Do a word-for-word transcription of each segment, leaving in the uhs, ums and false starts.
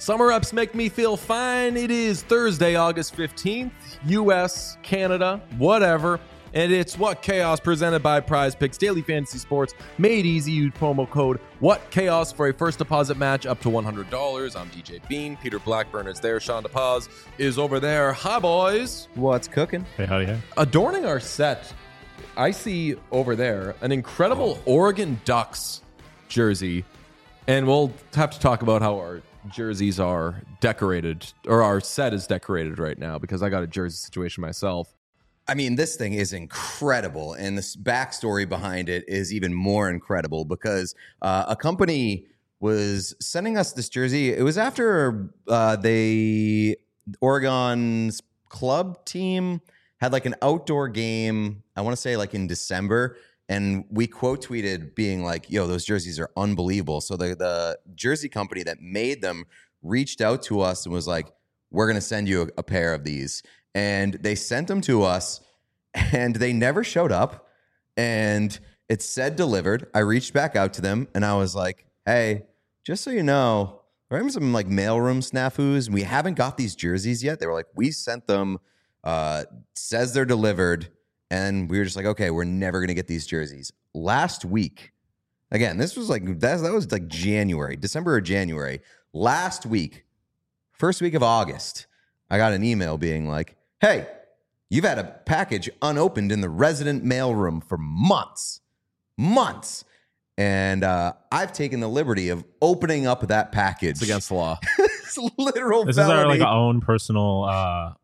Summer ups make me feel fine. It is Thursday, August fifteenth, U S, Canada, whatever. And it's What Chaos presented by Prize Picks, Daily Fantasy Sports, made easy. Use promo code What Chaos for a first deposit match up to one hundred dollars. I'm D J Bean. Peter Blackburn is there. Sean DePaz is over there. Hi, boys. What's cooking? Hey, howdy, hey. Adorning our set, I see over there an incredible oh. Oregon Ducks jersey. And we'll have to talk about how our jerseys are decorated, or our set is decorated right now, because I got a jersey situation myself. I mean, this thing is incredible, and this backstory behind it is even more incredible because uh, a company was sending us this jersey. It was after uh, they Oregon's club team had like an outdoor game, I want to say like in December, and we quote tweeted being like, yo, those jerseys are unbelievable. So the, the jersey company that made them reached out to us and was like, we're going to send you a, a pair of these. And they sent them to us, and they never showed up. And it said delivered. I reached back out to them, and I was like, hey, just so you know, we're having some like mailroom snafus, and we haven't got these jerseys yet. They were like, we sent them, uh, says they're delivered. And we were just like, okay, we're never going to get these jerseys. Last week, again, this was like, that, that was like January, December or January. Last week, first week of August, I got an email being like, hey, you've had a package unopened in the resident mailroom for months, months. And uh, I've taken the liberty of opening up that package. It's against the law. It's literal This felony. is our like our own personal uh,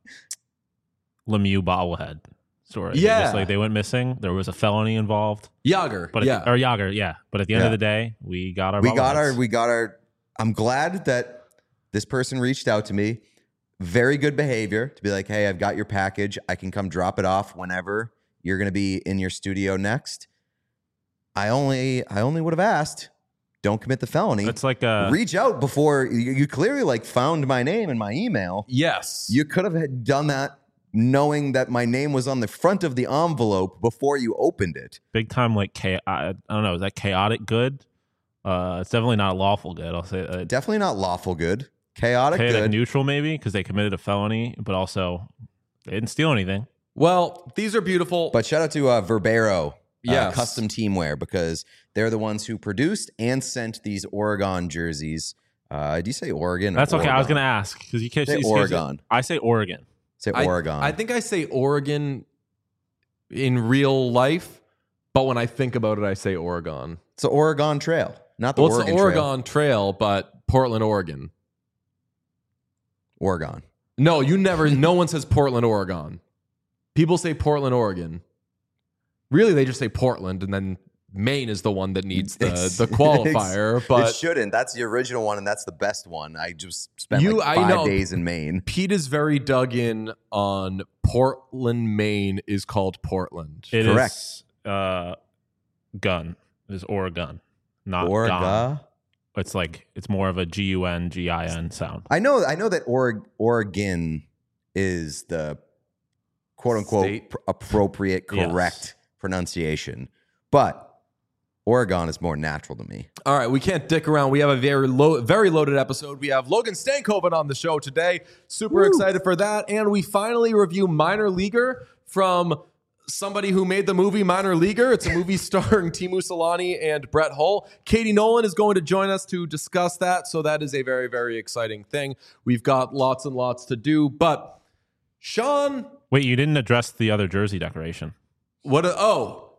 Lemieux bobblehead story. Yeah. Just like they went missing. There was a felony involved. Yager. But yeah. at the, or Yager, yeah. But at the end Yeah. of the day, we got our we got our, bobbleheads. we got our, I'm glad that this person reached out to me. Very good behavior to be like, hey, I've got your package. I can come drop it off whenever you're going to be in your studio next. I only, I only would have asked, don't commit the felony. It's like a, Reach out before you, you clearly like found my name in my email. Yes. You could have had done that knowing that my name was on the front of the envelope before you opened it. big time like, cha- I, I don't know, is that chaotic good? Uh, it's definitely not lawful good. I'll say uh, Definitely not lawful good. Chaotic, chaotic good. neutral maybe, because they committed a felony, but also they didn't steal anything. Well, these are beautiful. But shout out to uh, Verbero, uh, Yes. Custom Teamwear, because they're the ones who produced and sent these Oregon jerseys. Uh, do you say Oregon? or That's okay. I was Oregon? going to ask because you can't Say you- Oregon. I say Oregon. Say I, Oregon. I think I say Oregon in real life, but when I think about it, I say Oregon. it's the Oregon Trail, not the Well, it's Oregon the Trail. Oregon Trail, but Portland, Oregon. Oregon. No, you never, no one says Portland, Oregon. People say Portland, Oregon. Really, they just say Portland, and then Maine is the one that needs the, It's- the qualifier. it But shouldn't. That's the original one, and that's the best one. I just spent You- like I five know. days in Maine. Pete is very dug in on Portland, Maine is called Portland. It Correct. is uh, gun. It is Oregon, not Oregon. gun. It's like it's more of a G U N G I N sound. I know. I know that Oreg- Oregon is the quote unquote State? pr- appropriate, Yes. correct pronunciation, but Oregon is more natural to me. All right, we can't dick around. We have a very low, very loaded episode. We have Logan Stankoven on the show today. Super excited for that. And we finally review Minor Leaguer from somebody who made the movie Minor Leaguer. It's a movie starring Timu Solani and Brett Hull. Katie Nolan is going to join us to discuss that. So that is a very, very exciting thing. We've got lots and lots to do. But Sean, Wait, you didn't address the other jersey decoration. what? A, oh,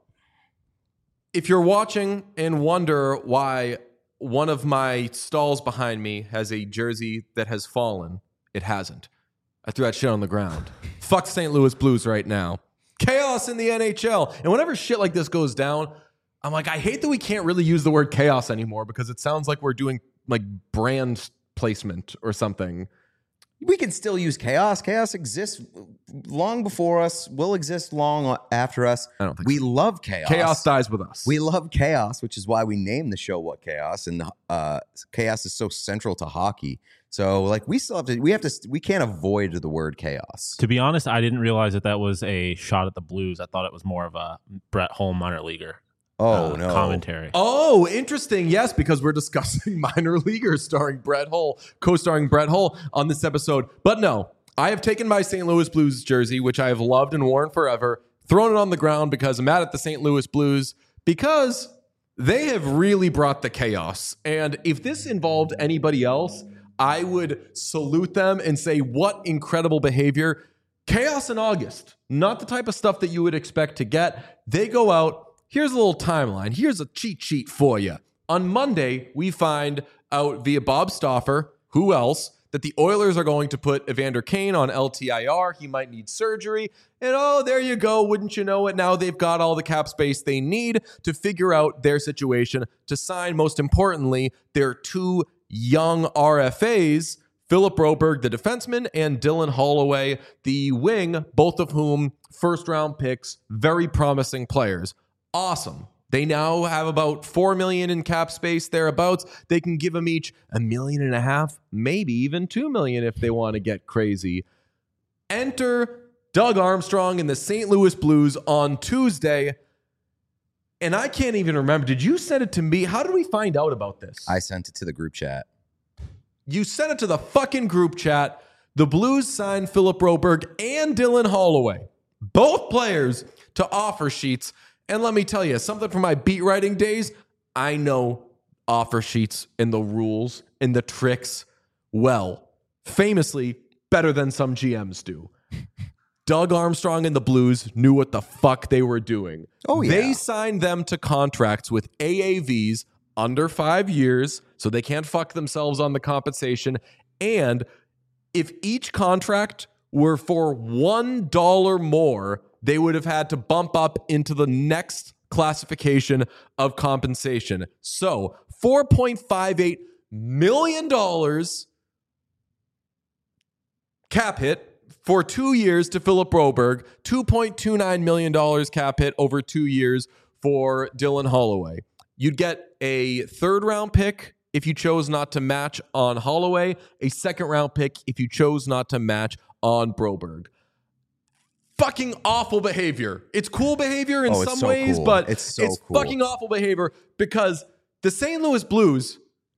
if you're watching and wonder why one of my stalls behind me has a jersey that has fallen, it hasn't. I threw that shit on the ground. Fuck Saint Louis Blues right now. Chaos in the N H L. And whenever shit like this goes down, I'm like, I hate that we can't really use the word chaos anymore because it sounds like we're doing like brand placement or something. We can still use chaos. Chaos exists long before us, will exist long after us. I don't think we love chaos. Chaos dies with us. We love chaos, which is why we named the show What Chaos. And uh, chaos is so central to hockey. So, like, we still have to, we have to, we can't avoid the word chaos. To be honest, I didn't realize that that was a shot at the Blues. I thought it was more of a Brett Hull minor leaguer. Oh, uh, no. commentary. Oh, interesting. Yes, because we're discussing Minor Leaguers starring Brett Hull, co-starring Brett Hull on this episode. But no, I have taken my Saint Louis Blues jersey, which I have loved and worn forever, thrown it on the ground because I'm mad at the Saint Louis Blues because they have really brought the chaos. And if this involved anybody else, I would salute them and say, what incredible behavior. Chaos in August, not the type of stuff that you would expect to get. They go out. Here's a little timeline. Here's a cheat sheet for you. On Monday, we find out via Bob Stauffer, who else, that the Oilers are going to put Evander Kane on L T I R. He might need surgery. And oh, there you go. Wouldn't you know it? Now they've got all the cap space they need to figure out their situation, to sign, most importantly, their two young R F As, Philip Broberg, the defenseman, and Dylan Holloway, the wing, both of whom first-round picks, very promising players. Awesome. They now have about four million dollars in cap space thereabouts. They can give them each a million and a half, maybe even two million if they want to get crazy. Enter Doug Armstrong and the Saint Louis Blues on Tuesday. And I can't even remember. Did you send it to me? How did we find out about this? I sent it to the group chat. You sent it to the fucking group chat. The Blues signed Philip Broberg and Dylan Holloway, both players, to offer sheets. And let me tell you, something from my beat writing days, I know offer sheets and the rules and the tricks well. Famously, better than some G Ms do. Doug Armstrong and the Blues knew what the fuck they were doing. Oh, yeah. They signed them to contracts with A A Vs under five years, so they can't fuck themselves on the compensation. And if each contract were for one dollar more, they would have had to bump up into the next classification of compensation. So four point five eight million dollars cap hit for two years to Philip Broberg, two point two nine million dollars cap hit over two years for Dylan Holloway. You'd get a third round pick if you chose not to match on Holloway, a second round pick if you chose not to match on Broberg. Fucking awful behavior. It's cool behavior in Oh, it's some so ways, cool. but It's it's, so cool. fucking awful behavior because the Saint Louis Blues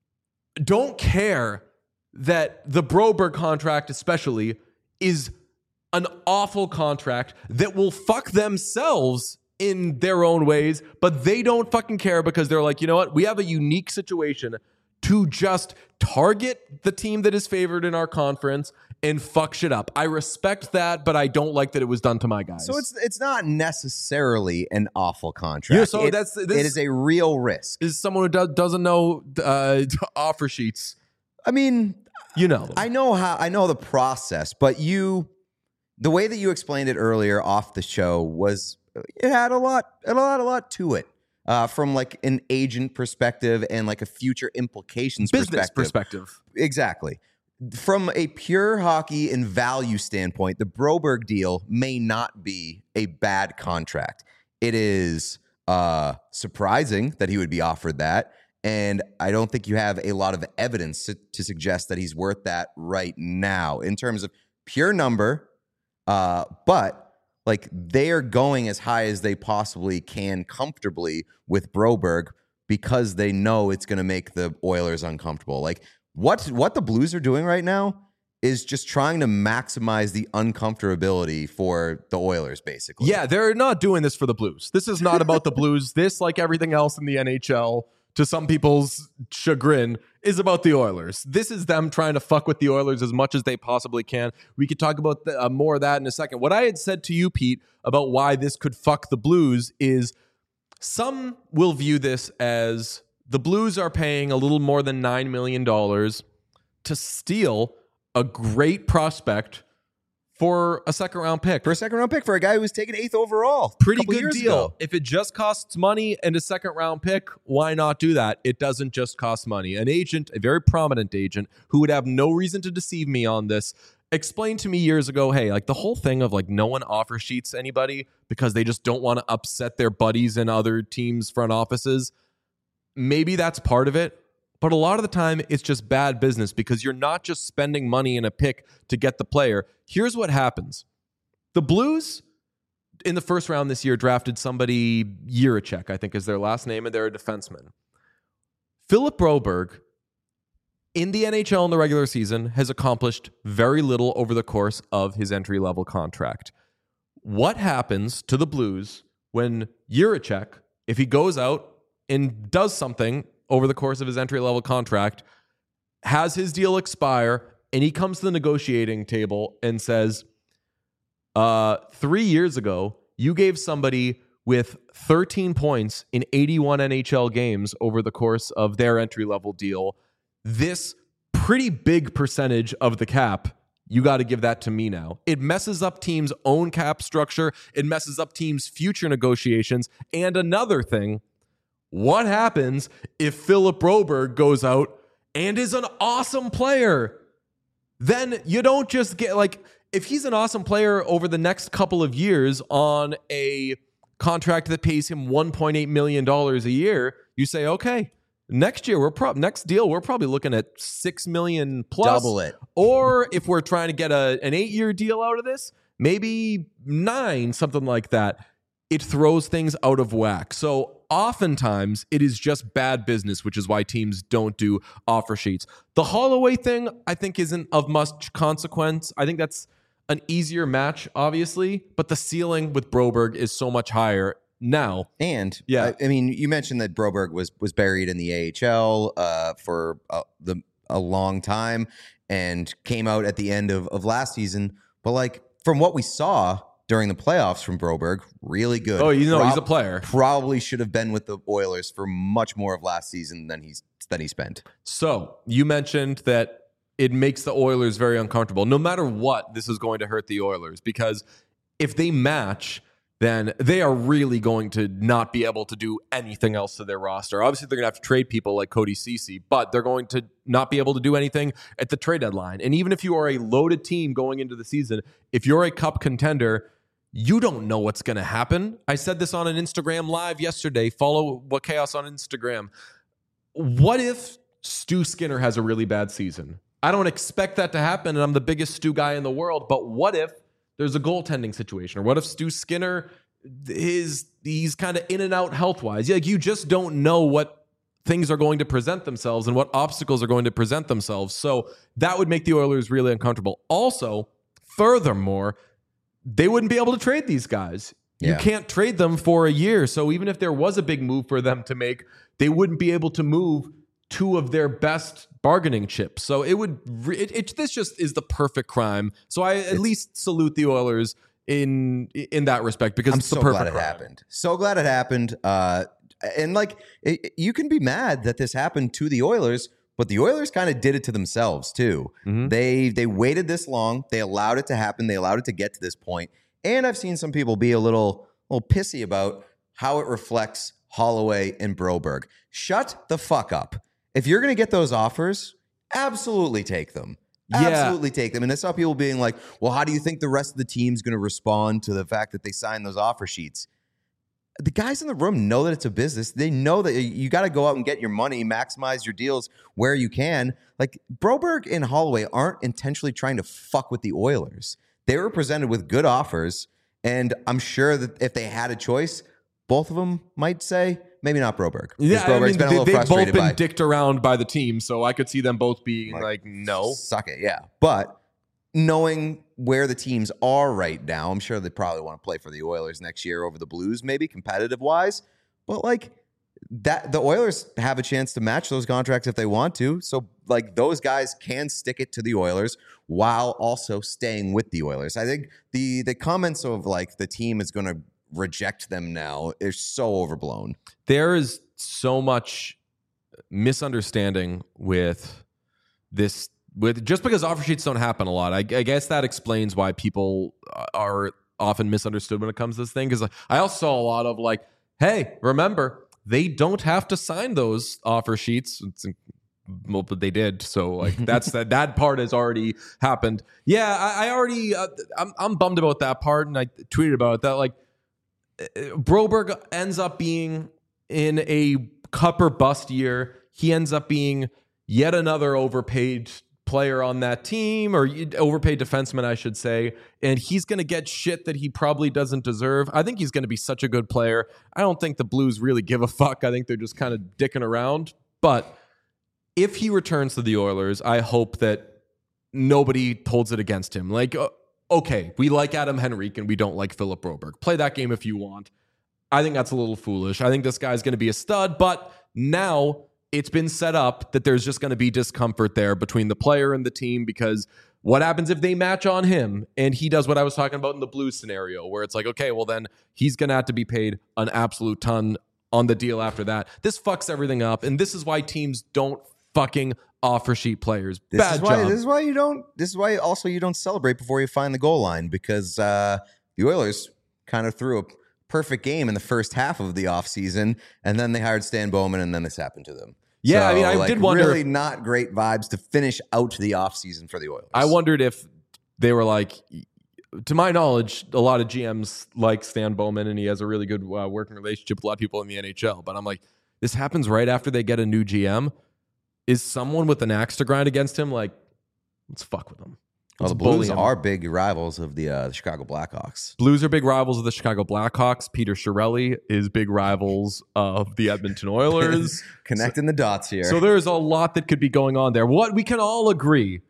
don't care that the Broberg contract especially is an awful contract that will fuck themselves in their own ways, but they don't fucking care because they're like, you know what? We have a unique situation to just target the team that is favored in our conference and fuck shit up. I respect that, but I don't like that it was done to my guys. So it's it's not necessarily an awful contract. Yeah, so It- that's- this- it is a real risk. Is someone who do- doesn't know uh, offer sheets, I mean, you know them. I know how I know the process, but you, the way that you explained it earlier off the show was it had a lot, it had a lot, a lot to it. Uh, from like an agent perspective and like a future implications Business perspective. perspective. Exactly. From a pure hockey and value standpoint, the Broberg deal may not be a bad contract. It is uh, surprising that he would be offered that. And I don't think you have a lot of evidence to, to suggest that he's worth that right now in terms of pure number. Uh, but like they are going as high as they possibly can comfortably with Broberg because they know it's going to make the Oilers uncomfortable. Like what what the Blues are doing right now is just trying to maximize the uncomfortability for the Oilers, basically. Yeah, they're not doing this for the Blues. This is not about the Blues. This, like everything else in the N H L, to some people's chagrin, is about the Oilers. This is them trying to fuck with the Oilers as much as they possibly can. We could talk about the, uh, more of that in a second. What I had said to you, Pete, about why this could fuck the Blues is some will view this as the Blues are paying a little more than nine million dollars to steal a great prospect for a second round pick. For a second round pick for a guy who was taken eighth overall. Pretty a couple good years deal. ago. If it just costs money and a second round pick, why not do that? It doesn't just cost money. An agent, a very prominent agent, who would have no reason to deceive me on this, explained to me years ago, hey, like the whole thing of like no one offer sheets anybody because they just don't want to upset their buddies in other teams' front offices. Maybe that's part of it. But a lot of the time, it's just bad business because you're not just spending money in a pick to get the player. Here's what happens. The Blues in the first round this year drafted somebody, Jiricek, I think is their last name, and they're a defenseman. Philip Broberg, in the N H L in the regular season, has accomplished very little over the course of his entry-level contract. What happens to the Blues when Jiricek, if he goes out and does something over the course of his entry-level contract, has his deal expire, and he comes to the negotiating table and says, uh, three years ago, you gave somebody with thirteen points in eighty-one N H L games over the course of their entry-level deal this pretty big percentage of the cap. You got to give that to me now. It messes up teams' own cap structure. It messes up teams' future negotiations. And another thing, what happens if Philip Broberg goes out and is an awesome player? Then you don't just get, like, if he's an awesome player over the next couple of years on a contract that pays him one point eight million dollars a year, you say, okay, next year, we're pro- next deal, we're probably looking at six million dollars plus. Double it. Or if we're trying to get a, an eight-year deal out of this, maybe nine, something like that. It throws things out of whack. So oftentimes, it is just bad business, which is why teams don't do offer sheets. The Holloway thing, I think, isn't of much consequence. I think that's an easier match, obviously, but the ceiling with Broberg is so much higher now. And yeah, I, I mean, you mentioned that Broberg was was buried in the A H L uh, for uh, the a long time and came out at the end of, of last season. But like from what we saw during the playoffs from Broberg, really good. Oh, you know, Prob- he's a player. Probably should have been with the Oilers for much more of last season than he's than he spent. So you mentioned that it makes the Oilers very uncomfortable. No matter what, this is going to hurt the Oilers because if they match, then they are really going to not be able to do anything else to their roster. Obviously, they're going to have to trade people like Cody Ceci, but they're going to not be able to do anything at the trade deadline. And even if you are a loaded team going into the season, if you're a cup contender, you don't know what's going to happen. I said this on an Instagram live yesterday. Follow What Chaos on Instagram. What if Stu Skinner has a really bad season? I don't expect that to happen, and I'm the biggest Stu guy in the world, but what if there's a goaltending situation? Or what if Stu Skinner is he's kind of in and out health-wise? Like, you just don't know what things are going to present themselves and what obstacles are going to present themselves. So that would make the Oilers really uncomfortable. Also, furthermore, they wouldn't be able to trade these guys. You Yeah. can't trade them for a year. So even if there was a big move for them to make, they wouldn't be able to move two of their best bargaining chips. So it would, it, it, this just is the perfect crime. So I at It's, least salute the Oilers in in that respect because I'm it's the so perfect glad it crime. happened. So glad it happened. Uh, and like, it, you can be mad that this happened to the Oilers, but the Oilers kind of did it to themselves too. Mhm. They they waited this long. They allowed it to happen. They allowed it to get to this point. And I've seen some people be a little, little pissy about how it reflects Holloway and Broberg. Shut the fuck up. If you're going to get those offers, absolutely take them. Yeah. Absolutely take them. And I saw people being like, well, how do you think the rest of the team's going to respond to the fact that they signed those offer sheets? The guys in the room know that it's a business. They know that you got to go out and get your money, maximize your deals where you can. Like, Broberg and Holloway aren't intentionally trying to fuck with the Oilers. They were presented with good offers, and I'm sure that if they had a choice, both of them might say, maybe not Broberg. 'Cause Yeah, I Broberg's mean, been a they, little they've both frustrated been by dicked around by the team, so I could see them both being like, Like, no. suck it, yeah. But knowing where the teams are right now, I'm sure they probably want to play for the Oilers next year over the Blues, maybe competitive wise. But like that, the Oilers have a chance to match those contracts if they want to. So like those guys can stick it to the Oilers while also staying with the Oilers. I think the the comments of like the team is going to reject them now is so overblown. There is so much misunderstanding with this. With just because offer sheets don't happen a lot, I, I guess that explains why people are often misunderstood when it comes to this thing. Because I also saw a lot of like, hey, remember, they don't have to sign those offer sheets. It's, well, but they did. So like that's that that part has already happened. Yeah, I, I already uh, I'm I'm bummed about that part, and I tweeted about it, that like Broberg ends up being in a cup or bust year. He ends up being yet another overpaid player on that team, or overpaid defenseman, I should say, and he's going to get shit that he probably doesn't deserve. I think he's going to be such a good player. I don't think the Blues really give a fuck. I think they're just kind of dicking around. But if he returns to the Oilers, I hope that nobody holds it against him. Like, okay, we like Adam Henrique and we don't like Philip Broberg. Play that game if you want. I think that's a little foolish. I think this guy's going to be a stud, but now it's been set up that there's just going to be discomfort there between the player and the team, because what happens if they match on him and he does what I was talking about in the Blues scenario, where it's like, okay, well then he's going to have to be paid an absolute ton on the deal after that. This fucks everything up, and this is why teams don't fucking offer sheet players. This Bad is why, job. This is why you don't. This is why also you don't celebrate before you find the goal line, because uh, the Oilers kind of threw a perfect game in the first half of the offseason, and then they hired Stan Bowman, and then this happened to them. Yeah, so, I mean, I like, did wonder. Really not great vibes to finish out the offseason for the Oilers. I wondered if they were like, to my knowledge, a lot of G Ms like Stan Bowman, and he has a really good uh, working relationship with a lot of people in the N H L. But I'm like, this happens right after they get a new G M. Is someone with an axe to grind against him like, let's fuck with him? Well, Let's the bully Blues him. are big rivals of the, uh, the Chicago Blackhawks. Blues are big rivals of the Chicago Blackhawks. Peter Chiarelli is big rivals of the Edmonton Oilers. Connecting the dots here. So there's a lot that could be going on there. What we can all agree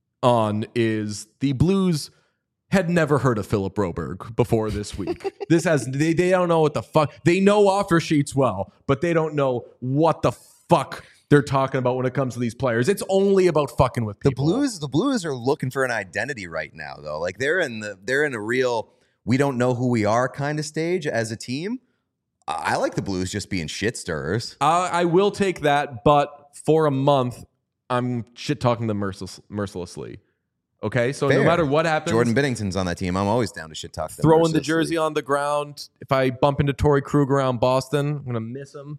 on is the Blues had never heard of Philip Broberg before this week. This has they, they don't know what the fuck. They know offer sheets well, but they don't know what the fuck they're talking about when it comes to these players. It's only about fucking with the people. Blues, the Blues are looking for an identity right now, though. Like they're in the they're in a real we don't know who we are kind of stage as a team. I like the Blues just being shit stirrers. Uh, I will take that, but for a month, I'm shit talking them merciless, mercilessly. Okay, so Fair. no matter what happens, Jordan Binnington's on that team. I'm always down to shit talk them. throwing the mercilessly. jersey on the ground. If I bump into Torrey Krug around Boston, I'm gonna miss him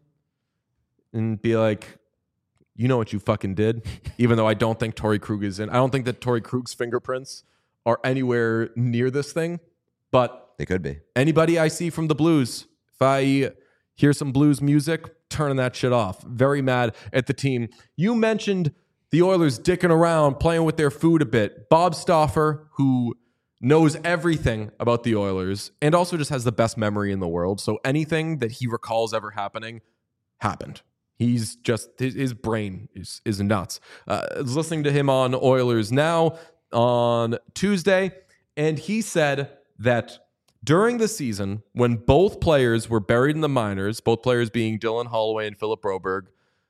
and be like, you know what you fucking did. Even though I don't think Torrey Krug is in. I don't think that Torrey Krug's fingerprints are anywhere near this thing. But They could be. anybody I see from the Blues, if I hear some Blues music, turning that shit off. Very mad at the team. You mentioned the Oilers dicking around, playing with their food a bit. Bob Stauffer, who knows everything about the Oilers and also just has the best memory in the world. So anything that he recalls ever happening happened. He's just, his, his brain is, is nuts. Uh, I was listening to him on Oilers Now on Tuesday, and he said that during the season, when both players were buried in the minors, both players being Dylan Holloway and Philip Broberg,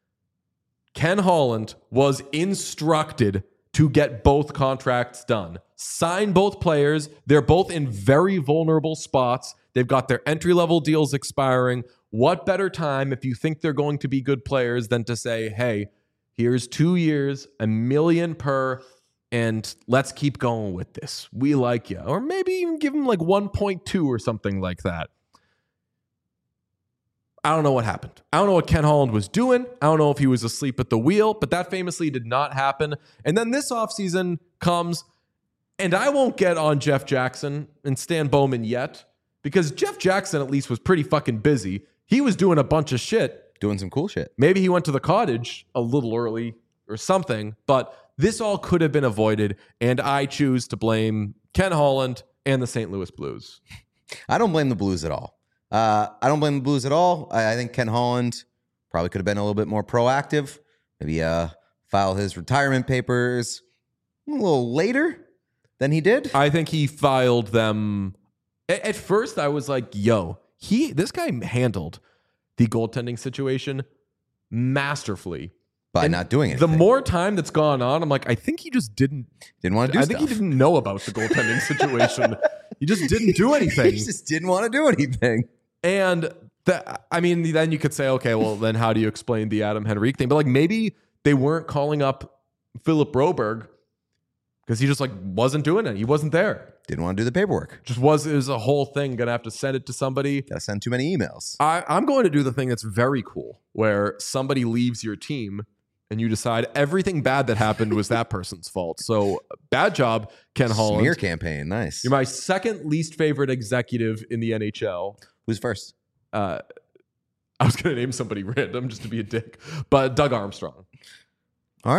Ken Holland was instructed to get both contracts done. Sign both players. They're both in very vulnerable spots. They've got their entry-level deals expiring. What better time, if you think they're going to be good players, than to say, hey, here's two years, a million per, and let's keep going with this. We like you. Or maybe even give them like one point two or something like that. I don't know what happened. I don't know what Ken Holland was doing. I don't know if he was asleep at the wheel, but that famously did not happen. And then this offseason comes, and I won't get on Jeff Jackson and Stan Bowman yet, because Jeff Jackson at least was pretty fucking busy. He was doing a bunch of shit. Doing some cool shit. Maybe he went to the cottage a little early or something, but this all could have been avoided, and I choose to blame Ken Holland and the Saint Louis Blues. I don't blame the Blues at all. Uh, I don't blame the Blues at all. I, I think Ken Holland probably could have been a little bit more proactive. Maybe uh, file his retirement papers a little later than he did. I think he filed them. At, at first, I was like, yo, he this guy handled the goaltending situation masterfully. By And not doing anything. The more time that's gone on, I'm like, I think he just didn't. Didn't want to do I stuff. think he didn't know about the goaltending situation. He just didn't do anything. He just didn't want to do anything. And the, I mean, then you could say, okay, well, then how do you explain the Adam Henrique thing? But like maybe they weren't calling up Philip Broberg because he just like wasn't doing it. He wasn't there. Didn't want to do the paperwork. Just was it was a whole thing. Gonna have to send it to somebody. Gotta send too many emails. I, I'm going to do the thing that's very cool, where somebody leaves your team and you decide everything bad that happened was that person's fault. So bad job, Ken Holland. Smear campaign. Nice. You're my second least favorite executive in the N H L. Who's first? Uh, I was going to name somebody random just to be a dick, but Doug Armstrong. All right.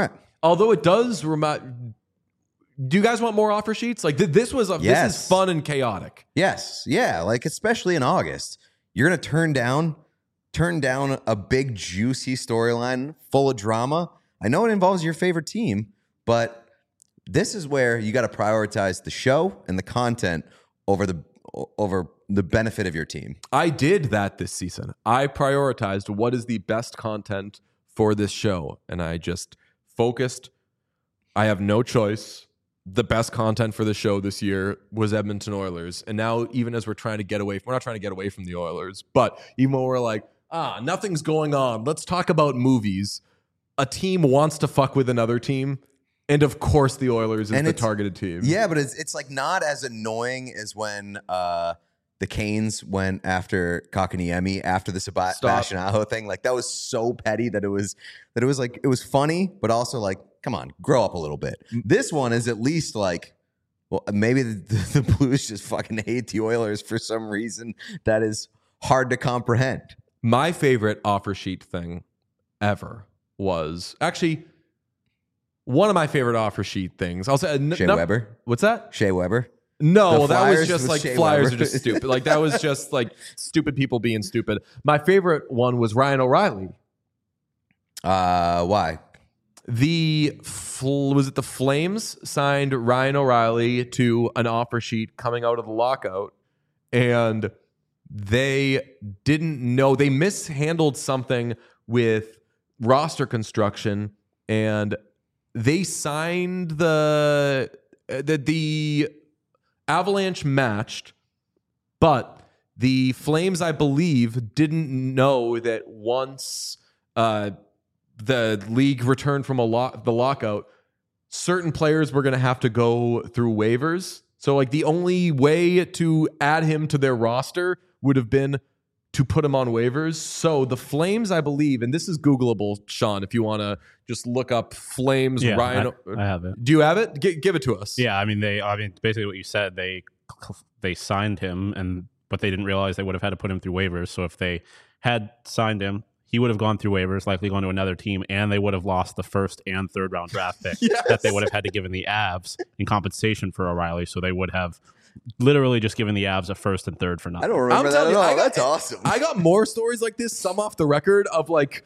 Although it does remind. Do you guys want more offer sheets? Like th- this was a, Yes. this is fun and chaotic. Yes, yeah, like especially in August, you're gonna turn down, turn down a big juicy storyline full of drama. I know it involves your favorite team, but this is where you got to prioritize the show and the content over the over the benefit of your team. I did that this season. I prioritized what is the best content for this show, and I just focused. I have no choice. The best content for the show this year was Edmonton Oilers. And now, even as we're trying to get away, we're not trying to get away from the Oilers, but even when we're like, ah, nothing's going on, let's talk about movies. A team wants to fuck with another team. And of course, the Oilers is And the it's- targeted team. Yeah, but it's it's like not as annoying as when uh, the Canes went after Kakaniemi after the Seb- Sebastian Aho thing. Like that was so petty that it was that it was like it was funny, but also like, come on, grow up a little bit. This one is at least like, well, maybe the, the, the Blues just fucking hate the Oilers for some reason that is hard to comprehend. My favorite offer sheet thing ever was actually one of my favorite offer sheet things. I'll say n- Shea num- Weber, What's that? Shea Weber. No, The that was Flyers just with like Shea Flyers Weber. are just stupid. Like that was just like stupid people being stupid. My favorite one was Ryan O'Reilly. Uh, why? The fl- was it the Flames signed Ryan O'Reilly to an offer sheet coming out of the lockout, and they didn't know they mishandled something with roster construction, and they signed the the, the Avalanche matched, but the Flames, I believe, didn't know that once uh, the league returned from a lo- the lockout, certain players were going to have to go through waivers. So, like, the only way to add him to their roster would have been to put him on waivers. So the Flames, I believe, and this is Googleable, Sean, if you want to just look up Flames Yeah, Ryan. I, I have it. Do you have it? G- give it to us. Yeah, I mean they. I mean basically what you said. They they signed him, and but they didn't realize they would have had to put him through waivers. So if they had signed him, he would have gone through waivers, likely gone to another team, and they would have lost the first and third round draft pick Yes. that they would have had to give in the Avs in compensation for O'Reilly. So they would have literally just given the Avs a first and third for nothing. I don't remember I'm that telling at you, all. I got- That's awesome. I got more stories like this, some off the record, of like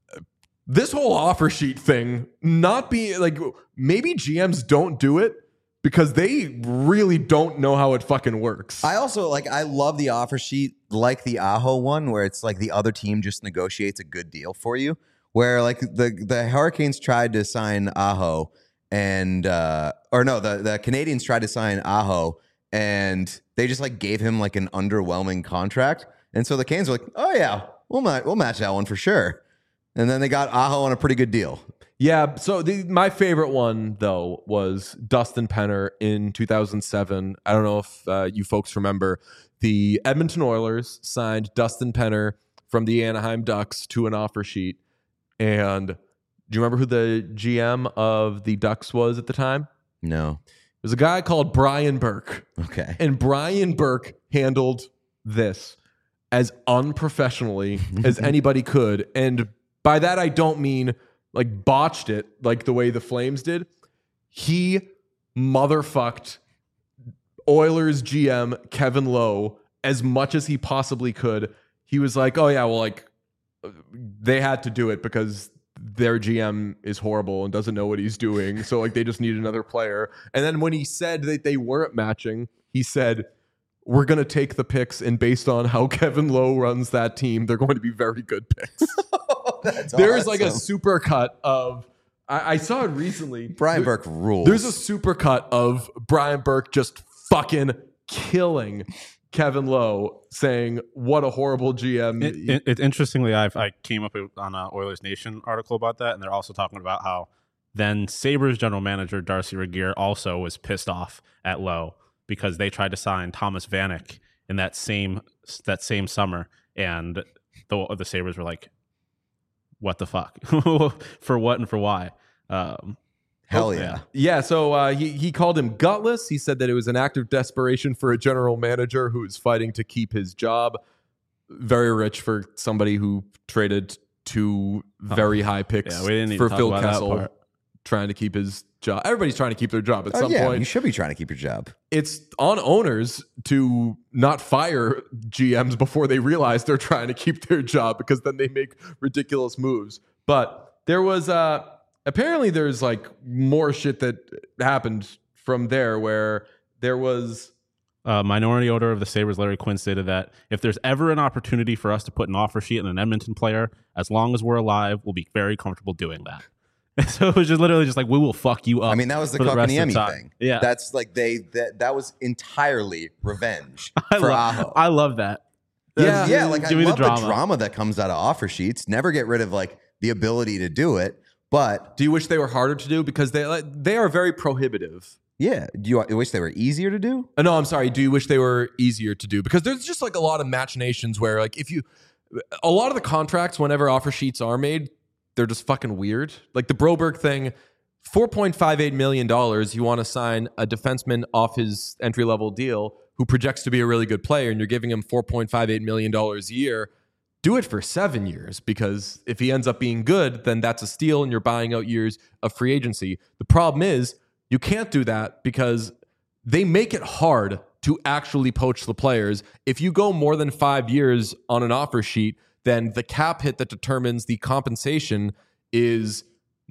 this whole offer sheet thing not being like maybe G Ms don't do it because they really don't know how it fucking works. I also like I love the offer sheet like the Aho one where it's like the other team just negotiates a good deal for you. Where like the the Hurricanes tried to sign Aho and uh or no, the, the Canadians tried to sign Aho and they just like gave him like an underwhelming contract. And so the Canes were like, oh yeah, we'll ma- we'll match that one for sure. And then they got Aho on a pretty good deal. Yeah, so the, my favorite one though was Dustin Penner in two thousand seven. I don't know if uh, you folks remember, the Edmonton Oilers signed Dustin Penner from the Anaheim Ducks to an offer sheet. And do you remember who the G M of the Ducks was at the time? No. It was a guy called Brian Burke. Okay. And Brian Burke handled this as unprofessionally as anybody could. And by that, I don't mean like botched it like the way the Flames did. He motherfucked Oilers G M Kevin Lowe as much as he possibly could. He was like, oh yeah, well, like they had to do it because their G M is horrible and doesn't know what he's doing. So like they just need another player. And then when he said that they weren't matching, he said, we're going to take the picks, and based on how Kevin Lowe runs that team, they're going to be very good picks. That's There's like a awesome. super cut of, I, I saw it recently. Brian There- Burke rules. There's a super cut of Brian Burke just fucking killing Kevin Lowe, saying what a horrible G M. It, it, it, interestingly, I've, I came up with, on an Oilers Nation article about that, and they're also talking about how then Sabres general manager Darcy Regier also was pissed off at Lowe because they tried to sign Thomas Vanek in that same that same summer, and the the Sabres were like, "What the fuck? For what and for why?" Um, Hell yeah. yeah. Yeah, so uh, he, he called him gutless. He said that it was an act of desperation for a general manager who is fighting to keep his job. Very rich for somebody who traded two very high picks Yeah, we didn't even for talk Phil about that Kessel. part. trying to keep his job. Everybody's trying to keep their job at Oh, some yeah, point. you should be trying to keep your job. It's on owners to not fire G Ms before they realize they're trying to keep their job, because then they make ridiculous moves. But there was uh, apparently there's like more shit that happened from there, where there was Uh, minority owner of the Sabres, Larry Quinn, stated that if there's ever an opportunity for us to put an offer sheet on an Edmonton player, as long as we're alive, we'll be very comfortable doing that. So it was just literally just like, we will fuck you up. I mean, that was the for the rest of Kotkaniemi the time. thing. Yeah. That's like they that that was entirely revenge I, for lo- Aho. I love that. Yeah. yeah, like I Give me love the the drama. drama. that comes out of offer sheets. Never get rid of like the ability to do it, but do you wish they were harder to do? Because they like, they are very prohibitive. yeah, do you wish they were easier to do? Uh, no, I'm sorry. Do you wish they were easier to do? Because there's just like a lot of machinations where like if you, a lot of the contracts, whenever offer sheets are made, they're just fucking weird. Like the Broberg thing, four point five eight million dollars, you want to sign a defenseman off his entry-level deal who projects to be a really good player, and you're giving him four point five eight million dollars a year. Do it for seven years, because if he ends up being good, then that's a steal and you're buying out years of free agency. The problem is you can't do that because they make it hard to actually poach the players. If you go more than five years on an offer sheet, then the cap hit that determines the compensation is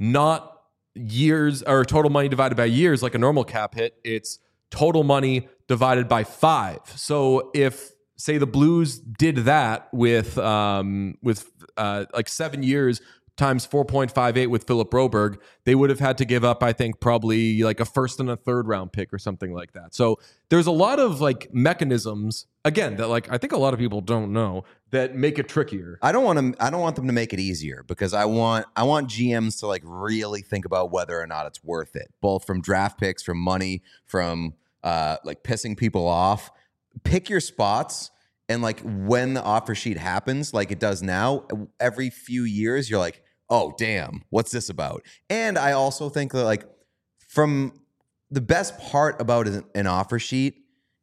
not years or total money divided by years like a normal cap hit. It's total money divided by five. So if, say, the Blues did that with um, with uh, like seven years times four point five eight with Philip Broberg, they would have had to give up, I think, probably like a first and a third round pick or something like that. So there's a lot of like mechanisms, again, that like I think a lot of people don't know, that make it trickier. I don't want to. I don't want them to make it easier, because I want. I want G Ms to like really think about whether or not it's worth it, both from draft picks, from money, from uh, like pissing people off. Pick your spots, and like when the offer sheet happens, like it does now, every few years, you're like, oh damn, what's this about? And I also think that like from the best part about an offer sheet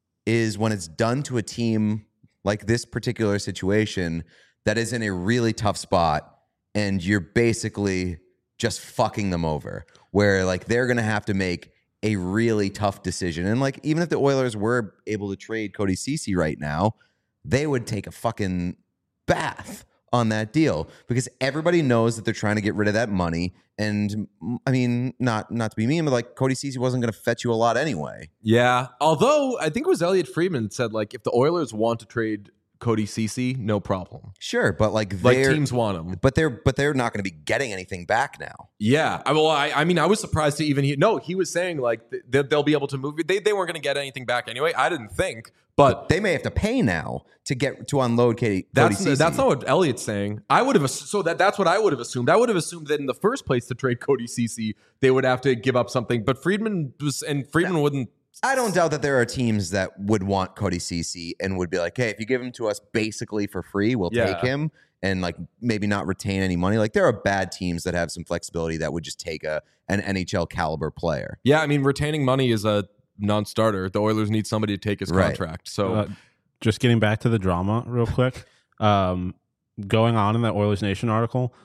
is when it's done to a team like this particular situation that is in a really tough spot, and you're basically just fucking them over, where like they're going to have to make a really tough decision. And like, even if the Oilers were able to trade Cody Ceci right now, they would take a fucking bath on that deal, because everybody knows that they're trying to get rid of that money. And I mean, not not to be mean, but like Cody Ceci wasn't going to fetch you a lot anyway. Yeah. Although I think it was Elliot Friedman said like if the Oilers want to trade Cody Ceci, no problem. Sure, but like Like they're teams want him. but they're but they're not going to be getting anything back now. Yeah. I, well, I, I mean, I was surprised to even hear. No, he was saying like th- th- they'll be able to move. They, they weren't going to get anything back anyway. I didn't think. But They may have to pay now to get to unload Katie. that's Cody Ceci. that's not what Elliot's saying. I would have ass- so that that's what I would have assumed. I would have assumed that in the first place to trade Cody Ceci, they would have to give up something. But Friedman was and Friedman wouldn't. I don't doubt that there are teams that would want Cody Ceci and would be like, hey, if you give him to us basically for free, we'll Yeah. take him, and like maybe not retain any money. Like there are bad teams that have some flexibility that would just take a an N H L caliber player. Yeah, I mean, retaining money is a non-starter. The Oilers need somebody to take his Right. contract. So Uh, just getting back to the drama real quick. Um, going on in that Oilers Nation article,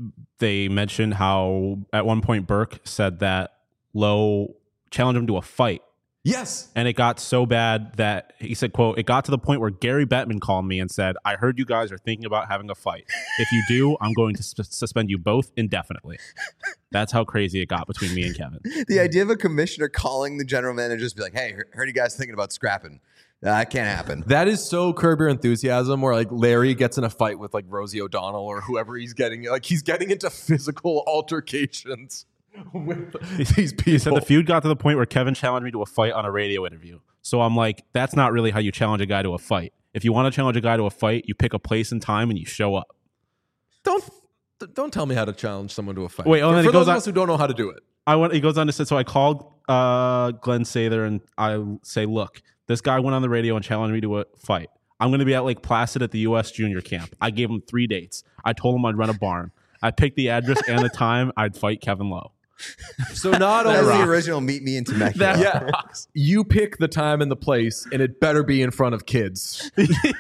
they mentioned how at one point Burke said that Lowe challenged him to a fight. yes, And it got so bad that he said, quote, it got to the point where Gary Bettman called me and said, I heard you guys are thinking about having a fight. If you do, I'm going to sus- suspend you both indefinitely. That's how crazy it got between me and Kevin. The idea of a commissioner calling the general manager just be like, hey, heard you guys thinking about scrapping. Uh, that can't happen. that is so Curb Your Enthusiasm, where like Larry gets in a fight with like Rosie O'Donnell or whoever he's getting. Like he's getting into physical altercations with these people. He said the feud got to the point where Kevin challenged me to a fight on a radio interview. So I'm like, that's not really how you challenge a guy to a fight. If you want to challenge a guy to a fight, you pick a place and time and you show up. Don't don't tell me how to challenge someone to a fight. Wait, oh, for, and then for he goes those of on- us who don't know how to do it. I went. He goes on to say, so I called uh, Glenn Sather and I say, look, this guy went on the radio and challenged me to a fight. I'm going to be at Lake Placid at the U S Junior Camp. I gave him three dates. I told him I'd rent a barn. I picked the address and the time I'd fight Kevin Lowe. So not That's only the original Meet Me in Temecula. That yeah, you pick the time and the place, and it better be in front of kids.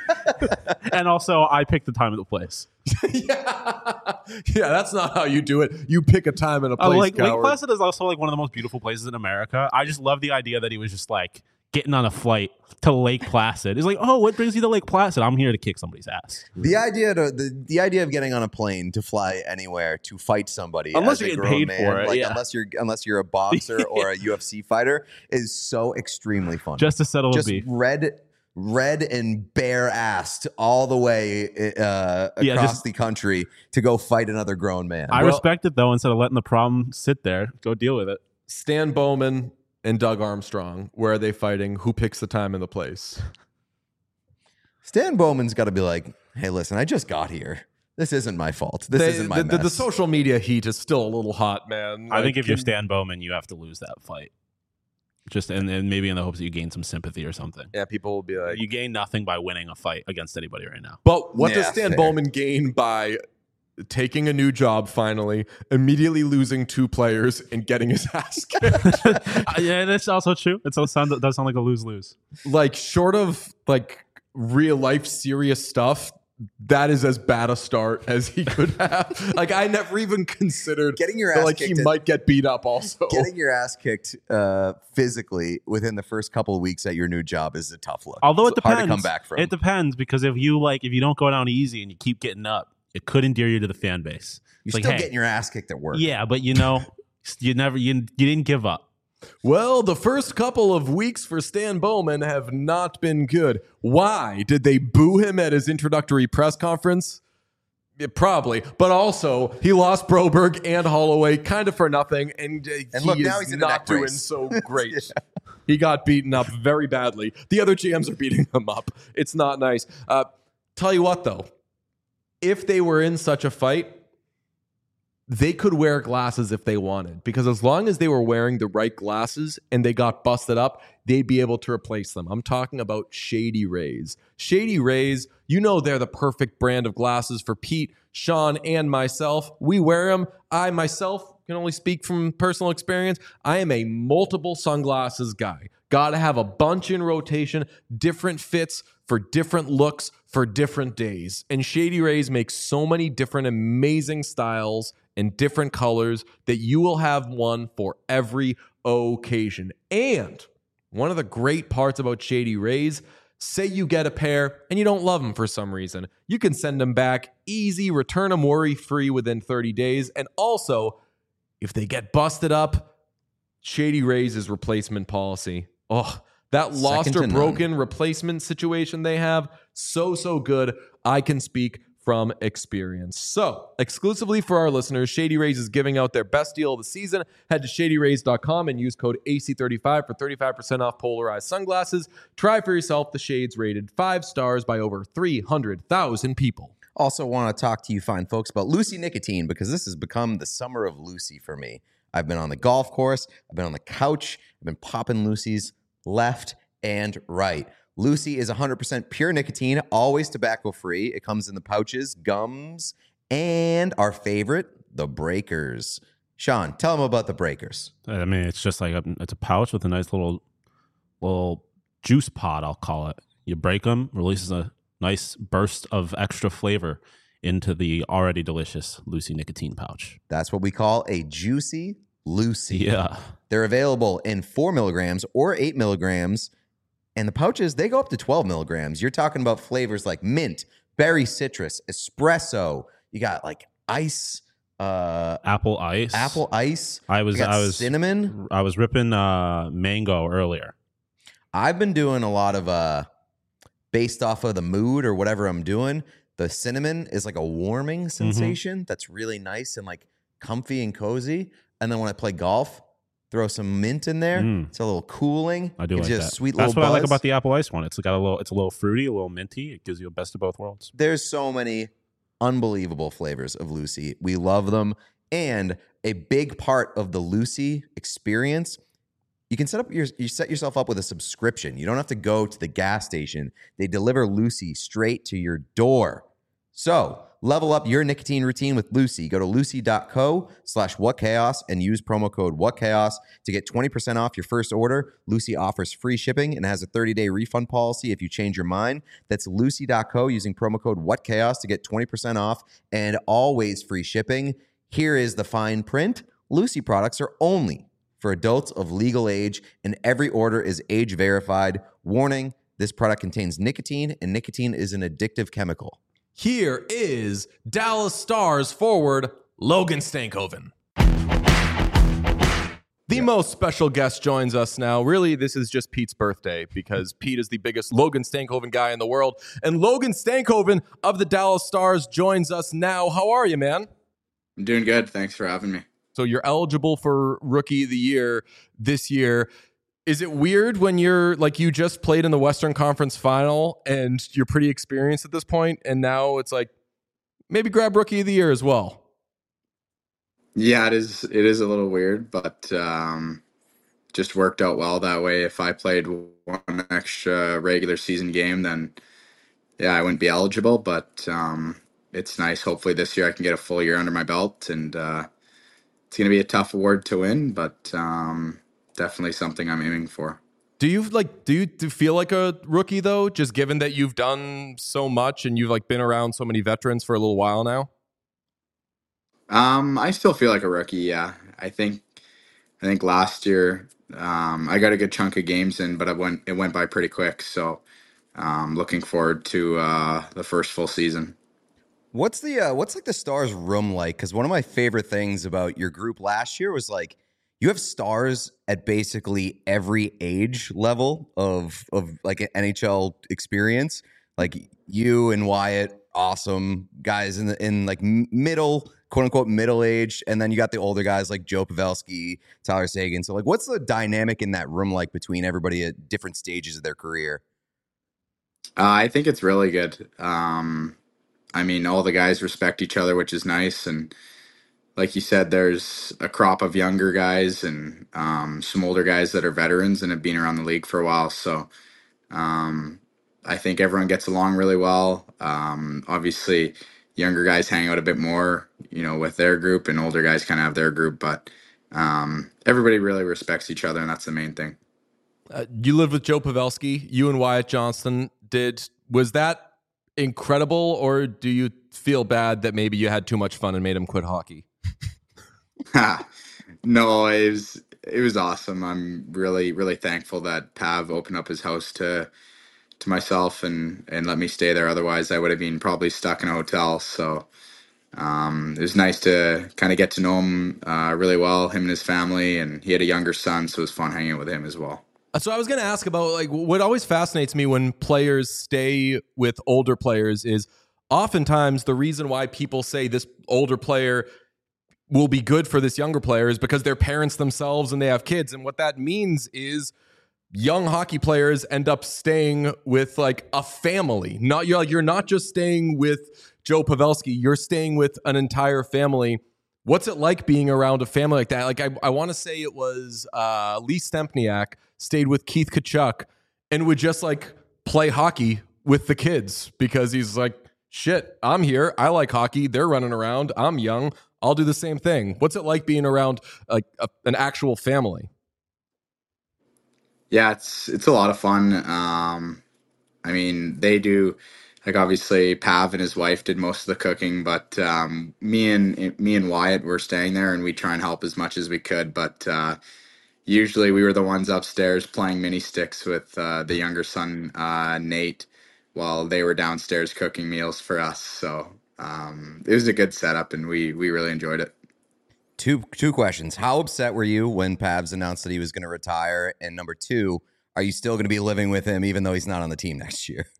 And also, I picked the time and the place. yeah, yeah, that's not how you do it. You pick a time and a Uh, place. like Lake coward. Placid is also like one of the most beautiful places in America. I just love the idea that he was just like getting on a flight to Lake Placid. It's like, oh, what brings you to Lake Placid? I'm here to kick somebody's ass. The idea to the, the idea of getting on a plane to fly anywhere to fight somebody, Unless as you're a getting grown paid man, for it, like yeah. unless you're unless you're a boxer or a U F C fighter, is so extremely fun. Just to settle Just a beef. red, red and bare assed all the way uh, across Yeah, just- the country to go fight another grown man. I Well- respect it though. Instead of letting the problem sit there, go deal with it. Stan Bowman and Doug Armstrong. Where are they fighting? Who picks the time and the place? Stan Bowman's got to be like, hey, listen, I just got here. This isn't my fault. This They- isn't my the, the, mess. the social media heat is still a little hot, man. I Like, think if you're can- Stan Bowman, you have to lose that fight. Just and, and maybe in the hopes that you gain some sympathy or something. yeah, people will be like, You gain nothing by winning a fight against anybody right now. but what does Yeah, Stan fair. Bowman gain by taking a new job finally, immediately losing two players, and getting his ass kicked? Uh, yeah, that's also true. It does sound, does sound like a lose lose. Like, short of like real life serious stuff, that is as bad a start as he could have. Like, I never even considered Getting your that, ass like he kicked in- might get beat up also. Getting your ass kicked uh, physically within the first couple of weeks at your new job is a tough look. Although it It's depends. hard to come back from. It depends because if you like, if you don't go down easy and you keep getting up, it could endear you to the fan base. You're It's like, still hey, getting your ass kicked at work. yeah, but you know, you never, you, you didn't give up. Well, the first couple of weeks for Stan Bowman have not been good. Why? Did they boo him at his introductory press conference? Yeah, probably. But also, he lost Broberg and Holloway kind of for nothing, and, uh, And he look, is now he's in a not neck doing brace. so great. He got beaten up very badly. The other G Ms are beating him up. It's not nice. Uh, tell you what, though. If they were in such a fight, they could wear glasses if they wanted, because as long as they were wearing the right glasses and they got busted up, they'd be able to replace them. I'm talking about Shady Rays. Shady Rays, you know they're the perfect brand of glasses for Pete, Sean, and myself. We wear them. I myself can only speak from personal experience. I am a multiple sunglasses guy. Got to have a bunch in rotation, different fits for different looks for different days. And Shady Rays makes so many different amazing styles and different colors that you will have one for every occasion. And one of the great parts about Shady Rays, say you get a pair and you don't love them for some reason, you can send them back easy, return them worry-free within thirty days. And also, if they get busted up, Shady Rays is replacement policy. Oh, that lost Second or to none. broken replacement situation they have, so, so good. I can speak from experience. So, exclusively for our listeners, Shady Rays is giving out their best deal of the season. Head to shady rays dot com and use code A C thirty-five for thirty-five percent off polarized sunglasses. Try for yourself the shades rated five stars by over three hundred thousand people. Also want to talk to you fine folks about Lucy Nicotine, because this has become the summer of Lucy for me. I've been on the golf course. I've been on the couch. I've been popping Lucy's left and right. Lucy is one hundred percent pure nicotine, always tobacco-free. It comes in the pouches, gums, and our favorite, the breakers. Sean, tell them about the breakers. I mean, it's just like a, it's a pouch with a nice little little juice pod, I'll call it. You break them, releases a nice burst of extra flavor into the already delicious Lucy nicotine pouch. That's what we call a juicy Lucy. Yeah. They're available in four milligrams or eight milligrams. And the pouches, they go up to twelve milligrams. You're talking about flavors like mint, berry citrus, espresso. You got like ice, uh, Apple ice. apple ice. I was You got I was cinnamon. I was ripping uh, mango earlier. I've been doing a lot of, uh, based off of the mood or whatever I'm doing. The cinnamon is like a warming Mm-hmm. sensation that's really nice and like comfy and cozy. And then when I play golf, throw some mint in there. Mm. It's a little cooling. I do Gives like you that. a sweet That's little what I like buzz. about the apple ice one. It's got a little it's a little fruity, a little minty. It gives you a best of both worlds. There's so many unbelievable flavors of Lucy. We love them. And a big part of the Lucy experience, you can set up your you set yourself up with a subscription. You don't have to go to the gas station. They deliver Lucy straight to your door. So, Level up your nicotine routine with Lucy. Go to lucy.co slash whatchaos and use promo code whatchaos to get twenty percent off your first order. Lucy offers free shipping and has a thirty-day refund policy if you change your mind. That's lucy.co using promo code whatchaos to get twenty percent off and always free shipping. Here is the fine print. Lucy products are only for adults of legal age, and every order is age verified. Warning, this product contains nicotine, and nicotine is an addictive chemical. Here is Dallas Stars forward Logan Stankoven. The yeah. most special guest joins us now. Really, this is just Pete's birthday because Pete is the biggest Logan Stankoven guy in the world. And Logan Stankoven of the Dallas Stars joins us now. How are you, man? I'm doing good. Thanks for having me. So you're eligible for Rookie of the Year this year. Is it weird when you're like you just played in the Western Conference Final and you're pretty experienced at this point, and now it's like maybe grab Rookie of the Year as well? Yeah, it is. It is a little weird, but um, just worked out well that way. If I played one extra regular season game, then yeah, I wouldn't be eligible. But um, it's nice. Hopefully this year I can get a full year under my belt, and uh, it's going to be a tough award to win, but um, definitely something I'm aiming for. Do you like? Do you, do you feel like a rookie though? Just given that you've done so much and you've like been around so many veterans for a little while now. Um, I still feel like a rookie. Yeah, I think. I think last year um, I got a good chunk of games in, but it went it went by pretty quick. So, um, looking forward to uh, the first full season. What's the uh, what's like the Stars room like? Because one of my favorite things about your group last year was like you have stars at basically every age level of of like an N H L experience. Like you and Wyatt, awesome guys in the in like middle, quote unquote middle age, and then you got the older guys like Joe Pavelski, Tyler Seguin. So like, what's the dynamic in that room like between everybody at different stages of their career? Uh, I think it's really good. Um, I mean, all the guys respect each other, which is nice. And like you said, there's a crop of younger guys and um, some older guys that are veterans and have been around the league for a while. So um, I think everyone gets along really well. Um, obviously, younger guys hang out a bit more, you know, with their group, and older guys kind of have their group. But um, everybody really respects each other, and that's the main thing. Uh, you lived with Joe Pavelski. You and Wyatt Johnston did. Was that incredible, or do you feel bad that maybe you had too much fun and made him quit hockey? No, it was it was awesome. I'm really really thankful that Pav opened up his house to to myself and and let me stay there. Otherwise, I would have been probably stuck in a hotel. So um, it was nice to kind of get to know him uh, really well, him and his family, and he had a younger son, so it was fun hanging out with him as well. So I was going to ask about like what always fascinates me when players stay with older players is oftentimes the reason why people say this older player will be good for this younger player is because they're parents themselves and they have kids. And what that means is young hockey players end up staying with like a family. Not you're like you're not just staying with Joe Pavelski, you're staying with an entire family. What's it like being around a family like that? Like I, I want to say it was uh, Lee Stempniak stayed with Keith Tkachuk and would just like play hockey with the kids because he's like, shit, I'm here. I like hockey. They're running around. I'm young. I'll do the same thing. What's it like being around like a, an actual family? Yeah, it's it's a lot of fun. Um, I mean, they do like obviously Pav and his wife did most of the cooking, but um, me and me and Wyatt were staying there, and we try and help as much as we could. But uh, usually, we were the ones upstairs playing mini sticks with uh, the younger son uh, Nate, while they were downstairs cooking meals for us. So um, it was a good setup, and we we really enjoyed it. Two two questions. How upset were you when Pabs announced that he was going to retire? And number two, are you still going to be living with him even though he's not on the team next year?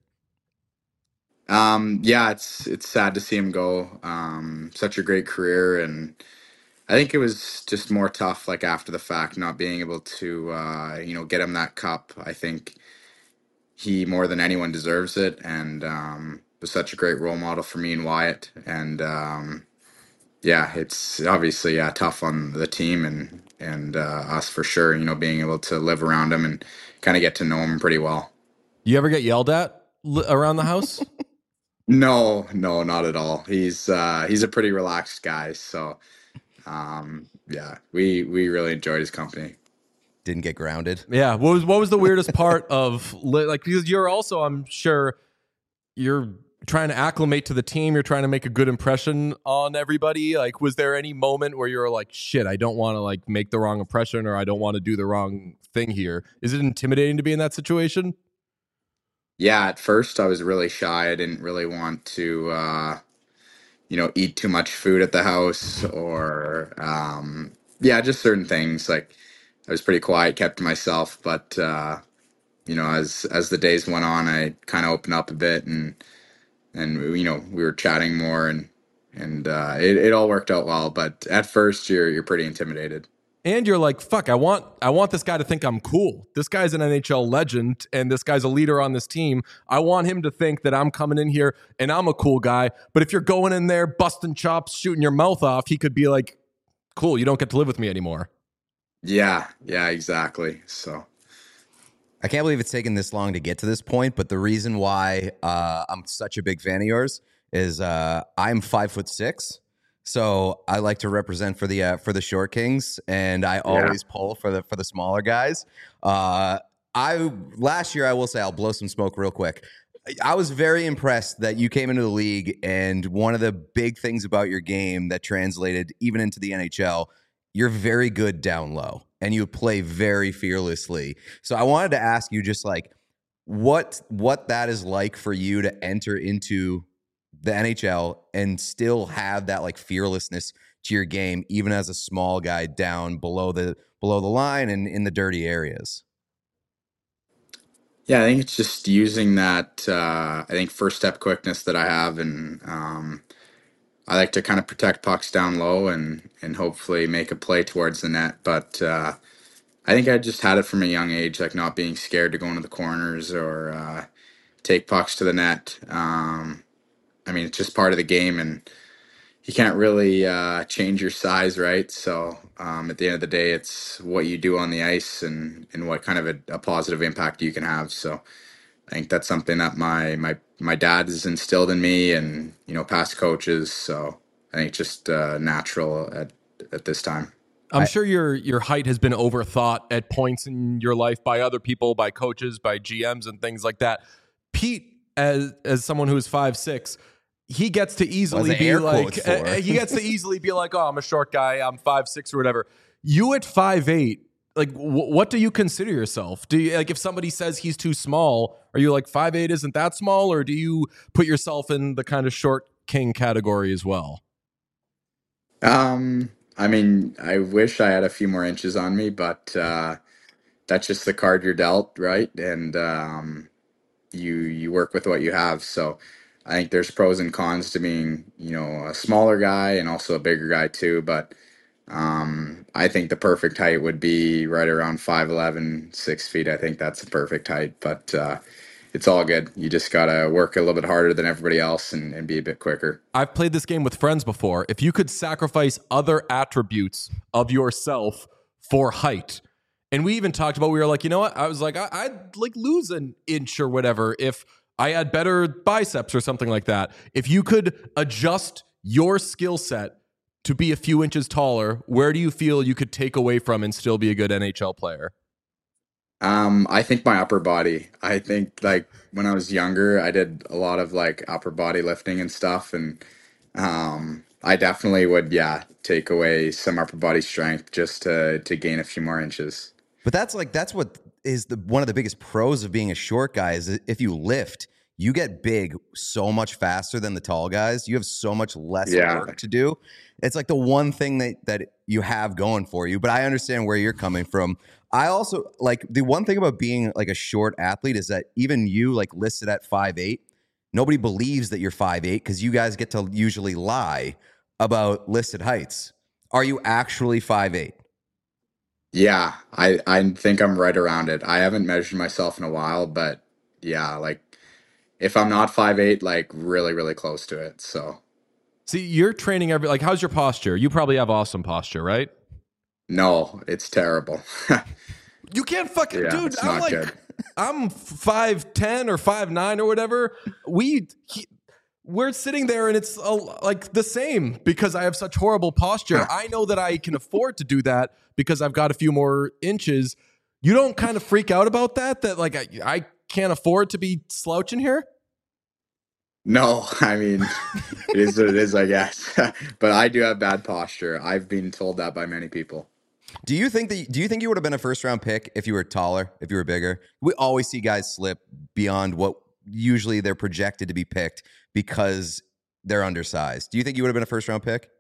Um, yeah, it's it's sad to see him go. Um, such a great career, and I think it was just more tough, like after the fact, not being able to, uh, you know, get him that cup. I think he more than anyone deserves it, and um, was such a great role model for me and Wyatt. And um, yeah, it's obviously yeah tough on the team and and uh, us for sure. You know, being able to live around him and kind of get to know him pretty well. You ever get yelled at li- around the house? No, no, not at all. He's uh, he's a pretty relaxed guy. So um, yeah, we we really enjoyed his company. Didn't get grounded. Yeah. What was what was the weirdest part of li- like because you're also, I'm sure, you're trying to acclimate to the team. You're trying to make a good impression on everybody. Like, was there any moment where you're like, shit, I don't want to like make the wrong impression, or I don't want to do the wrong thing here? Is it intimidating to be in that situation? Yeah, at first I was really shy. I didn't really want to, uh, you know, eat too much food at the house or, um, yeah, just certain things. Like I was pretty quiet, kept to myself. But uh, you know, as as the days went on, I kind of opened up a bit, and and you know, we were chatting more, and and uh, it it all worked out well. But at first, you're you're pretty intimidated. And you're like, fuck, I want I want this guy to think I'm cool. This guy's an N H L legend and this guy's a leader on this team. I want him to think that I'm coming in here and I'm a cool guy. But if you're going in there busting chops, shooting your mouth off, he could be like, cool, you don't get to live with me anymore. Yeah, yeah, exactly. So I can't believe it's taken this long to get to this point, but the reason why uh, I'm such a big fan of yours is uh, I'm five foot six, so I like to represent for the uh, for the short kings, and I always yeah. pull for the for the smaller guys. Uh, I last year, I will say, I'll blow some smoke real quick. I was very impressed that you came into the league, and one of the big things about your game that translated even into the N H L, you're very good down low. And you play very fearlessly. So I wanted to ask you just like what what that is like for you to enter into the N H L and still have that like fearlessness to your game, even as a small guy down below the below the line and in the dirty areas. Yeah, I think it's just using that. Uh, I think first step quickness that I have, and um, I like to kind of protect pucks down low and and hopefully make a play towards the net, but. Uh, I think I just had it from a young age, like not being scared to go into the corners or uh, take pucks to the net. Um, I mean, it's just part of the game, and you can't really uh, change your size, right? So um, at the end of the day, it's what you do on the ice and, and what kind of a, a positive impact you can have. So I think that's something that my my my dad has instilled in me, and you know, past coaches. So I think just uh, natural at at this time. I'm I, sure your your height has been overthought at points in your life by other people, by coaches, by G Ms and things like that. Pete, as as someone who is five six, he gets to easily be like uh, he gets to easily be like, oh, I'm a short guy, I'm five six or whatever. You at five eight, like w- what do you consider yourself? Do you like if somebody says he's too small, are you like five eight isn't that small, or do you put yourself in the kind of short king category as well? Um I mean, I wish I had a few more inches on me, but uh, that's just the card you're dealt, right? And um, you you work with what you have. So I think there's pros and cons to being, you know, a smaller guy and also a bigger guy too. But um, I think the perfect height would be right around five eleven, six feet. I think that's the perfect height. But uh, it's all good. You just got to work a little bit harder than everybody else and, and be a bit quicker. I've played this game with friends before. If you could sacrifice other attributes of yourself for height, and we even talked about, we were like, you know what? I was like, I, I'd like lose an inch or whatever if I had better biceps or something like that. If you could adjust your skill set to be a few inches taller, where do you feel you could take away from and still be a good N H L player? Um, I think my upper body. I think like when I was younger, I did a lot of like upper body lifting and stuff, and um, I definitely would, yeah, take away some upper body strength just to to gain a few more inches. But that's like that's what is the one of the biggest pros of being a short guy is if you lift, you get big so much faster than the tall guys. You have so much less Yeah. work to do. It's like the one thing that that you have going for you. But I understand where you're coming from. I also like the one thing about being like a short athlete is that even you like listed at five eight, nobody believes that you're five eight because you guys get to usually lie about listed heights. Are you actually five eight? Yeah, I I think I'm right around it. I haven't measured myself in a while, but yeah, like if I'm not five eight, like really, really close to it. So See, you're training every, like, how's your posture? You probably have awesome posture, right? no, it's terrible. You can't fucking, Yeah, dude. it's I'm not like, good. I'm five ten or five nine or whatever. We he, we're sitting there and it's uh, like the same because I have such horrible posture. I know that I can afford to do that because I've got a few more inches. You don't kind of freak out about that? That like I, I can't afford to be slouching here? No, I mean, it is what it is, I guess. But I do have bad posture. I've been told that by many people. Do you think that? Do you think you would have been a first round pick if you were taller, if you were bigger? We always see guys slip beyond what usually they're projected to be picked because they're undersized. Do you think you would have been a first round pick?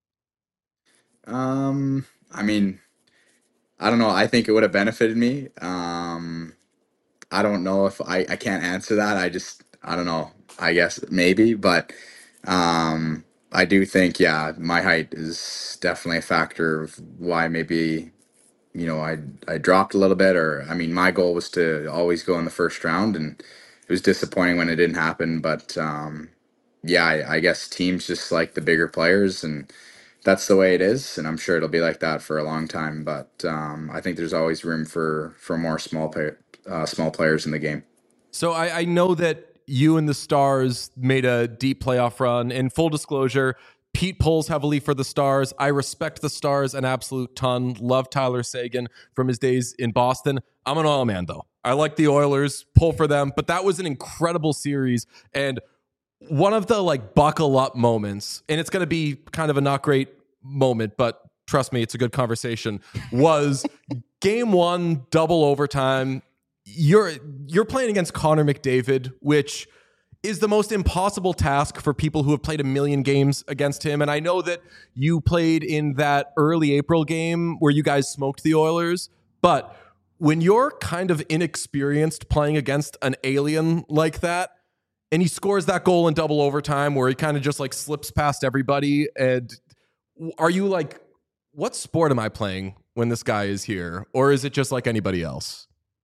Um, I mean, I don't know. I think it would have benefited me. Um, I don't know if I, I can't answer that. I just, I don't know. I guess maybe, but um, I do think, yeah, my height is definitely a factor of why maybe, you know, I I dropped a little bit. Or I mean, my goal was to always go in the first round, and it was disappointing when it didn't happen. But um, yeah, I, I guess teams just like the bigger players, and that's the way it is. And I'm sure it'll be like that for a long time. But um, I think there's always room for for more small play, uh, small players in the game. So I, I know that you and the Stars made a deep playoff run. In full disclosure, Pete pulls heavily for the Stars. I respect the Stars an absolute ton. Love Tyler Seguin from his days in Boston. I'm an Oil man, though. I like the Oilers, pull for them, but that was an incredible series. And one of the like buckle up moments, and it's going to be kind of a not great moment, but trust me, it's a good conversation, was game one, double overtime. You're you're playing against Connor McDavid, which is the most impossible task for people who have played a million games against him. And I know that you played in that early April game where you guys smoked the Oilers, but when you're kind of inexperienced playing against an alien like that, and he scores that goal in double overtime where he kind of just like slips past everybody, and are you like, what sport am I playing when this guy is here? Or is it just like anybody else?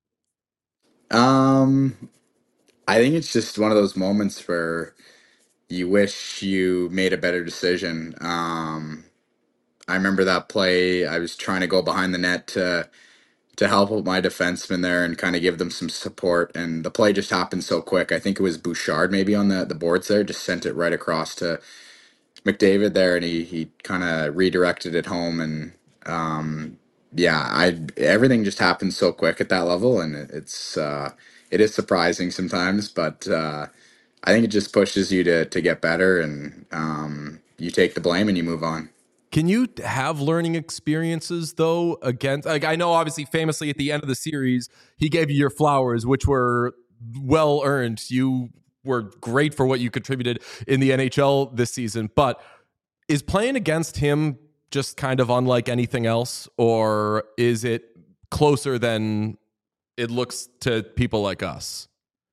Um, I think it's just one of those moments where you wish you made a better decision. Um, I remember that play. I was trying to go behind the net to to help with my defenseman there and kind of give them some support, and the play just happened so quick. I think it was Bouchard maybe on the the boards there, just sent it right across to McDavid there, and he he kind of redirected it home. And um, yeah, I everything just happened so quick at that level, and it, it's uh, it is surprising sometimes, but uh, I think it just pushes you to to get better, and um, you take the blame and you move on. Can you have learning experiences though against, like, I know obviously famously at the end of the series, he gave you your flowers, which were well earned. You were great for what you contributed in the N H L this season, but is playing against him just kind of unlike anything else, or is it closer than it looks to people like us?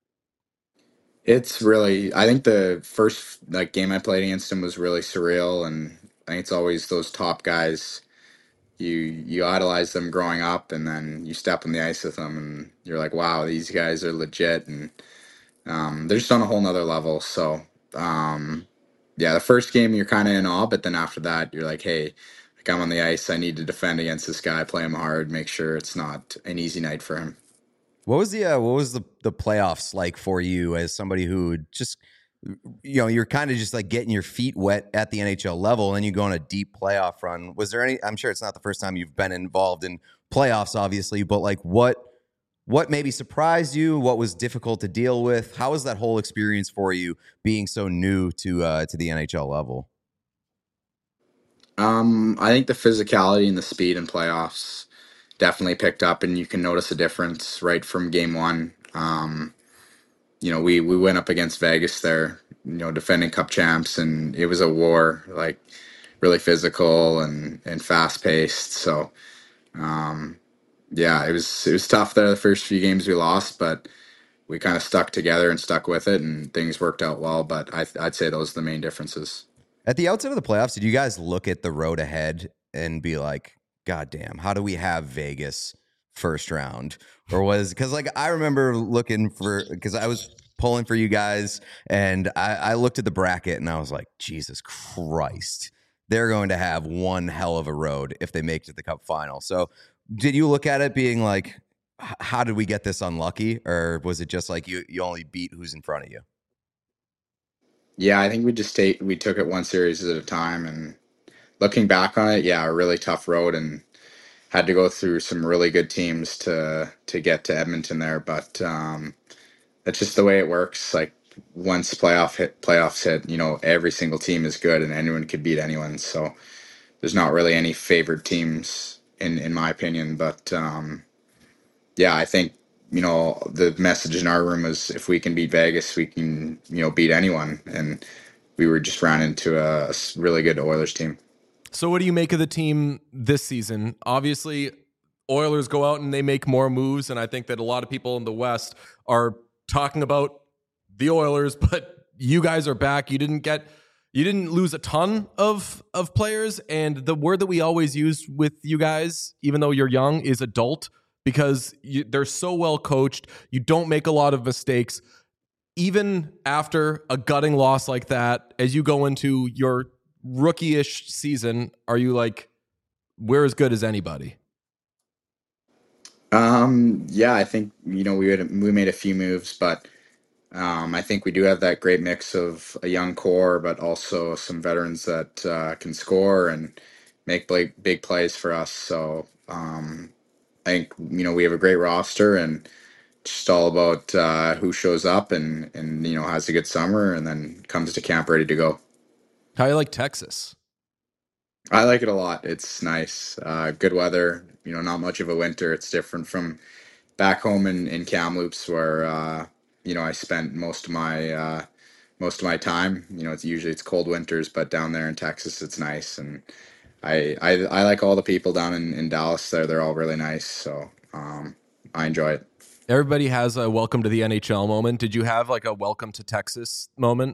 It's really, I think the first like game I played against him was really surreal, and I think it's always those top guys. You you idolize them growing up, and then you step on the ice with them, and you're like, wow, these guys are legit, and um, they're just on a whole nother level. So um, yeah, the first game you're kind of in awe, but then after that, you're like, hey, like I'm on the ice, I need to defend against this guy, play him hard, make sure it's not an easy night for him. What was the uh, what was the the playoffs like for you as somebody who just, you know, you're kind of just like getting your feet wet at the N H L level, and then you go on a deep playoff run? Was there any? I'm sure it's not the first time you've been involved in playoffs, obviously, but like what what maybe surprised you? What was difficult to deal with? How was that whole experience for you, being so new to uh, to the N H L level? Um, I think the physicality and the speed in playoffs definitely picked up, and you can notice a difference right from game one. Um, you know, we we went up against Vegas there, you know, defending Cup champs, and it was a war, like really physical and and fast paced. So, um, yeah, it was it was tough there. The first few games we lost, but we kind of stuck together and stuck with it, and things worked out well. But I, I'd say those are the main differences. At the outset of the playoffs, did you guys look at the road ahead and be like, God damn, how do we have Vegas first round? Or was, because like I remember looking for, because I was pulling for you guys, and I, I looked at the bracket and I was like, Jesus Christ, they're going to have one hell of a road if they make it to the Cup final. So did you look at it being like, how did we get this unlucky? Or was it just like you, you only beat who's in front of you? Yeah, I think we just take we took it one series at a time, and looking back on it, yeah, a really tough road, and had to go through some really good teams to to get to Edmonton there. But um, that's just the way it works. Like once playoff hit playoffs hit, you know, every single team is good, and anyone could beat anyone. So there's not really any favored teams in in my opinion. But um, yeah, I think you know the message in our room was if we can beat Vegas, we can you know beat anyone, and we were just ran into a, a s- really good Oilers team. So, what do you make of the team this season? Obviously, Oilers go out and they make more moves, and I think that a lot of people in the West are talking about the Oilers, but you guys are back. You didn't get, you didn't lose a ton of of players, and the word that we always use with you guys, even though you're young, is adult because you, they're so well coached. You don't make a lot of mistakes. Even after a gutting loss like that, as you go into your rookie-ish season, are you like, we're as good as anybody? Um, yeah, I think you know we had we made a few moves, but um, I think we do have that great mix of a young core, but also some veterans that uh, can score and make big big plays for us. So um, I think you know we have a great roster, and just all about uh, who shows up and and you know has a good summer, and then comes to camp ready to go. How you like Texas? I like it a lot. It's nice, uh, good weather. You know, not much of a winter. It's different from back home in, in Kamloops where uh, you know I spent most of my uh, most of my time. You know, it's usually it's cold winters, but down there in Texas, it's nice, and I I, I like all the people down in, in Dallas. There, they're all really nice, so um, I enjoy it. Everybody has a welcome to the N H L moment. Did you have like a welcome to Texas moment?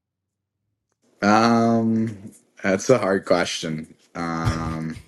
Um, that's a hard question. Um,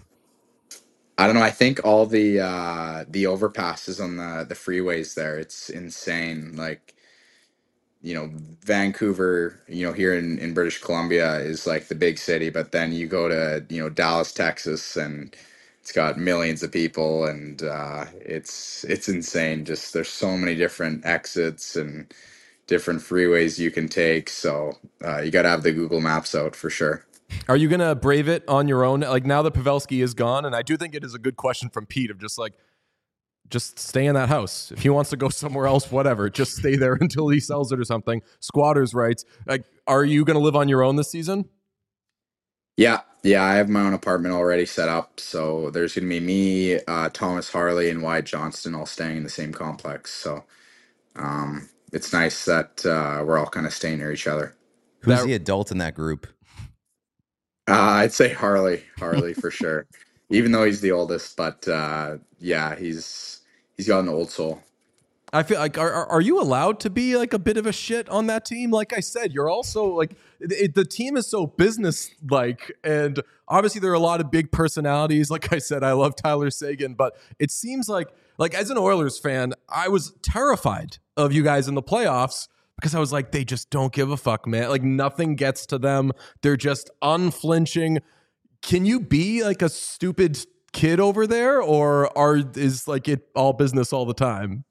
I don't know. I think all the uh, the overpasses on the the freeways there, it's insane. Like you know, Vancouver, you know, here in, in British Columbia is like the big city, but then you go to, you know, Dallas, Texas, and it's got millions of people and uh, it's it's insane. Just there's so many different exits and different freeways you can take. So uh, you got to have the Google Maps out for sure. Are you gonna brave it on your own? Like now that Pavelski is gone, and I do think it is a good question from Pete of just like, just stay in that house. If he wants to go somewhere else, whatever, just stay there until he sells it or something. Squatters' rights. Like, are you gonna live on your own this season? Yeah, yeah, I have my own apartment already set up. So there's going to be me, uh, Thomas Harley, and Wyatt Johnston all staying in the same complex. So um, it's nice that uh, we're all kind of staying near each other. Who's That the adult in that group? Uh, I'd say Harley, Harley for sure. Even though he's the oldest, but uh, yeah, he's he's got an old soul. I feel like are are are you allowed to be like a bit of a shit on that team? Like I said, you're also like it, it- the team is so business like, and obviously there are a lot of big personalities. Like I said, I love Tyler Sagan, but it seems like like as an Oilers fan, I was terrified of you guys in the playoffs because I was like, they just don't give a fuck, man. Like nothing gets to them. They're just unflinching. Can you be like a stupid kid over there, or are is like it all business all the time?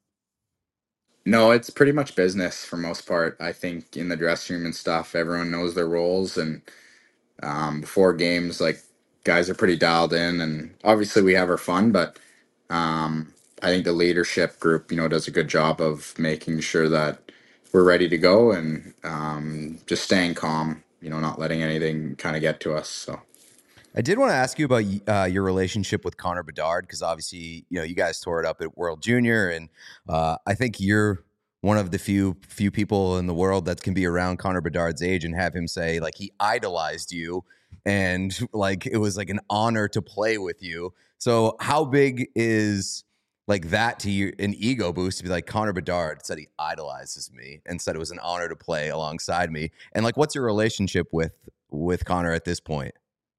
No, it's pretty much business for most part. I think in the dressing room and stuff, everyone knows their roles, and um, before games, like guys are pretty dialed in, and obviously we have our fun, but um, I think the leadership group, you know, does a good job of making sure that we're ready to go and um, just staying calm. You know, not letting anything kind of get to us. So. I did want to ask you about uh, your relationship with Connor Bedard because obviously, you know, you guys tore it up at World Junior, and uh, I think you're one of the few few people in the world that can be around Connor Bedard's age and have him say like he idolized you and like it was like an honor to play with you. So, how big is like that to you, an ego boost to be like Connor Bedard said he idolizes me and said it was an honor to play alongside me, and like what's your relationship with with Connor at this point?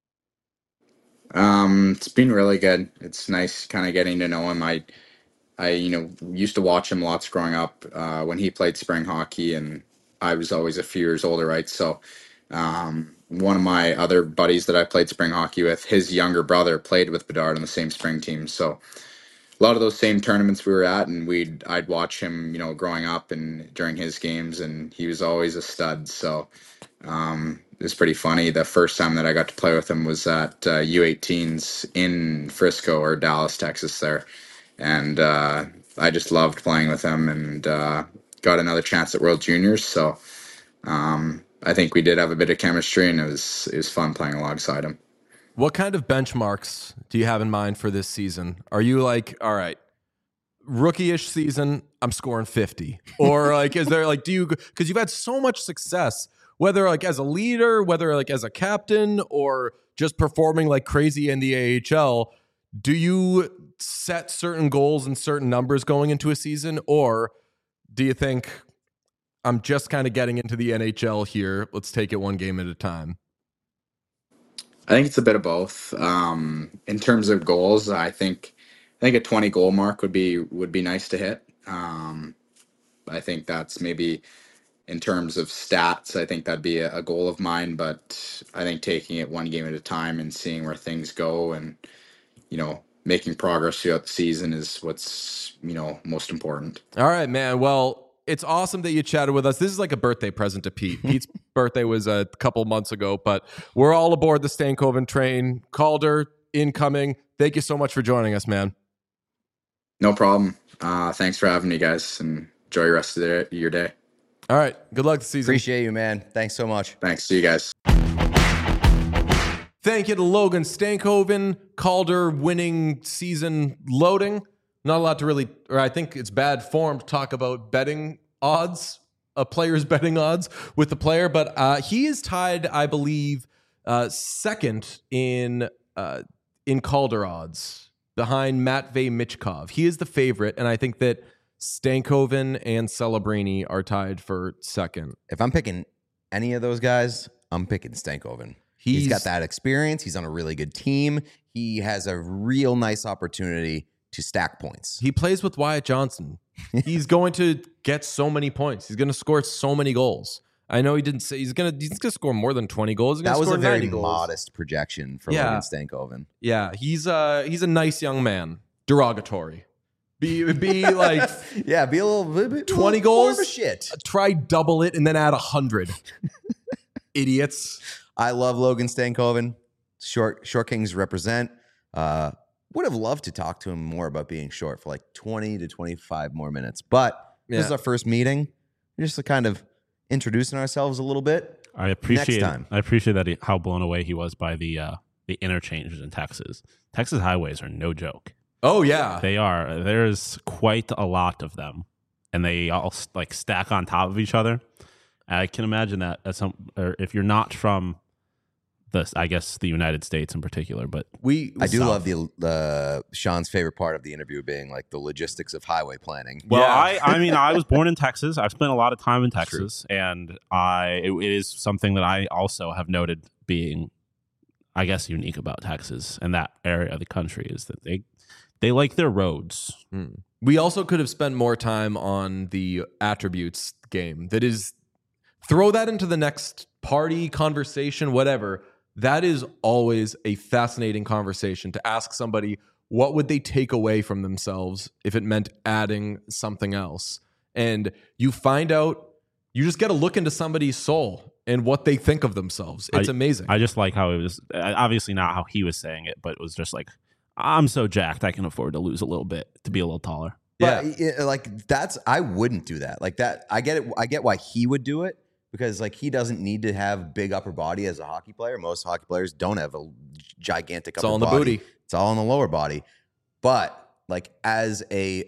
Um, it's been really good. It's nice kind of getting to know him. I, I, you know, used to watch him lots growing up uh, when he played spring hockey, and I was always a few years older, right? So, um, one of my other buddies that I played spring hockey with, his younger brother played with Bedard on the same spring team. So, a lot of those same tournaments we were at, and we'd I'd watch him, you know, growing up and during his games, and he was always a stud. So um, it was pretty funny. The first time that I got to play with him was at uh, U eighteens in Frisco or Dallas, Texas, there, and uh, I just loved playing with him, and uh, got another chance at World Juniors. So um, I think we did have a bit of chemistry, and it was it was fun playing alongside him. What kind of benchmarks do you have in mind for this season? Are you like, all right, rookie-ish season, I'm scoring fifty? Or like, is there like, do you, because you've had so much success, whether like as a leader, whether like as a captain, or just performing like crazy in the A H L, do you set certain goals and certain numbers going into a season? Or do you think, I'm just kind of getting into the N H L here, let's take it one game at a time? I think it's a bit of both. Um, in terms of goals, I think I think a twenty goal mark would be would be nice to hit. Um, I think that's maybe in terms of stats. I think that'd be a, a goal of mine. But I think taking it one game at a time and seeing where things go, and you know, making progress throughout the season is what's you know most important. All right, man. Well, it's awesome that you chatted with us. This is like a birthday present to Pete. Pete's birthday was a couple months ago, but we're all aboard the Stankoven train. Calder, incoming. Thank you so much for joining us, man. No problem. Uh, thanks for having me, guys, and enjoy the rest of the, your day. All right. Good luck this season. Appreciate you, man. Thanks so much. Thanks. See you guys. Thank you to Logan Stankoven. Calder winning season loading. Not a lot to really, or I think it's bad form to talk about betting odds, a player's betting odds with the player, but uh, he is tied, I believe, uh, second in uh, in Calder odds behind Matvey Michkov. He is the favorite, and I think that Stankoven and Celebrini are tied for second. If I'm picking any of those guys, I'm picking Stankoven. He's, he's got that experience. He's on a really good team. He has a real nice opportunity to stack points. He plays with Wyatt Johnson. He's going to get so many points. He's going to score so many goals. I know he didn't say he's going to. He's going to score more than twenty goals. He's that was score a very goals. modest projection for Yeah. Logan Stankoven. Yeah, he's uh he's a nice young man. Derogatory. Be be like yeah, be a little bit twenty little more goals. of a shit. Try double it and then add a hundred. Idiots. I love Logan Stankoven. Short Short Kings represent. Uh, would have loved to talk to him more about being short for like twenty to twenty-five more minutes. But Yeah. this is our first meeting. We're just kind of introducing ourselves a little bit. I appreciate Next time. I appreciate that he, how blown away he was by the uh, the interchanges in Texas. Texas highways are no joke. Oh yeah. They are. There's quite a lot of them, and they all like stack on top of each other. I can imagine that as some, or if you're not from the, I guess the United States in particular, but We I do South. love the the Sean's favorite part of the interview being like the logistics of highway planning. well, Yeah. I I mean I was born in Texas. I've spent a lot of time in True. Texas, and I it, it is something that I also have noted being, I guess, unique about Texas and that area of the country is that they they like their roads. Mm. We also could have spent more time on the attributes game. That is, throw that into the next party, conversation, whatever. That is always a fascinating conversation to ask somebody what would they take away from themselves if it meant adding something else. And you find out, you just get a look into somebody's soul and what they think of themselves. It's amazing. I just like how it was, uh, obviously not how he was saying it, but it was just like, I'm so jacked I can afford to lose a little bit to be a little taller. yeah. But it- like that's I wouldn't do that. Like that I get it. I get why he would do it because like he doesn't need to have big upper body as a hockey player. Most hockey players don't have a gigantic It's upper all in the body. booty. It's all in the lower body. But like as a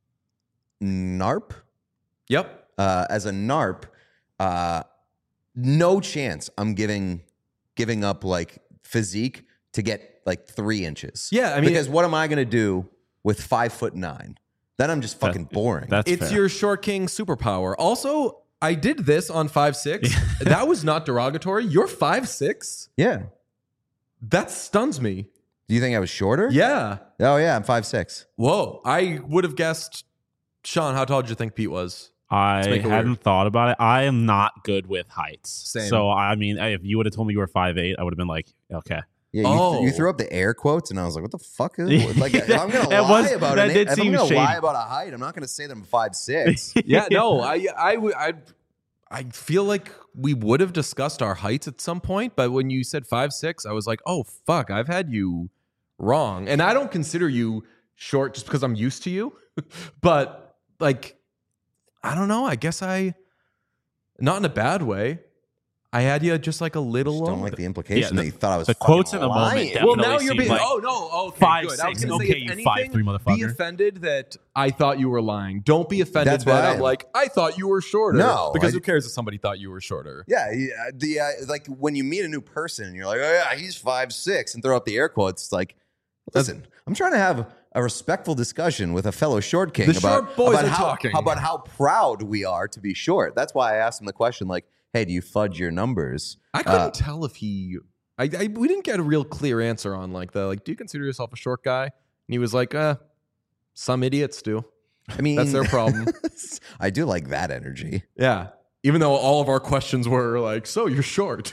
NARP, Yep. uh, as a NARP, uh, no chance I'm giving giving up like physique to get like three inches. Yeah, I mean, because what am I going to do with five foot nine? Then I'm just fucking That- boring. That's It's fair. your short king superpower. Also, I did this on five six. That was not derogatory. You're five six. yeah. That stuns me. Do you think I was shorter? Yeah. Oh yeah, I'm five six. Whoa. I would have guessed. Sean, how tall did you think Pete was? I make it hadn't weird. thought about it. I am not good with heights. Same. So I mean, if you would have told me you were five eight, I would have been like, okay, Yeah, you, Oh. th- you threw up the air quotes, and I was like, "What the fuck is it?" Like, if I'm gonna That lie was- about that it, did if I'm seem gonna lie shady. about a height, I'm not gonna say that I'm five six. Yeah, no, I, I, would- I, I feel like we would have discussed our heights at some point, but when you said five six, I was like, oh fuck, I've had you wrong, and I don't consider you short just because I'm used to you, but like, I don't know. I guess I, not in a bad way. I had you just like a little. Just don't lower. like the implication Yeah, the- that you thought I was the fucking quotes in the moment lying. definitely Well, now you're seem being. like oh no, okay, five, good. I was six, gonna say, okay, if you five, anything, three, be motherfucker. offended that I thought you were lying. Don't be offended That's that why I'm I'm- like I thought you were shorter. No, because I- who cares if somebody thought you were shorter? Yeah, yeah, the uh, like when you meet a new person and you're like, oh yeah, he's five six, and throw up the air quotes. It's like, listen, I'm trying to have a respectful discussion with a fellow short king The about short boys about are how, talking. about how proud we are to be short. That's why I asked him the question, like, hey, do you fudge your numbers? I couldn't Uh, tell if he. I, I we didn't get a real clear answer on like the like. Do you consider yourself a short guy? And he was like, uh, some idiots do. I mean, That's their problem. I do like that energy. Yeah. Even though all of our questions were like, so you're short.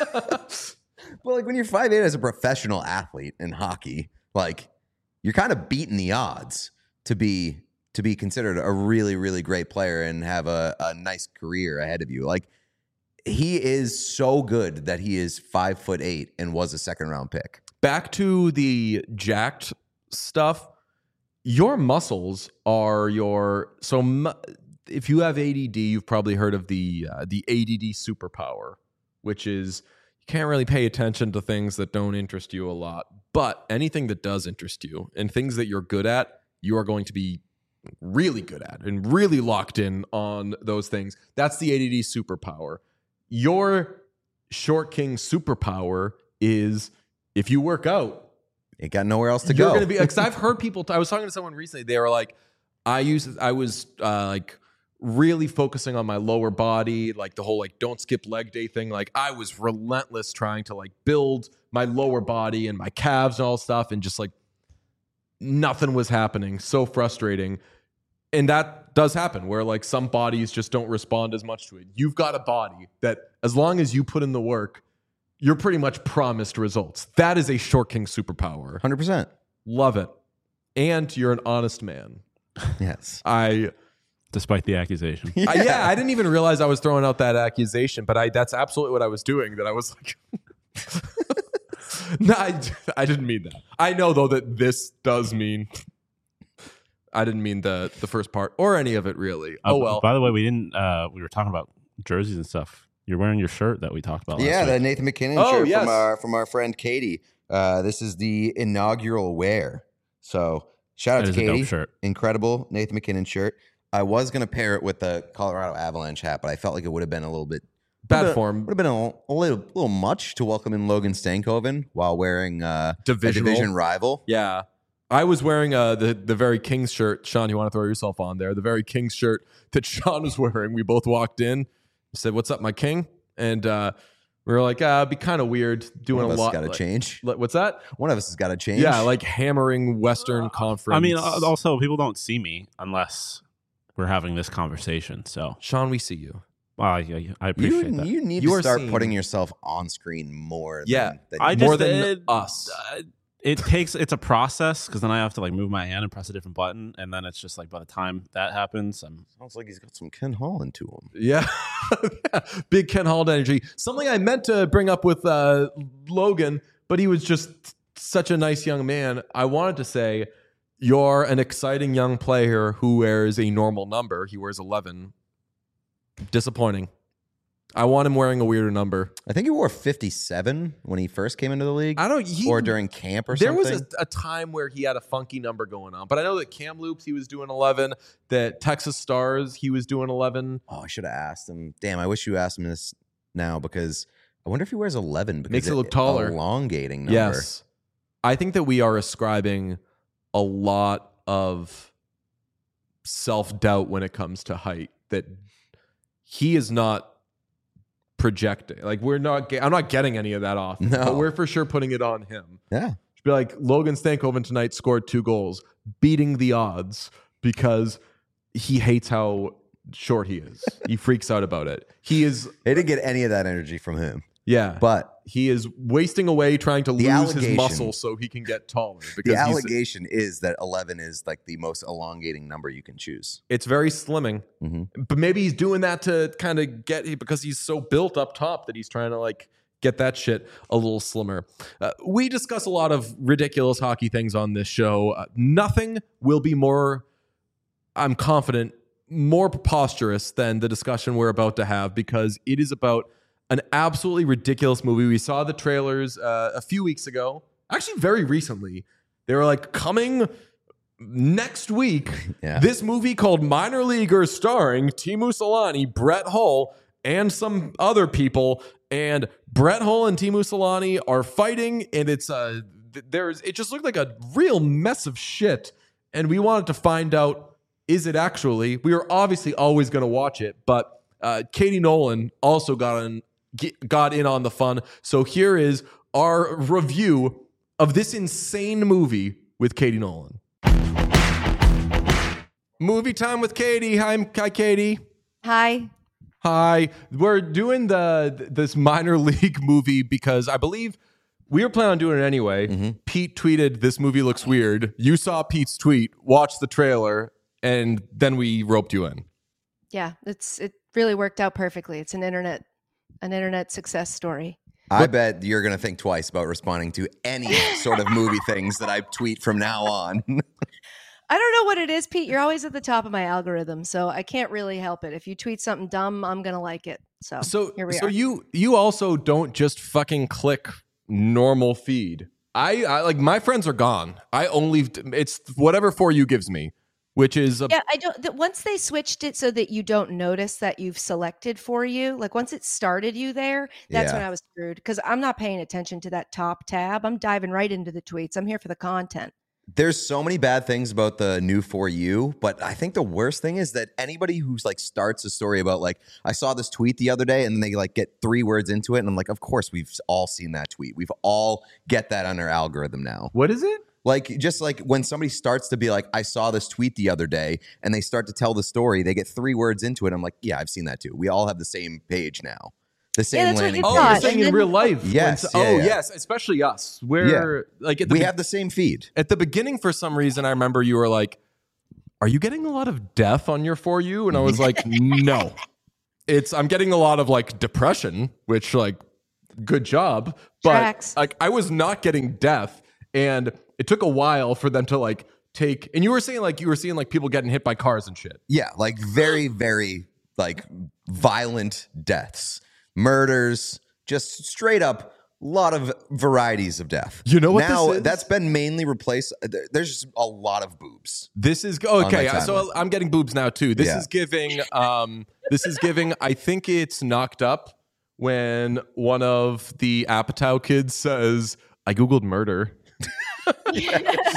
Well, like when you're five eight as a professional athlete in hockey, like you're kind of beating the odds to be to be considered a really, really great player and have a, a nice career ahead of you. Like he is so good that he is five foot eight and was a second round pick. Back to the jacked stuff. Your muscles are your so mu- if you have A D D, you've probably heard of the uh, the A D D superpower, which is you can't really pay attention to things that don't interest you a lot, but anything that does interest you and things that you're good at, you are going to be really good at and really locked in on those things. That's the A D D superpower. Your short king superpower is if you work out, Ain't got nowhere else to you're go. going to be because I've heard people. I was talking to someone recently. They were like, I used. I was uh, like really focusing on my lower body, like the whole like don't skip leg day thing. Like I was relentless trying to like build my lower body and my calves and all stuff, and just like nothing was happening. So frustrating. And that does happen where like some bodies just don't respond as much to it. You've got a body that as long as you put in the work, you're pretty much promised results. That is a short king superpower. one hundred percent. Love it. And you're an honest man. Yes. I, Despite the accusation. yeah. I yeah, I didn't even realize I was throwing out that accusation, but I that's absolutely what I was doing. That I was like, no, I, I didn't mean that. I know though that this does mean. I didn't mean the the first part or any of it really. Uh, Oh well. By the way, we didn't. Uh, we were talking about jerseys and stuff. You're wearing your shirt that we talked about. Last Yeah, week. the Nathan McKinnon Oh, shirt yes. from our from our friend Katie. Uh, this is the inaugural wear. So shout out That to is a dope Katie. shirt. Incredible Nathan McKinnon shirt. I was gonna pair it with the Colorado Avalanche hat, but I felt like it would have been a little bit Bad would've- form. Would have been a, a little little much to welcome in Logan Stankoven while wearing uh, a Divisional. division rival. Yeah. I was wearing uh, the, the very Kings shirt. Sean, you want to throw yourself on there? The very Kings shirt that Sean was wearing. We both walked in, said, "What's up, my king?" And uh, we were like, uh, it'd be kind of weird doing One a of us lot. got to like- change. like, what's that? One of us has got to change. Yeah, like hammering Western Conference. I mean, uh, also people don't see me unless we're having this conversation. So, Sean, we see you. well, I, I I you appreciate that. you need You to are start seen. putting yourself on screen more. Yeah, than, than I you- just- More than it- us. Uh, it takes it's a process because then I have to like move my hand and press a different button, and then it's just like by the time that happens, I'm sounds like he's got some Ken Holland to him. Yeah. Big Ken Holland energy. Something I meant to bring up with uh, Logan, but he was just such a nice young man. I wanted to say, you're an exciting young player who wears a normal number. He wears eleven. Disappointing. I want him wearing a weirder number. I think he wore fifty-seven when he first came into the league, I don't. He, or during camp or there something. was a, a time where he had a funky number going on, but I know that Kamloops he was doing eleven. That Texas Stars he was doing eleven. Oh, I should have asked him. Damn, I wish you asked him this now because I wonder if he wears eleven because Makes it look taller. Elongating number. Yes. I think that we are ascribing a lot of self-doubt when it comes to height, that he is not projecting. Like we're not, ge- I'm not getting any of that off. No. But we're for sure putting it on him. Yeah. Should be like, Logan Stankoven tonight scored two goals, beating the odds because he hates how short he is. He freaks out about it. He is They didn't get any of that energy from him. Yeah. But he is wasting away trying to The lose his allegation- muscle so he can get taller. the Because he's, allegation is that eleven is like the most elongating number you can choose. it's very slimming. Mhm. But maybe he's doing that to kind of get, because he's so built up top that he's trying to like get that shit a little slimmer. Uh, we discuss a lot of ridiculous hockey things on this show. Uh, nothing will be more, I'm confident, more preposterous than the discussion we're about to have, because it is about an absolutely ridiculous movie. We saw the trailers uh, a few weeks ago, actually very recently. They were like, coming next week, Yeah. this movie called Minor Leaguers, starring Timu Solani, Brett Hull, and some other people. And Brett Hull and Timu Solani are fighting, and it's uh, th- there's it just looked like a real mess of shit. And we wanted to find out, is it actually? We are obviously always going to watch it, but uh, Katie Nolan also got in got in on the fun. So here is our review of this insane movie with Katie Nolan. Movie time with Katie. Hi, hi, Katie. Hi. Hi. We're doing the this minor league movie because I believe we were planning on doing it anyway. Mm-hmm. Pete tweeted, "This movie looks weird." You saw Pete's tweet, watched the trailer, and then we roped you in. Yeah, it's it really worked out perfectly. It's an internet an internet success story. I bet you're going to think twice about responding to any sort of movie things that I tweet from now on. I don't know what it is, Pete. You're always at the top of my algorithm, so I can't really help it. If you tweet something dumb, I'm gonna like it. So, So, here we so are. you you also don't just fucking click normal feed. I, I like my friends are gone. I only it's whatever For You gives me, which is a, Yeah, I don't. The, once they switched it so that you don't notice that you've selected For You, like once it started you there, that's Yeah. when I was screwed because I'm not paying attention to that top tab. I'm diving right into the tweets. I'm here for the content. There's so many bad things about the new For You, but I think the worst thing is that anybody who's like starts a story about like, I saw this tweet the other day, and then they like get three words into it, and I'm like, of course we've all seen that tweet. We've all get that on our algorithm now. what is it? Like just like when somebody starts to be like, I saw this tweet the other day, and they start to tell the story, they get three words into it. I'm like, yeah, I've seen that too. We all have the same page now. The same that's what landing it's Oh, page. you're not. saying And in then- real life? when Yes, s- yeah, oh, yeah. yes, especially us. We're like at the We be- have the same feed. at the beginning for some reason. I remember you were like, "Are you getting a lot of death on your For You?" And I was like, "No, it's I'm getting a lot of like depression, which like good job, but Tracks. like I was not getting death, and it took a while for them to like take." And you were saying like you were seeing like people getting hit by cars and shit. Yeah, like very, very like violent deaths, murders, just straight up lot of varieties of death. You know what now this is? that's been mainly replaced. there- There's just a lot of boobs. This is my okay. timeline. So I'm getting boobs now too. This Yeah. is giving. Um, this is giving. I think it's Knocked Up when one of the Apatow kids says, "I googled murder." You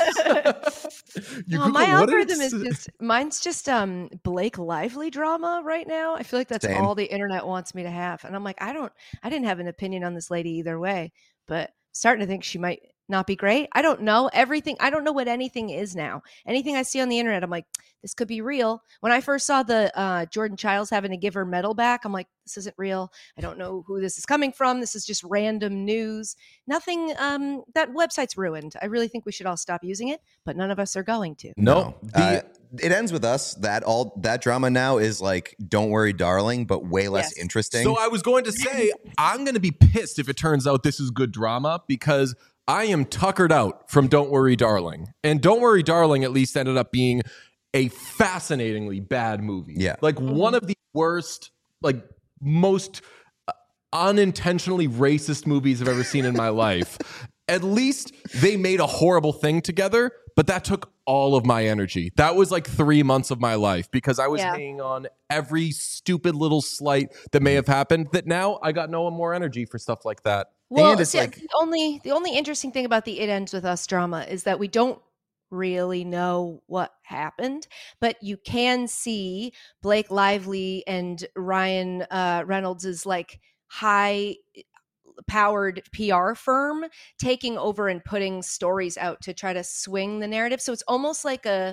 Oh, Google my what algorithm is it's- just mine's just um Blake Lively drama right now. I feel like that's Same. all the internet wants me to have, and I'm like, I don't, I didn't have an opinion on this lady either way, but starting to think she might not be great. I don't know everything. I don't know what anything is now. Anything I see on the internet, I'm like, this could be real. When I first saw the uh, Jordan Childs having to give her medal back, I'm like, this isn't real. I don't know who this is coming from. This is just random news. Nothing. Um, that website's ruined. I really think we should all stop using it, but none of us are going to. No, the, Uh, it ends with us. That all that drama now is like, don't worry, darling, but way less Yes. interesting. So I was going to say, I'm going to be pissed if it turns out this is good drama because I am tuckered out from Don't Worry, Darling. And Don't Worry, Darling at least ended up being a fascinatingly bad movie. Yeah. Like one of the worst, like most uh, unintentionally racist movies I've ever seen in my life. At least they made a horrible thing together, but that took all of my energy. That was like three months of my life because I was Yeah. hanging on every stupid little slight that may have happened that now I got no more energy for stuff like that. Well, And it's see, like- the only the only interesting thing about the It Ends With Us drama is that we don't really know what happened, but you can see Blake Lively and Ryan uh, Reynolds' like high powered P R firm taking over and putting stories out to try to swing the narrative. So it's almost like a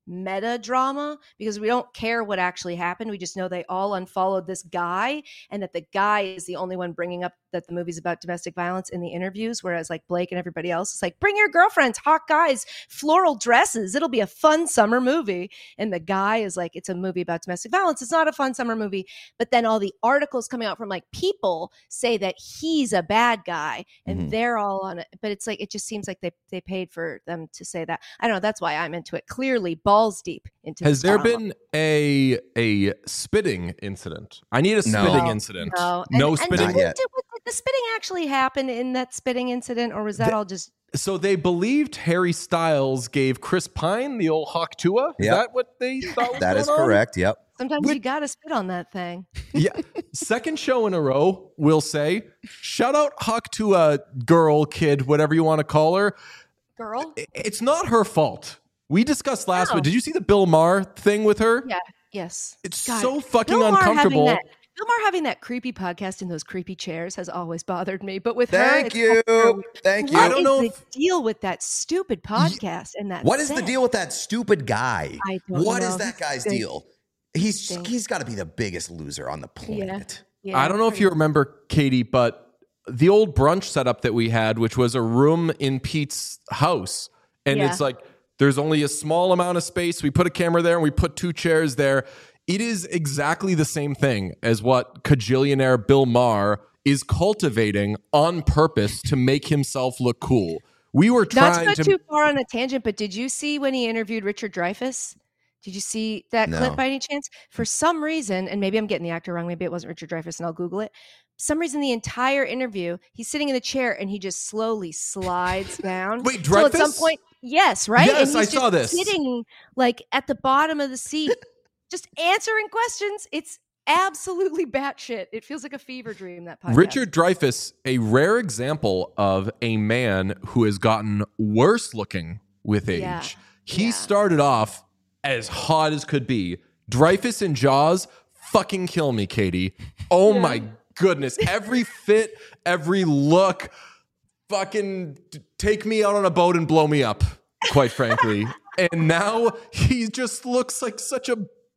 meta drama because we don't care what actually happened. We just know they all unfollowed this guy and that the guy is the only one bringing up that the movie's about domestic violence in the interviews, whereas like Blake and everybody else is like, bring your girlfriends, hot guys, floral dresses. It'll be a fun summer movie. And the guy is like, it's a movie about domestic violence. It's not a fun summer movie. But then all the articles coming out from like people say that he's a bad guy and Mhm. they're all on it. But it's like, it just seems like they, they paid for them to say that. I don't know. That's why I'm into it. Clearly balls deep into Has this there drama. been a a spitting incident? I need a No. spitting No, incident. No, No and, spitting. And Not did, yet. did, did the spitting actually happen in that spitting incident, or was that The- all just? So they believed Harry Styles gave Chris Pine the old Hawk Tua. Is Yep. that what they thought was That going is on? correct. Yep. Sometimes Which- you gotta spit on that thing. Yeah. Second show in a row, we'll say. Shout out Hawk Tua girl, kid, whatever you want to call her. Girl. I- It's not her fault. We discussed last No. week. Did you see the Bill Maher thing with her? Yeah. Yes. It's God, so fucking Bill Maher having uncomfortable. that- Bill Maher having that creepy podcast in those creepy chairs has always bothered me. But with her, Thank it's you. also- Thank What you. I don't is know the if- deal with that stupid podcast and that? What is the set? deal with that stupid guy? I don't What know. is that He guy's stinks. deal? He's Stinks. he's got to be the biggest loser on the planet. Yeah, I don't know if pretty you much. remember, Katie, but the old brunch setup that we had, which was a room in Pete's house, and Yeah. it's like there's only a small amount of space. We put a camera there and we put two chairs there. It is exactly the same thing as what cajillionaire Bill Maher is cultivating on purpose to make himself look cool. We were Not to trying go to. too far on a tangent, but did you see when he interviewed Richard Dreyfuss? Did you see that No. clip by any chance? For some reason, and maybe I'm getting the actor wrong, maybe it wasn't Richard Dreyfuss, and I'll Google it. For some reason, the entire interview, he's sitting in the chair and he just slowly slides down. Wait, So at some Dreyfuss? point, yes, right? Yes, and he's I just saw this. sitting like at the bottom of the seat, just answering questions. It's absolutely batshit. It feels like a fever dream. That podcast. Richard Dreyfuss, a rare example of a man who has gotten worse looking with age. Yeah, He yeah. started off as hot as could be. Dreyfuss in Jaws, fucking kill me, Katie. Oh Yeah. my goodness. Every fit, every look, fucking t- take me out on a boat and blow me up, quite frankly. And now he just looks like such a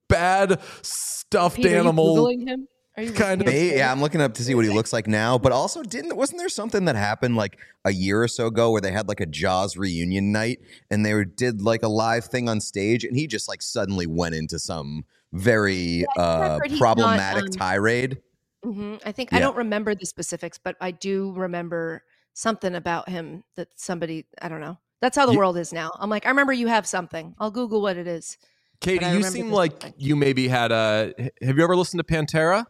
bad stuffed Pete, are you animal. Googling him? Are you kind looking of- at his Hey, yeah, face? I'm looking up to see what he looks like now. But also, didn't wasn't there something that happened like a year or so ago where they had like a Jaws reunion night and they were, did like a live thing on stage and he just like suddenly went into some very I uh, heard he's problematic not, um, tirade. hmm I think Yeah. I don't remember the specifics, but I do remember something about him that somebody I don't know. That's how the Ye- world is now. I'm like, I remember you have something. I'll Google what it is. Katie, I you remember seem this like thing. you maybe had a. Have you ever listened to Pantera?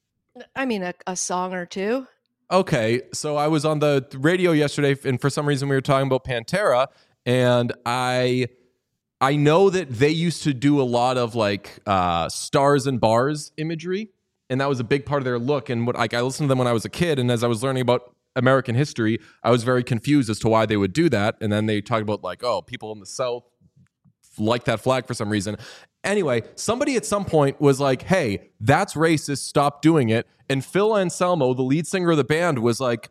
I mean, a, a song or two. Okay, so I was on the radio yesterday, and for some reason we were talking about Pantera, and I, I know that they used to do a lot of like uh, stars and bars imagery, and that was a big part of their look. And what like I listened to them when I was a kid, and as I was learning about American history, I was very confused as to why they would do that. And then they talked about like, oh, people in the South like that flag for some reason. Anyway, somebody at some point was like, hey, that's racist. Stop doing it. And Phil Anselmo, the lead singer of the band, was like,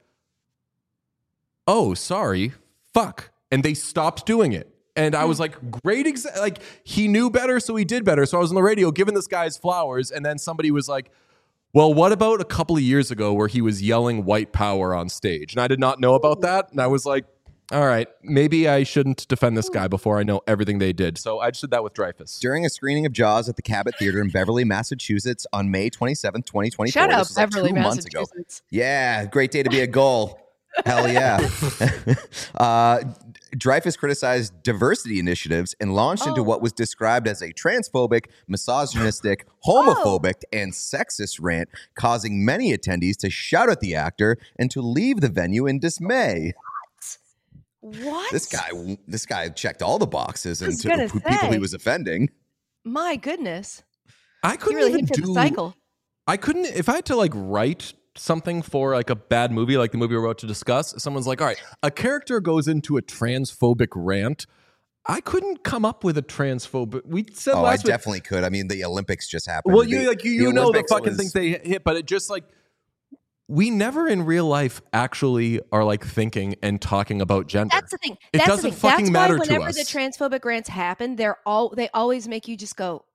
oh, sorry. Fuck. And they stopped doing it. And I was like, great. Exa-. Like, he knew better, so he did better. So I was on the radio giving this guy his flowers. And then somebody was like, well, what about a couple of years ago where he was yelling white power on stage? And I did not know about that. And I was like, all right, maybe I shouldn't defend this guy before I know everything they did. So I just did that with Dreyfuss. During a screening of Jaws at the Cabot Theater in Beverly, Massachusetts on May twenty-seventh, twenty twenty-four. Shout out This was like Beverly, two months ago. Massachusetts. Yeah, great day to be a goal. Hell yeah. uh, Dreyfuss criticized diversity initiatives and launched into Oh. what was described as a transphobic, misogynistic, homophobic, and sexist rant, causing many attendees to shout at the actor and to leave the venue in dismay. What? This guy, this guy checked all the boxes I was into gonna who people he say. was offending. My goodness. I He couldn't really even hit for the do. cycle. I couldn't if I had to like write something for like a bad movie, like the movie we're about to discuss. Someone's like, all right, a character goes into a transphobic rant. I couldn't come up with a transphobic. We said Oh, I last week. definitely could. I mean, the Olympics just happened. Well, The- you like you, the you know the Olympics fucking was- things they hit, but it just like we never in real life actually are like thinking and talking about gender. That's the thing. It That's doesn't the thing. fucking That's matter why to whenever us. the transphobic rants happen, they're all they always make you just go,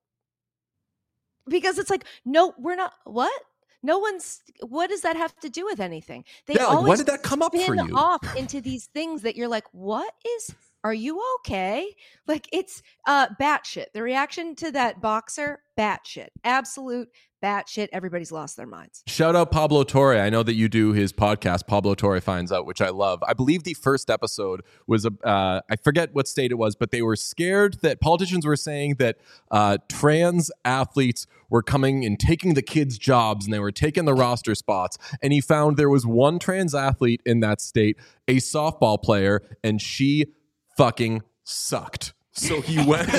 because it's like, no, we're not. What? No one's. What does that have to do with anything? They Yeah, like, always when did that come up for spin you? off into these things that you're like, what is? Are you okay? Like, it's uh batshit. The reaction to that boxer, batshit, absolute batshit. Everybody's lost their minds. Shout out Pablo Torre. I know that you do his podcast, Pablo Torre Finds Out, which I love. I believe the first episode was, a, uh, I forget what state it was, but they were scared that politicians were saying that uh, trans athletes were coming and taking the kids' jobs and they were taking the roster spots. And he found there was one trans athlete in that state, a softball player, and she fucking sucked. So he went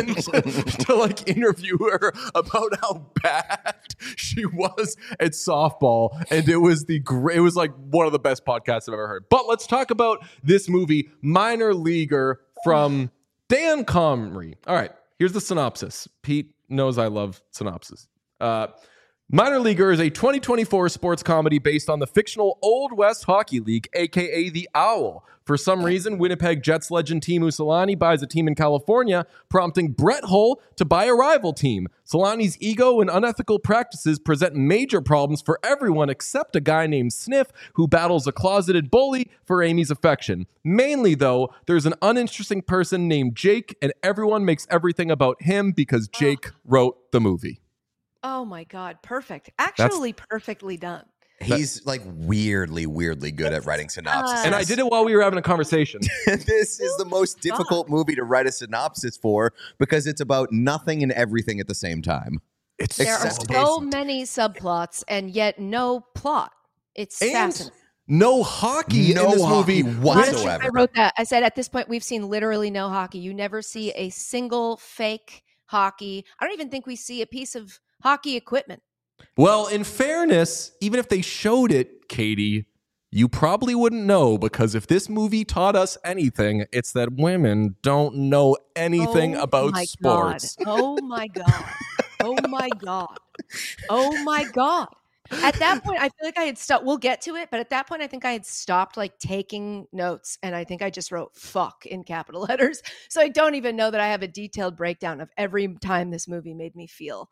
to like interview her about how bad she was at softball, and it was the great. It was like one of the best podcasts I've ever heard. But let's talk about this movie, Minor Leaguer, from Dan Comrie. All right, here's the synopsis. Pete knows I love synopsis. Uh, Minor Leaguer is a twenty twenty-four sports comedy based on the fictional Old West Hockey League, aka the Owl. For some reason, Winnipeg Jets legend Teemu Selanne buys a team in California, prompting Brett Hull to buy a rival team. Selanne's ego and unethical practices present major problems for everyone except a guy named Sniff, who battles a closeted bully for Amy's affection. Mainly, though, there's an uninteresting person named Jake, and everyone makes everything about him because Jake wrote the movie. Oh my God. Perfect. Actually, perfectly done. He's like weirdly, weirdly good at writing synopses. And I did it while we were having a conversation. This is the most difficult movie to write a synopsis for because it's about nothing and everything at the same time. It's There are Except- so many subplots and yet no plot. It's And fascinating. no hockey No in this hockey movie whatsoever. I wrote that. I said at this point, we've seen literally no hockey. You never see a single fake hockey. I don't even think we see a piece of hockey equipment. Well, in fairness, even if they showed it, Katie, you probably wouldn't know, because if this movie taught us anything, it's that women don't know anything Oh about my sports. God. Oh my God. Oh my God. Oh my God. At that point, I feel like I had stopped. We'll get to it, but at that point, I think I had stopped like taking notes, and I think I just wrote "fuck" in capital letters. So I don't even know that I have a detailed breakdown of every time this movie made me feel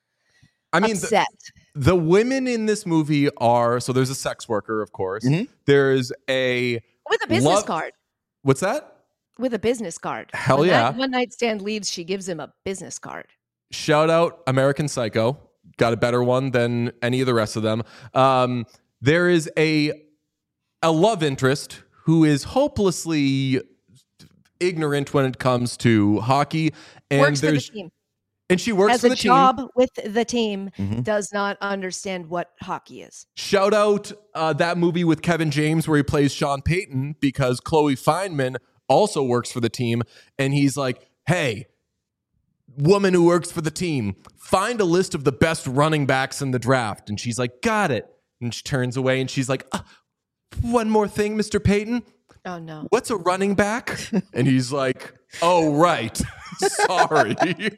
I mean, the, upset. the women in this movie are, so there's a sex worker, of course. Mhm. There's a, With a business love- card. what's that? With a business card. Hell when yeah. That one night stand leaves, she gives him a business card. Shout out American Psycho. Got a better one than any of the rest of them. Um, there is a a love interest who is hopelessly ignorant when it comes to hockey, and Works for the there's team. and she works Has for a the job team. with the team. Mhm. Does not understand what hockey is. Shout out uh, that movie with Kevin James where he plays Sean Payton, because Chloe Feynman also works for the team, and he's like, "Hey, woman who works for the team, find a list of the best running backs in the draft." And she's like, "Got it." And she turns away and she's like, uh, "One more thing, Mister Payton. Oh no. What's a running back?" And he's like, "Oh, right. Sorry.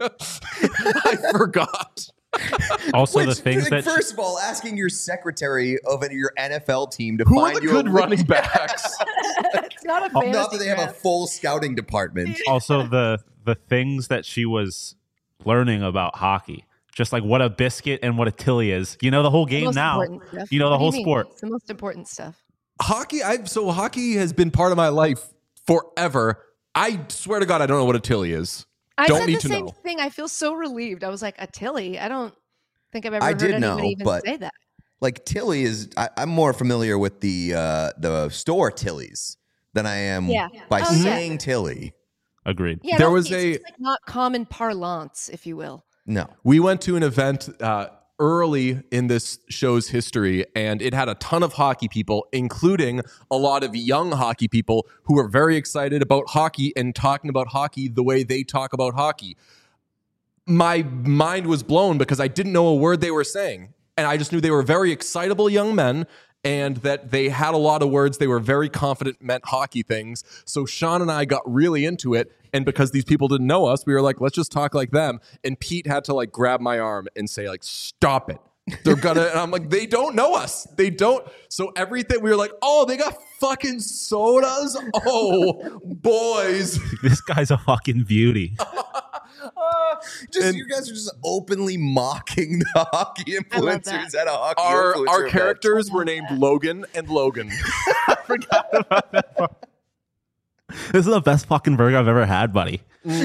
I forgot." Also, Which, the things like, that first of all, asking your secretary of your N F L team to Who are find the you good a running backs? It's not a Oh, fantasy not that they have a draft. full scouting department. also the the things that she was learning about hockey, just like what a biscuit and what a tilly is. You know the whole The game most now. important stuff. You know the What do whole mean? sport. It's the most important stuff. Hockey, I've so hockey has been part of my life forever. I swear to God, I don't know what a tilly is. I Don't said need the to same know. thing. I feel so relieved. I was like, a Tilly? I don't think I've ever I heard did anybody know, even but- say that. Like Tilly is, I, I'm more familiar with the uh, the store Tillies than I am Yeah. by Oh, yeah. saying Tilly. Agreed. Yeah, There no, was it's a- just like not common parlance, if you will. No. We went to an event uh, early in this show's history, and it had a ton of hockey people, including a lot of young hockey people who were very excited about hockey and talking about hockey the way they talk about hockey. My mind was blown because I didn't know a word they were saying. And I just knew they were very excitable young men, and that they had a lot of words they were very confident meant hockey things. So Sean and I got really into it. And because these people didn't know us, we were like, let's just talk like them. And Pete had to like grab my arm and say, like, stop it. They're gonna, and I'm like, they don't know us. They don't. So everything we were like, oh, they got fucking sodas. Oh, boys. This guy's a fucking beauty. Just And- you guys are just openly mocking the hockey I love influencers that. at a hockey Our influencer our event. characters were named Logan and Logan. I forgot about that part. This is the best fucking burger I've ever had, buddy.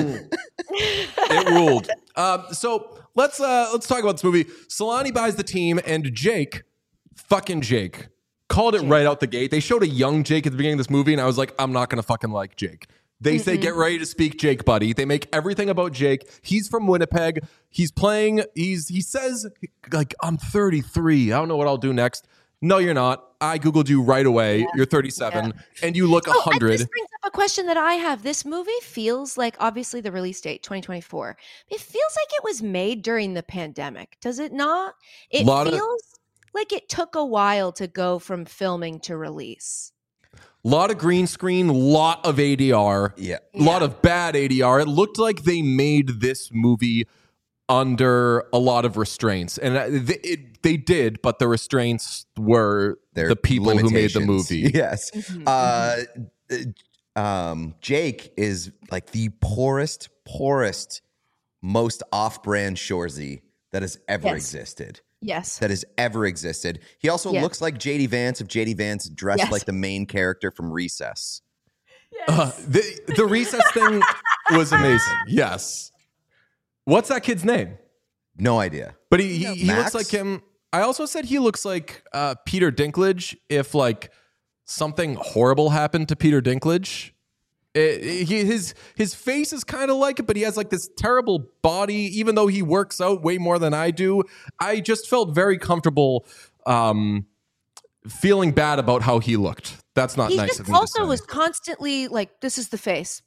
It ruled. Um, so let's uh, let's talk about this movie. Solani buys the team, and Jake, fucking Jake, called it right out the gate. They showed a young Jake at the beginning of this movie, and I was like, I'm not gonna fucking like Jake. They say, get ready to speak Jake, buddy. They make everything about Jake. He's from Winnipeg. He's playing. He's he says like, I'm thirty-three. I don't know what I'll do next. No, you're not. I Googled you right away. You're thirty-seven, and you look Oh, one hundred. This brings up a question that I have. This movie feels like, obviously, the release date, twenty twenty-four. It feels like it was made during the pandemic. Does it not? It Lot of- feels like it took a while to go from filming to release. Lot of green screen, lot of A D R. Yeah. A lot Yeah. of bad A D R. It looked like they made this movie under a lot of restraints, and it, it, they did, but the restraints were Their the people who made the limitations. movie. Yes. Mhm, Uh, um, Jake is like the poorest, poorest, most off-brand Shorzy that has ever Yes. existed. Yes. That has ever existed. He also Yeah. looks like J D Vance if J D Vance dressed Yes. like the main character from Recess. Uh, the the recess thing was amazing. Yes. What's that kid's name? No idea. But he he, he Max? looks like him. I also said he looks like uh, Peter Dinklage if like something horrible happened to Peter Dinklage. It- it- he, his his face is kind of like it, but he has like this terrible body. Even though he works out way more than I do, I just felt very comfortable um, feeling bad about how he looked. That's not He nice just of me to also say. was constantly like, this is the face.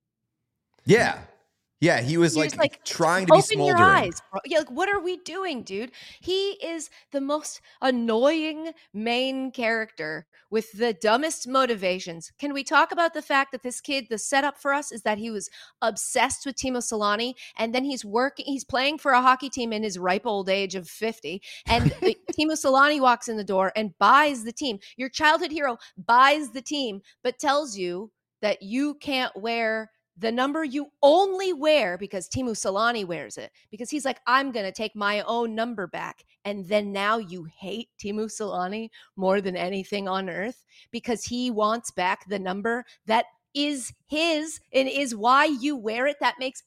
Yeah. Yeah, he was He like, was like, trying to be Open your smoldering. eyes, bro. Yeah, like, what are we doing, dude? He is the most annoying main character with the dumbest motivations. Can we talk about the fact that this kid, the setup for us is that he was obsessed with Timo Solani, and then he's working, he's playing for a hockey team in his ripe old age of fifty, and uh, Timo Solani walks in the door and buys the team. Your childhood hero buys the team, but tells you that you can't wear the number you only wear because Timo Solani wears it, because he's like, I'm going to take my own number back. And then now you hate Timo Solani more than anything on earth because he wants back the number that is his and is why you wear it. That makes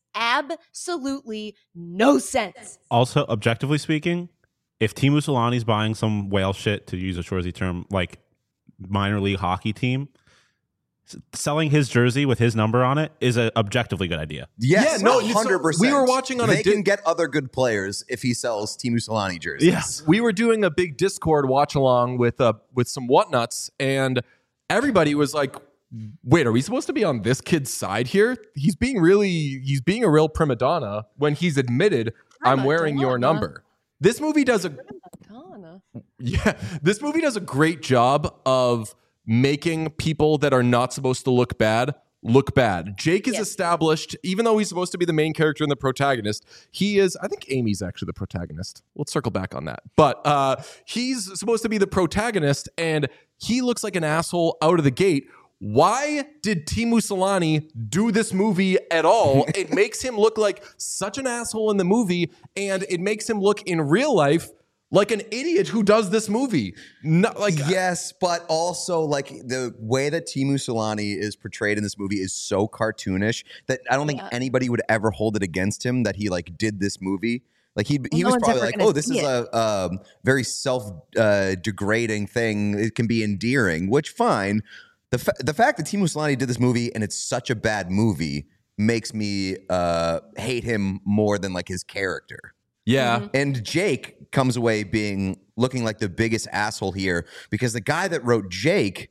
absolutely no sense. Also, objectively speaking, if Timu Solani's buying some whale shit, to use a Shorzy term, like minor league hockey team, s- selling his jersey with his number on it is an objectively good idea. Yes, Yeah, no, one so hundred percent. we were watching on a They di- can get other good players if he sells Timu Solani jerseys. Yes. We were doing a big Discord watch along with uh with some whatnuts, and everybody was like, "Wait, are we supposed to be on this kid's side here? He's being really, he's being a real prima donna when he's admitted I'm Prima wearing your donna. number." This movie does a Madonna. yeah, this movie does a great job of making people that are not supposed to look bad look bad. Jake is Yes. established, even though he's supposed to be the main character and the protagonist. He is, I think Amy's actually the protagonist. We'll circle back on that. But uh, he's supposed to be the protagonist, and he looks like an asshole out of the gate. Why did Timu Solani do this movie at all? It makes him look like such an asshole in the movie, and it makes him look in real life like an idiot who does this movie. Not like Yes, but also like the way that Timu Solani is portrayed in this movie is so cartoonish that I don't think Yeah. anybody would ever hold it against him that he like did this movie. Like he he no was one's probably ever like, gonna oh, this see is a um, very self uh, degrading thing. It can be endearing, which fine. The fa- the fact that Timu Solani did this movie and it's such a bad movie makes me uh, hate him more than like his character. yeah. Mhm. And Jake comes away being looking like the biggest asshole here because the guy that wrote Jake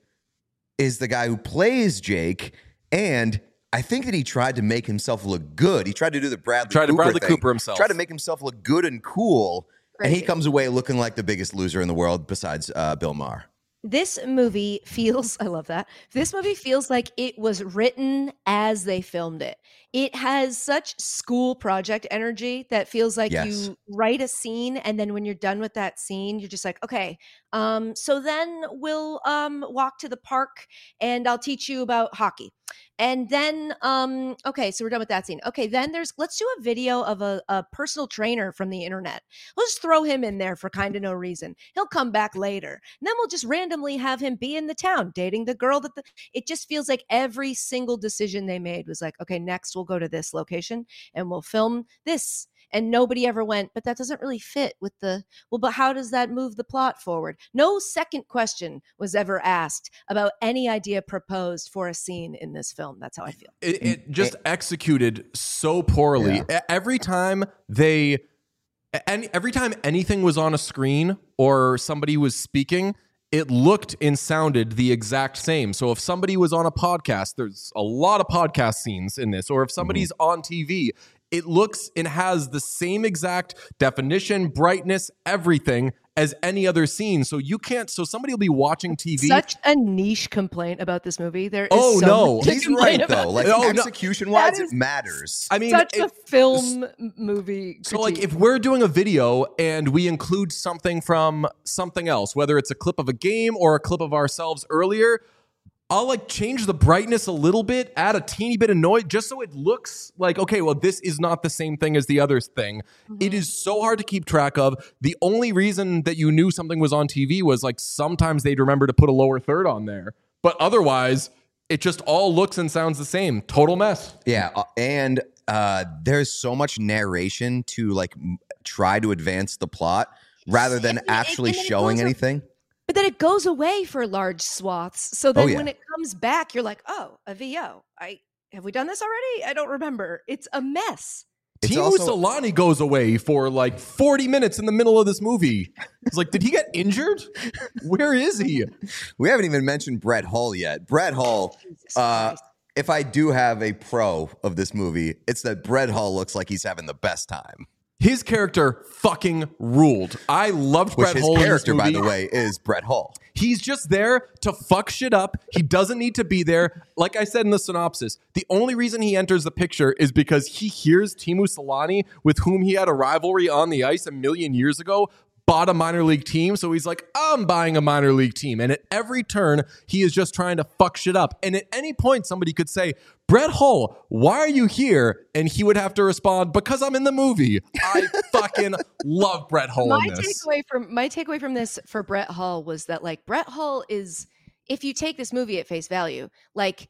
is the guy who plays Jake, and I think that he tried to make himself look good. He tried to do the Bradley Tried to Cooper Bradley thing. Cooper himself. Tried to make himself look good and cool, and he Right. comes away looking like the biggest loser in the world besides uh, Bill Maher. This movie feels, I love that. This movie feels like it was written as they filmed it. It has such school project energy that feels like Yes. you write a scene, and then when you're done with that scene, you're just like, okay, um, so then we'll um, walk to the park and I'll teach you about hockey. And then, um, okay, so we're done with that scene. Okay, then there's, let's do a video of a, a personal trainer from the internet. We'll just throw him in there for kind of no reason. He'll come back later. And then we'll just randomly have him be in the town dating the girl that the, it just feels like every single decision they made was like, okay, next we'll go to this location and we'll film this. And nobody ever went, but that doesn't really fit with the, well, but how does that move the plot forward? No second question was ever asked about any idea proposed for a scene in this film. That's how I feel. It, it just executed so poorly. Yeah. E- Every time they, and every time anything was on a screen or somebody was speaking, it looked and sounded the exact same. So if somebody was on a podcast, there's a lot of podcast scenes in this, or if somebody's mm-hmm. on T V, it looks and has the same exact definition, brightness, everything as any other scene. So you can't, so somebody will be watching T V. Such a niche complaint about this movie. There is oh, so no. much to He's complain right, about. though. Like, Oh, no. execution-wise, That is it matters. I mean, Such it- a film movie. So, like, critique. if we're doing a video and we include something from something else, whether it's a clip of a game or a clip of ourselves earlier, I'll like change the brightness a little bit, add a teeny bit of noise, just so it looks like, okay, well, this is not the same thing as the other thing. Mm-hmm. It is so hard to keep track of. The only reason that you knew something was on T V was like sometimes they'd remember to put a lower third on there, but otherwise, it just all looks and sounds the same. Total mess. Yeah, uh, and uh, there's so much narration to like m- try to advance the plot rather than And it- actually and then it showing goes a- anything. But then it goes away for large swaths. So then Oh, yeah. when it comes back, you're like, oh, a V O. I have we done this already? I don't remember. It's a mess. It's Timu also- Solani goes away for like forty minutes in the middle of this movie. It's like, did he get injured? Where is he? We haven't even mentioned Brett Hull yet. Brett Hull, Jesus uh, Christ. if I do have a pro of this movie, it's that Brett Hull looks like he's having the best time. His character fucking ruled. I loved Which Brett his Hull in this character, by movie. the way, is Brett Hull. He's just there to fuck shit up. He doesn't need to be there. Like I said in the synopsis, the only reason he enters the picture is because he hears Timu Solani, with whom he had a rivalry on the ice a million years ago, bought a minor league team. So he's like, I'm buying a minor league team. And at every turn, he is just trying to fuck shit up. And at any point, somebody could say, Brett Hull, why are you here? And he would have to respond, because I'm in the movie. I fucking love Brett Hull My in this. takeaway from my takeaway from this for Brett Hull was that like Brett Hull is, if you take this movie at face value, like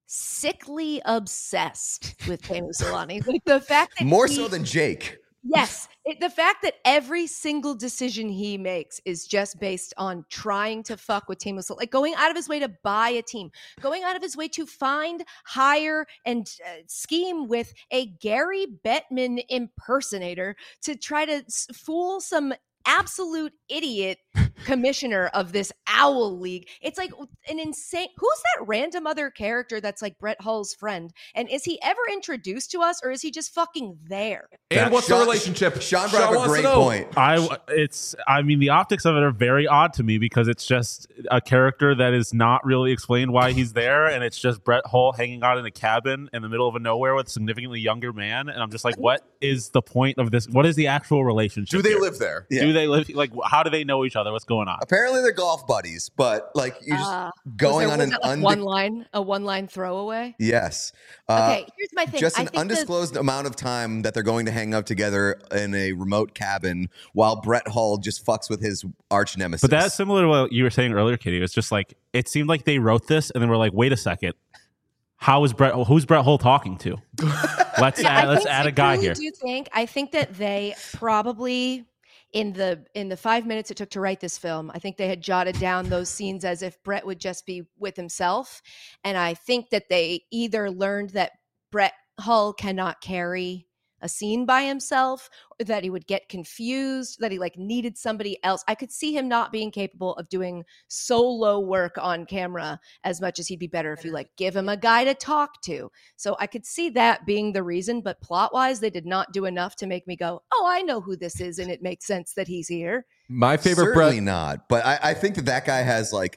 sickly obsessed with Timu Solani. Like the fact that More he- so than Jake. Yes. It, the fact that every single decision he makes is just based on trying to fuck with Timu Solani, like going out of his way to buy a team, going out of his way to find, hire, and uh, scheme with a Gary Bettman impersonator to try to s- fool some absolute idiot commissioner of this owl league. It's like an insane, who's that random other character that's like Brett Hull's friend? And is he ever introduced to us, or is he just fucking there? And what's the Sean- relationship? Sean brought up a wants to great know. point. I it's I mean the optics of it are very odd to me because it's just a character that is not really explained why he's there, and it's just Brett Hull hanging out in a cabin in the middle of nowhere with a significantly younger man, and I'm just like, what is the point of this? What is the actual relationship? Do they here? live there? Yeah. Do they live like? How do they know each other? What's going on? Apparently they're golf buddies, but like you just Uh, going Was on there- an was that, like, unde- one line, a one line throwaway. yes. Uh, Okay, here's my thing. Just I an think the- undisclosed amount of time that they're going to hang out together in a remote cabin while Brett Hull just fucks with his arch nemesis. But that's similar to what you were saying earlier, Kitty. It's just like it seemed like they wrote this and then we're like, wait a second, how is Brett? Who's Brett Hull talking to? Let's Yeah, I add, let's think- add I a guy truly here. do think I think that they probably in the in the five minutes it took to write this film, I think they had jotted down those scenes as if Brett would just be with himself, and I think that they either learned that Brett Hull cannot carry a scene by himself, or that he would get confused, that he like needed somebody else. I could see him not being capable of doing solo work on camera as much as he'd be better if you like give him a guy to talk to. So I could see that being the reason, but plot wise, they did not do enough to make me go, oh, I know who this is. And it makes sense that he's here. My favorite Certainly Brett. not. But I, I think that that guy has like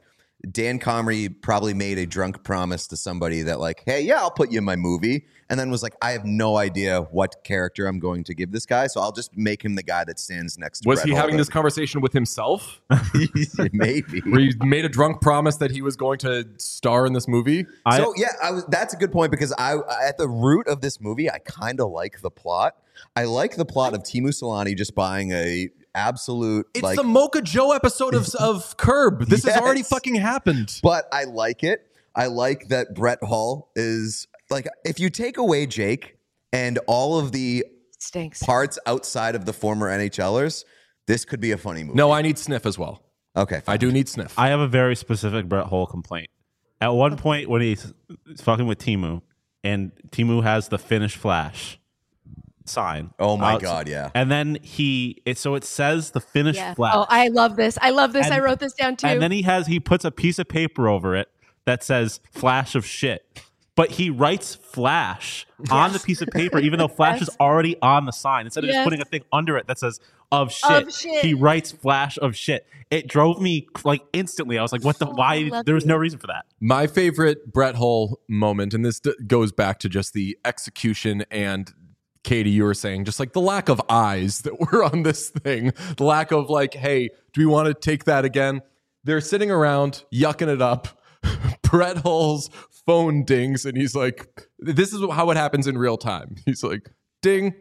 Dan Comrie probably made a drunk promise to somebody that like, hey, yeah, I'll put you in my movie. And then was like, I have no idea what character I'm going to give this guy. So I'll just make him the guy that stands next to Was Brett he having Holden. this conversation with himself? Maybe. Where he made a drunk promise that he was going to star in this movie? I, So yeah, I was, that's a good point because I, at the root of this movie, I kind of like the plot. I like the plot of Timu Solani just buying a absolute. It's like, the Mocha Joe episode of, of Curb. This Yes. has already fucking happened. but I like it. I like that Brett Hull is like, if you take away Jake and all of the Stinks. parts outside of the former NHLers, this could be a funny movie. No, I need Sniff as well. Okay, fine. I do need Sniff. I have a very specific Brett Hull complaint. At one point when he's fucking with Timu, and Timu has the Finnish Flash sign. Oh my out- God, yeah. And then he, it, so it says the Finnish Yeah. Flash. Oh, I love this. I love this. And- I wrote this down too. And then he has he puts a piece of paper over it that says "Flash of shit," but he writes "Flash" on the piece of paper, even though "Flash" Yes. is already on the sign. Instead of Yes. just putting a thing under it that says "of shit,", Of shit. he writes "Flash of shit." It drove me like instantly. I was like, "What the? Oh, I Why?" love There was no you. reason for that. My favorite Brett Hull moment, and this d- goes back to just the execution and Katie, you were saying, just like the lack of eyes that were on this thing, the lack of like, hey, do we want to take that again? They're sitting around yucking it up. Brett Hull's phone dings, and he's like, this is how it happens in real time. He's like, ding.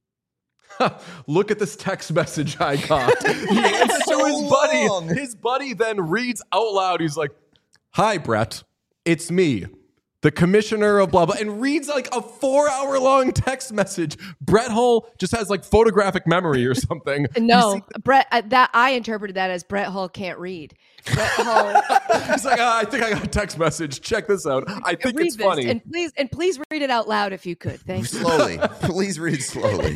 Look at this text message I got. He answers to So his buddy. long. His buddy then reads out loud. He's like, hi, Brett. It's me, the commissioner of blah, blah, and reads like a four hour long text message. Brett Hull just has like photographic memory or something. no, You see- Brett. Uh, that I interpreted that as Brett Hull can't read. Brett Hull. he's like, ah, I think I got a text message. Check this out. I think read it's this, funny. and please and please read it out loud if you could. Thank you. Slowly. Please read slowly.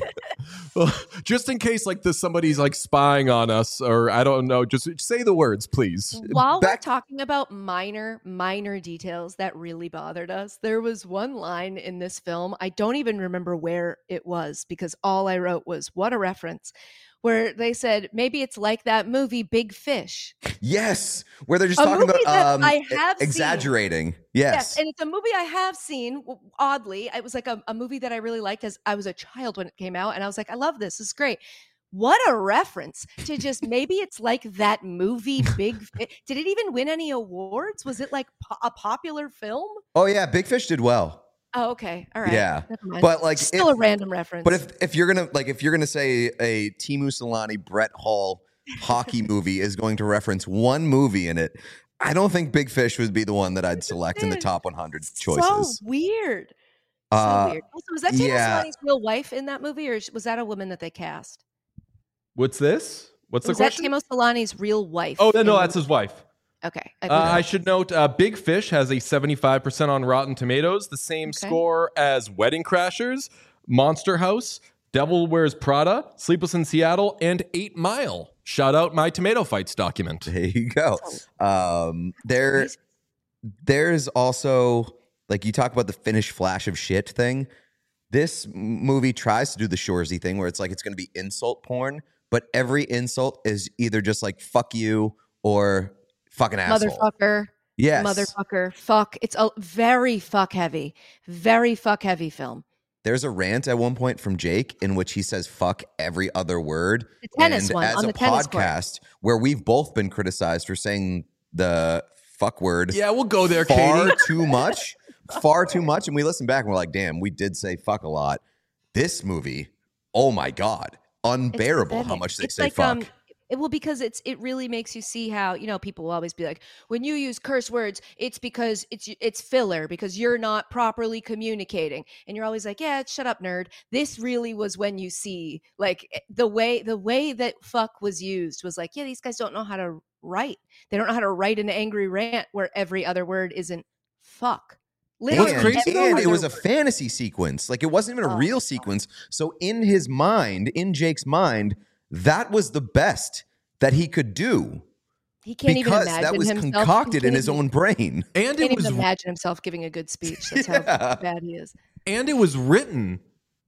Just in case like this somebody's like spying on us, or I don't know, just say the words, please. While Back- we're talking about minor, minor details that really bothered us, there was one line in this film. I don't even remember where it was because all I wrote was, what a reference, where they said, maybe it's like that movie Big Fish. Yes, where they're just A talking about movie that um, I have seen. exaggerating. Yes. And it's a movie I have seen, w- oddly. It was like a, a movie that I really liked as I was a child when it came out. And I was like, I love this. This is great. What a reference to just maybe it's like that movie Big Fi- Did it even win any awards? Was it like po- a popular film? Oh yeah, Big Fish did well. Oh, okay. All right. Yeah. Never mind. But like, still if- a random reference. But if if you're gonna like if you're gonna say a Timu Solani Brett Hull hockey movie is going to reference one movie in it, I don't think Big Fish would be the one that I'd select in the top one hundred choices. So weird. So Uh, weird. Also, was that Tina yeah. Solani's real wife in that movie, or was that a woman that they cast? What's this? What's Was the that question? Timo Solani's real wife? Oh, no, in no, the that's his wife. Okay. I Uh, believe I it. should note, uh, Big Fish has a seventy-five percent on Rotten Tomatoes, the same Okay. score as Wedding Crashers, Monster House, Devil Wears Prada, Sleepless in Seattle, and Eight Mile. Shout out my Tomato Fights document. There you go. Oh. Um, there, Amazing. there's also like you talk about the Finnish flash of shit thing. This m- movie tries to do the Shoresy thing where it's like it's going to be insult porn, but every insult is either just like "fuck you" or "fucking asshole." Motherfucker. Yes. Motherfucker. Fuck. It's a very fuck heavy. Very fuck heavy film. There's a rant at one point from Jake in which he says "fuck" every other word. The tennis and one, as on a the tennis court. podcast where we've both been criticized for saying the fuck word Yeah, we'll go there, far Katie. too much, far too much, and we listen back and we're like, damn, we did say fuck a lot. This movie, oh my god, It's unbearable how pathetic. much they It's say like, fuck. um, it, well, because it's it really makes you see how, you know, people will always be like, when you use curse words, it's because it's it's filler because you're not properly communicating, and you're always like, yeah, shut up, nerd. This really was when you see like eh, the way the way that fuck was used was like, yeah, these guys don't know how to write. They don't know how to write an angry rant where every other word isn't fuck. Literally, and, crazy every though and other it was a word. fantasy sequence. Like it wasn't even a Oh, real God. sequence. So in his mind, in Jake's mind, that was the best that he could do He can't even because imagine that was himself. concocted he in can't his even- own brain. And Can't it was even imagine himself giving a good speech. That's Yeah. how bad he is. and it was written.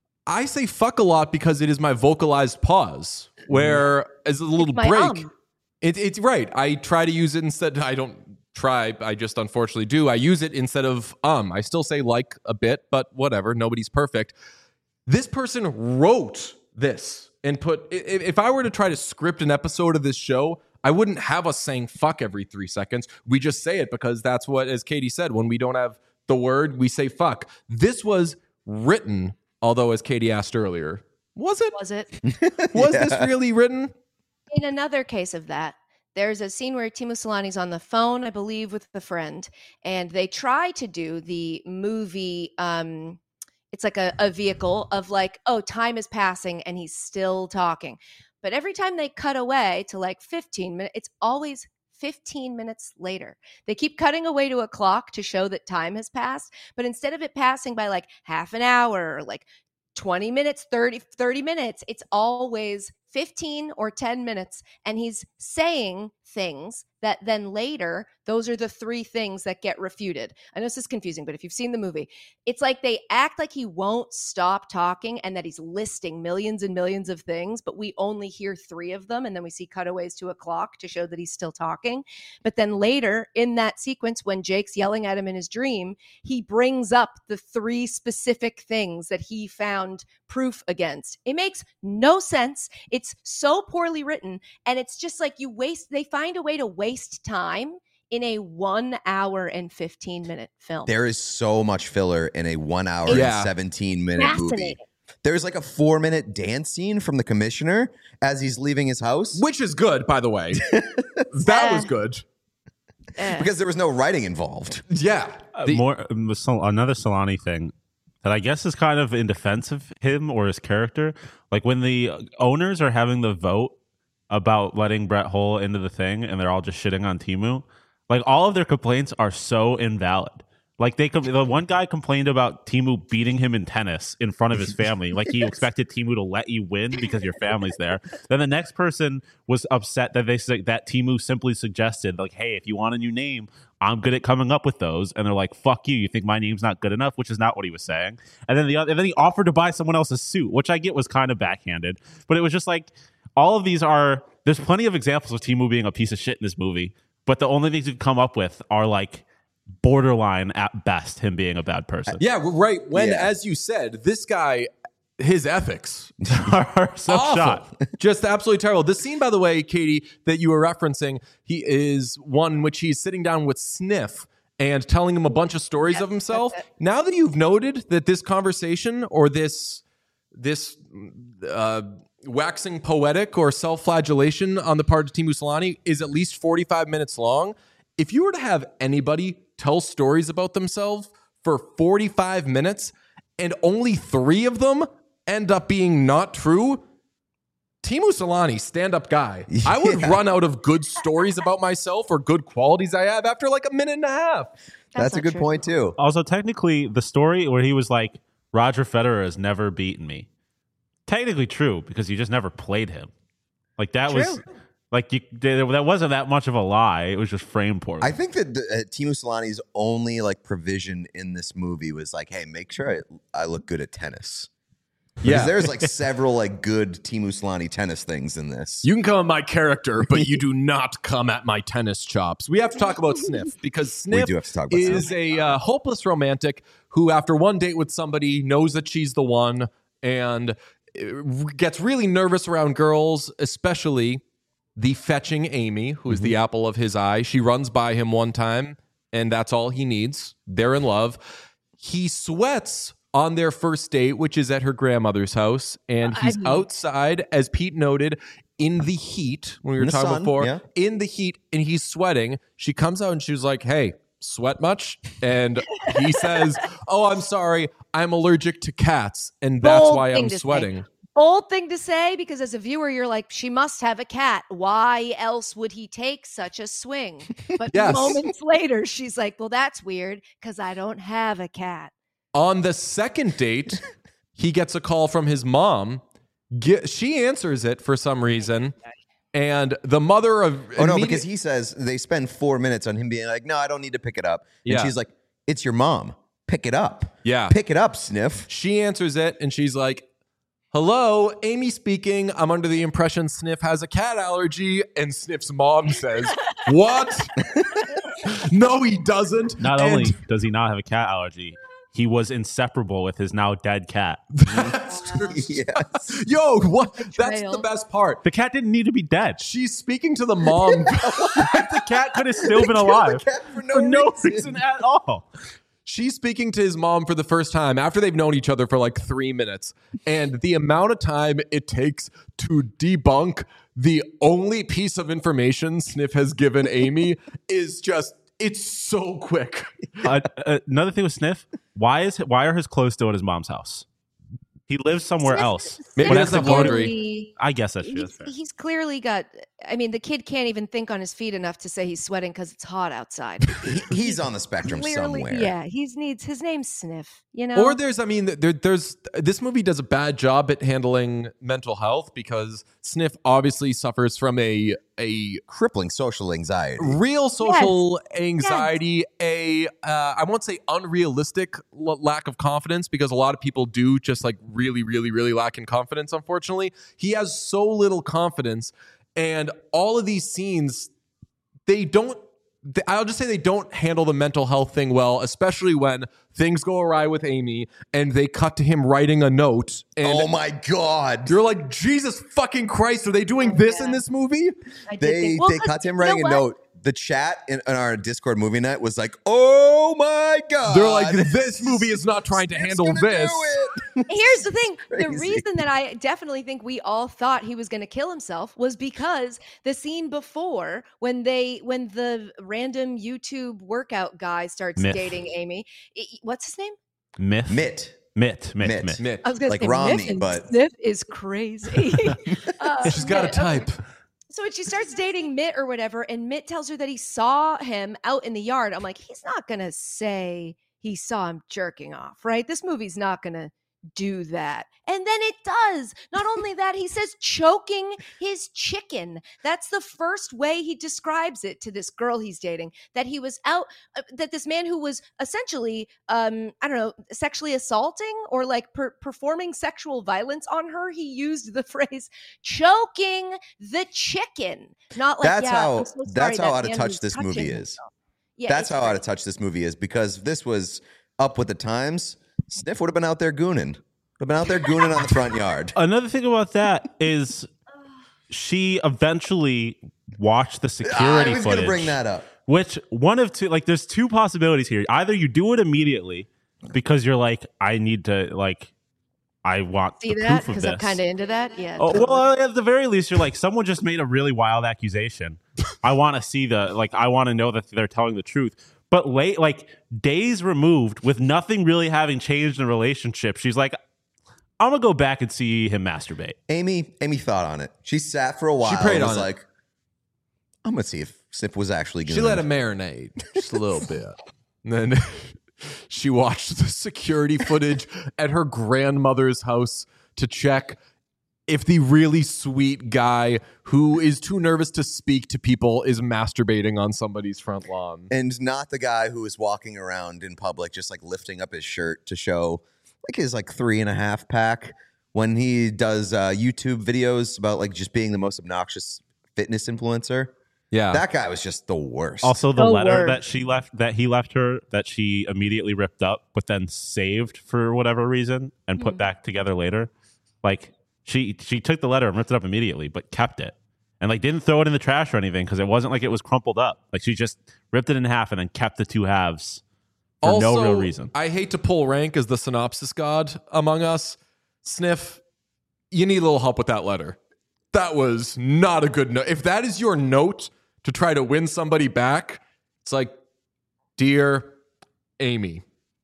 I say fuck a lot because it is my vocalized pause, where as a little my break. um. It, it's right. I try to use it instead. I don't try. I just unfortunately do. I use it instead of um. I still say like a bit, but whatever. Nobody's perfect. This person wrote this and put, if I were to try to script an episode of this show, I wouldn't have us saying fuck every three seconds. We just say it because that's what, as Katie said, when we don't have the word, we say fuck. This was written, although as Katie asked earlier, was it? Was it? Was Yeah. this really written? In another case of that, there's a scene where Timo Solani's on the phone, I believe, with a friend, and they try to do the movie, um, it's like a, a vehicle of like, oh, time is passing and he's still talking. But every time they cut away to like fifteen minutes, it's always fifteen minutes later. They keep cutting away to a clock to show that time has passed. But instead of it passing by like half an hour or like twenty minutes, thirty, thirty minutes, it's always fifteen or ten minutes. And he's saying things that then later, those are the three things that get refuted. I know this is confusing, but if you've seen the movie, it's like they act like he won't stop talking and that he's listing millions and millions of things, but we only hear three of them. And then we see cutaways to a clock to show that he's still talking. But then later in that sequence, when Jake's yelling at him in his dream, he brings up the three specific things that he found proof against. It makes no sense. It's so poorly written. And it's just like you waste, they find a way to waste time in a one hour and fifteen minute film. There is so much filler in a one hour Yeah. and seventeen minute movie. Fascinating. There's like a four minute dance scene from the commissioner as he's leaving his house Which is good, by the way. That was good. Eh. because there was no writing involved. Yeah. Uh, The- more um, Sol- another Solani thing that I guess is kind of in defense of him or his character. Like when the owners are having the vote about letting Brett Hull into the thing, and they're all just shitting on Temu. Like all of their complaints are so invalid. Like they, com- the one guy complained about Temu beating him in tennis in front of his family. Like he expected Temu to let you win because your family's there. Then the next person was upset that they said that Temu simply suggested, like, "Hey, if you want a new name, I'm good at coming up with those." And they're like, "Fuck you! You think my name's not good enough?" Which is not what he was saying. And then the other, and then he offered to buy someone else's suit, which I get was kind of backhanded. But it was just like all of these are. There's plenty of examples of Temu being a piece of shit in this movie, but the only things you can come up with are like borderline at best him being a bad person. Yeah, right. When, Yeah. as you said, this guy, his ethics, are so awful. shot. Just absolutely terrible. The scene, by the way, Katie, that you were referencing, he is one in which he's sitting down with Sniff and telling him a bunch of stories of himself. Now that you've noted that this conversation or this this uh, waxing poetic or self-flagellation on the part of Temu Solani is at least forty-five minutes long, if you were to have anybody tell stories about themselves for forty-five minutes and only three of them end up being not true, Temu Solani, stand-up guy, I would Yeah. run out of good stories about myself or good qualities I have after like a minute and a half. That's, a not good true. point too. Also, technically, the story where he was like, Roger Federer has never beaten me. Technically true, because you just never played him. Like that was True. like you that wasn't that much of a lie. It was just framed poorly. I think that the, uh, Temu Solani's only like provision in this movie was like, hey, make sure I, I look good at tennis. Because Yeah. there's like several like good Temu Solani tennis things in this. You can come at my character, but you do not come at my tennis chops. We have to talk about Sniff because Sniff do have to talk about is Sniff. a uh, hopeless romantic who, after one date with somebody, knows that she's the one and uh, gets really nervous around girls, especially the fetching Amy, who is the apple of his eye. She runs by him one time, and that's all he needs. They're in love. He sweats on their first date, which is at her grandmother's house, and I he's mean- outside, as Pete noted, in the heat when we were In the talking sun, before, yeah. in the heat, and he's sweating. She comes out and she was like, "Hey, sweat much?" And he says, "Oh, I'm sorry, I'm allergic to cats, and that's Bold why thing I'm to say. sweating." Bold thing to say, because as a viewer, you're like, she must have a cat. Why else would he take such a swing? But Yes. moments later, she's like, well, that's weird because I don't have a cat. On the second date, he gets a call from his mom. Ge- she answers it for some reason, and the mother of Oh no, immediate- because he says they spend four minutes on him being like, no, I don't need to pick it up. And Yeah. she's like, it's your mom. Pick it up. Yeah. Pick it up, Sniff. She answers it, and she's like, "Hello, Amy speaking. I'm under the impression Sniff has a cat allergy." And Sniff's mom says, "What?" No, he doesn't. Not And only does he not have a cat allergy, he was inseparable with his now dead cat. that's true. Yes. Yo, what? That's Betrayal. the best part. The cat didn't need to be dead. She's speaking to the mom. The cat could have still been alive cat for no for no reason. reason at all. She's speaking to his mom for the first time after they've known each other for like three minutes. And the amount of time it takes to debunk the only piece of information Sniff has given Amy is just, it's so quick. Uh, uh, another thing with Sniff, why is why are his clothes still at his mom's house? He lives somewhere Sniff- else. Maybe Sniff that's But the that's laundry. clearly- I guess that's true. He's, That's fair. he's clearly got. I mean, the kid can't even think on his feet enough to say he's sweating because it's hot outside. He- he's on the spectrum Clearly, somewhere. yeah, he needs his name's Sniff. You know, Or there's, I mean, there, there's this movie does a bad job at handling mental health because Sniff obviously suffers from a a Crippling social anxiety. real social anxiety, a uh, I won't say unrealistic l- lack of confidence because a lot of people do just like really, really, really lack in confidence. Unfortunately, he has so little confidence, and all of these scenes, they don't. th- I'll just say they don't handle the mental health thing well, especially when things go awry with Amy and they cut to him writing a note. And Oh my God. you're like, Jesus fucking Christ, are they doing this in this movie? I did They think- well, they 'cause cut to him you know writing a what? note. The chat in, in our Discord movie night was like, "Oh my God." They're like, this movie is not trying to It's handle gonna this. do it. Here's the thing. The Crazy. reason that I definitely think we all thought he was going to kill himself was because the scene before when they when the random YouTube workout guy starts Myth. dating Amy, i- what's his name? Myth. Mitt. Mitt. Mitt. Mitt. Mitt. Mitt. I was going Like to say Romney, Miff and but- Sniff is crazy. Uh, She's got a Mitt, okay. type. So when she starts dating Mitt or whatever, and Mitt tells her that he saw him out in the yard, I'm like, he's not gonna say he saw him jerking off, right? This movie's not gonna do that. And then it does. Not only that, he says choking his chicken. That's the first way he describes it to this girl he's dating, that he was out, uh, that this man who was essentially, um, I don't know, sexually assaulting or like per- performing sexual violence on her, he used the phrase choking the chicken. Not like, That's yeah, how- I'm so sorry that's how that out of man touch was this touching movie is. himself. Yeah, That's it's how out of great. touch this movie is, because if this was up with the times, Sniff would have been out there gooning. Would have been out there gooning on the front yard. Another thing about that is she eventually watched the I security was going footage. to bring that up. Which one of two, like, there's two possibilities here. Either you do it immediately because you're like, I need to, like, I want See the that? proof of Because this. I'm kind of into that. Yeah. Oh, totally. well, at the very least, you're like, someone just made a really wild accusation. I want to see the, like, I want to know that they're telling the truth. But late, like, days removed with nothing really having changed in the relationship, she's like, I'm going to go back and see him masturbate. Amy, Amy thought on it. She sat for a while. prayed and was on it. like, I'm going to see if Sniff was actually gooning. She let it marinate just a little bit. And then she watched the security footage at her grandmother's house to check if the really sweet guy who is too nervous to speak to people is masturbating on somebody's front lawn. And not the guy who is walking around in public just like lifting up his shirt to show like his like three and a half pack when he does uh, YouTube videos about like just being the most obnoxious fitness influencer. Yeah. That guy was just the worst. Also, the Oh, letter word. that she left, that he left her, that she immediately ripped up, but then saved for whatever reason and put Hmm. back together later. Like she she took the letter and ripped it up immediately, but kept it and like didn't throw it in the trash or anything because it wasn't like it was crumpled up. Like she just ripped it in half and then kept the two halves for also, no real reason. I hate to pull rank as the synopsis god among us. Sniff, you need a little help with that letter. That was not a good note. If that is your note to try to win somebody back, it's like, dear Amy,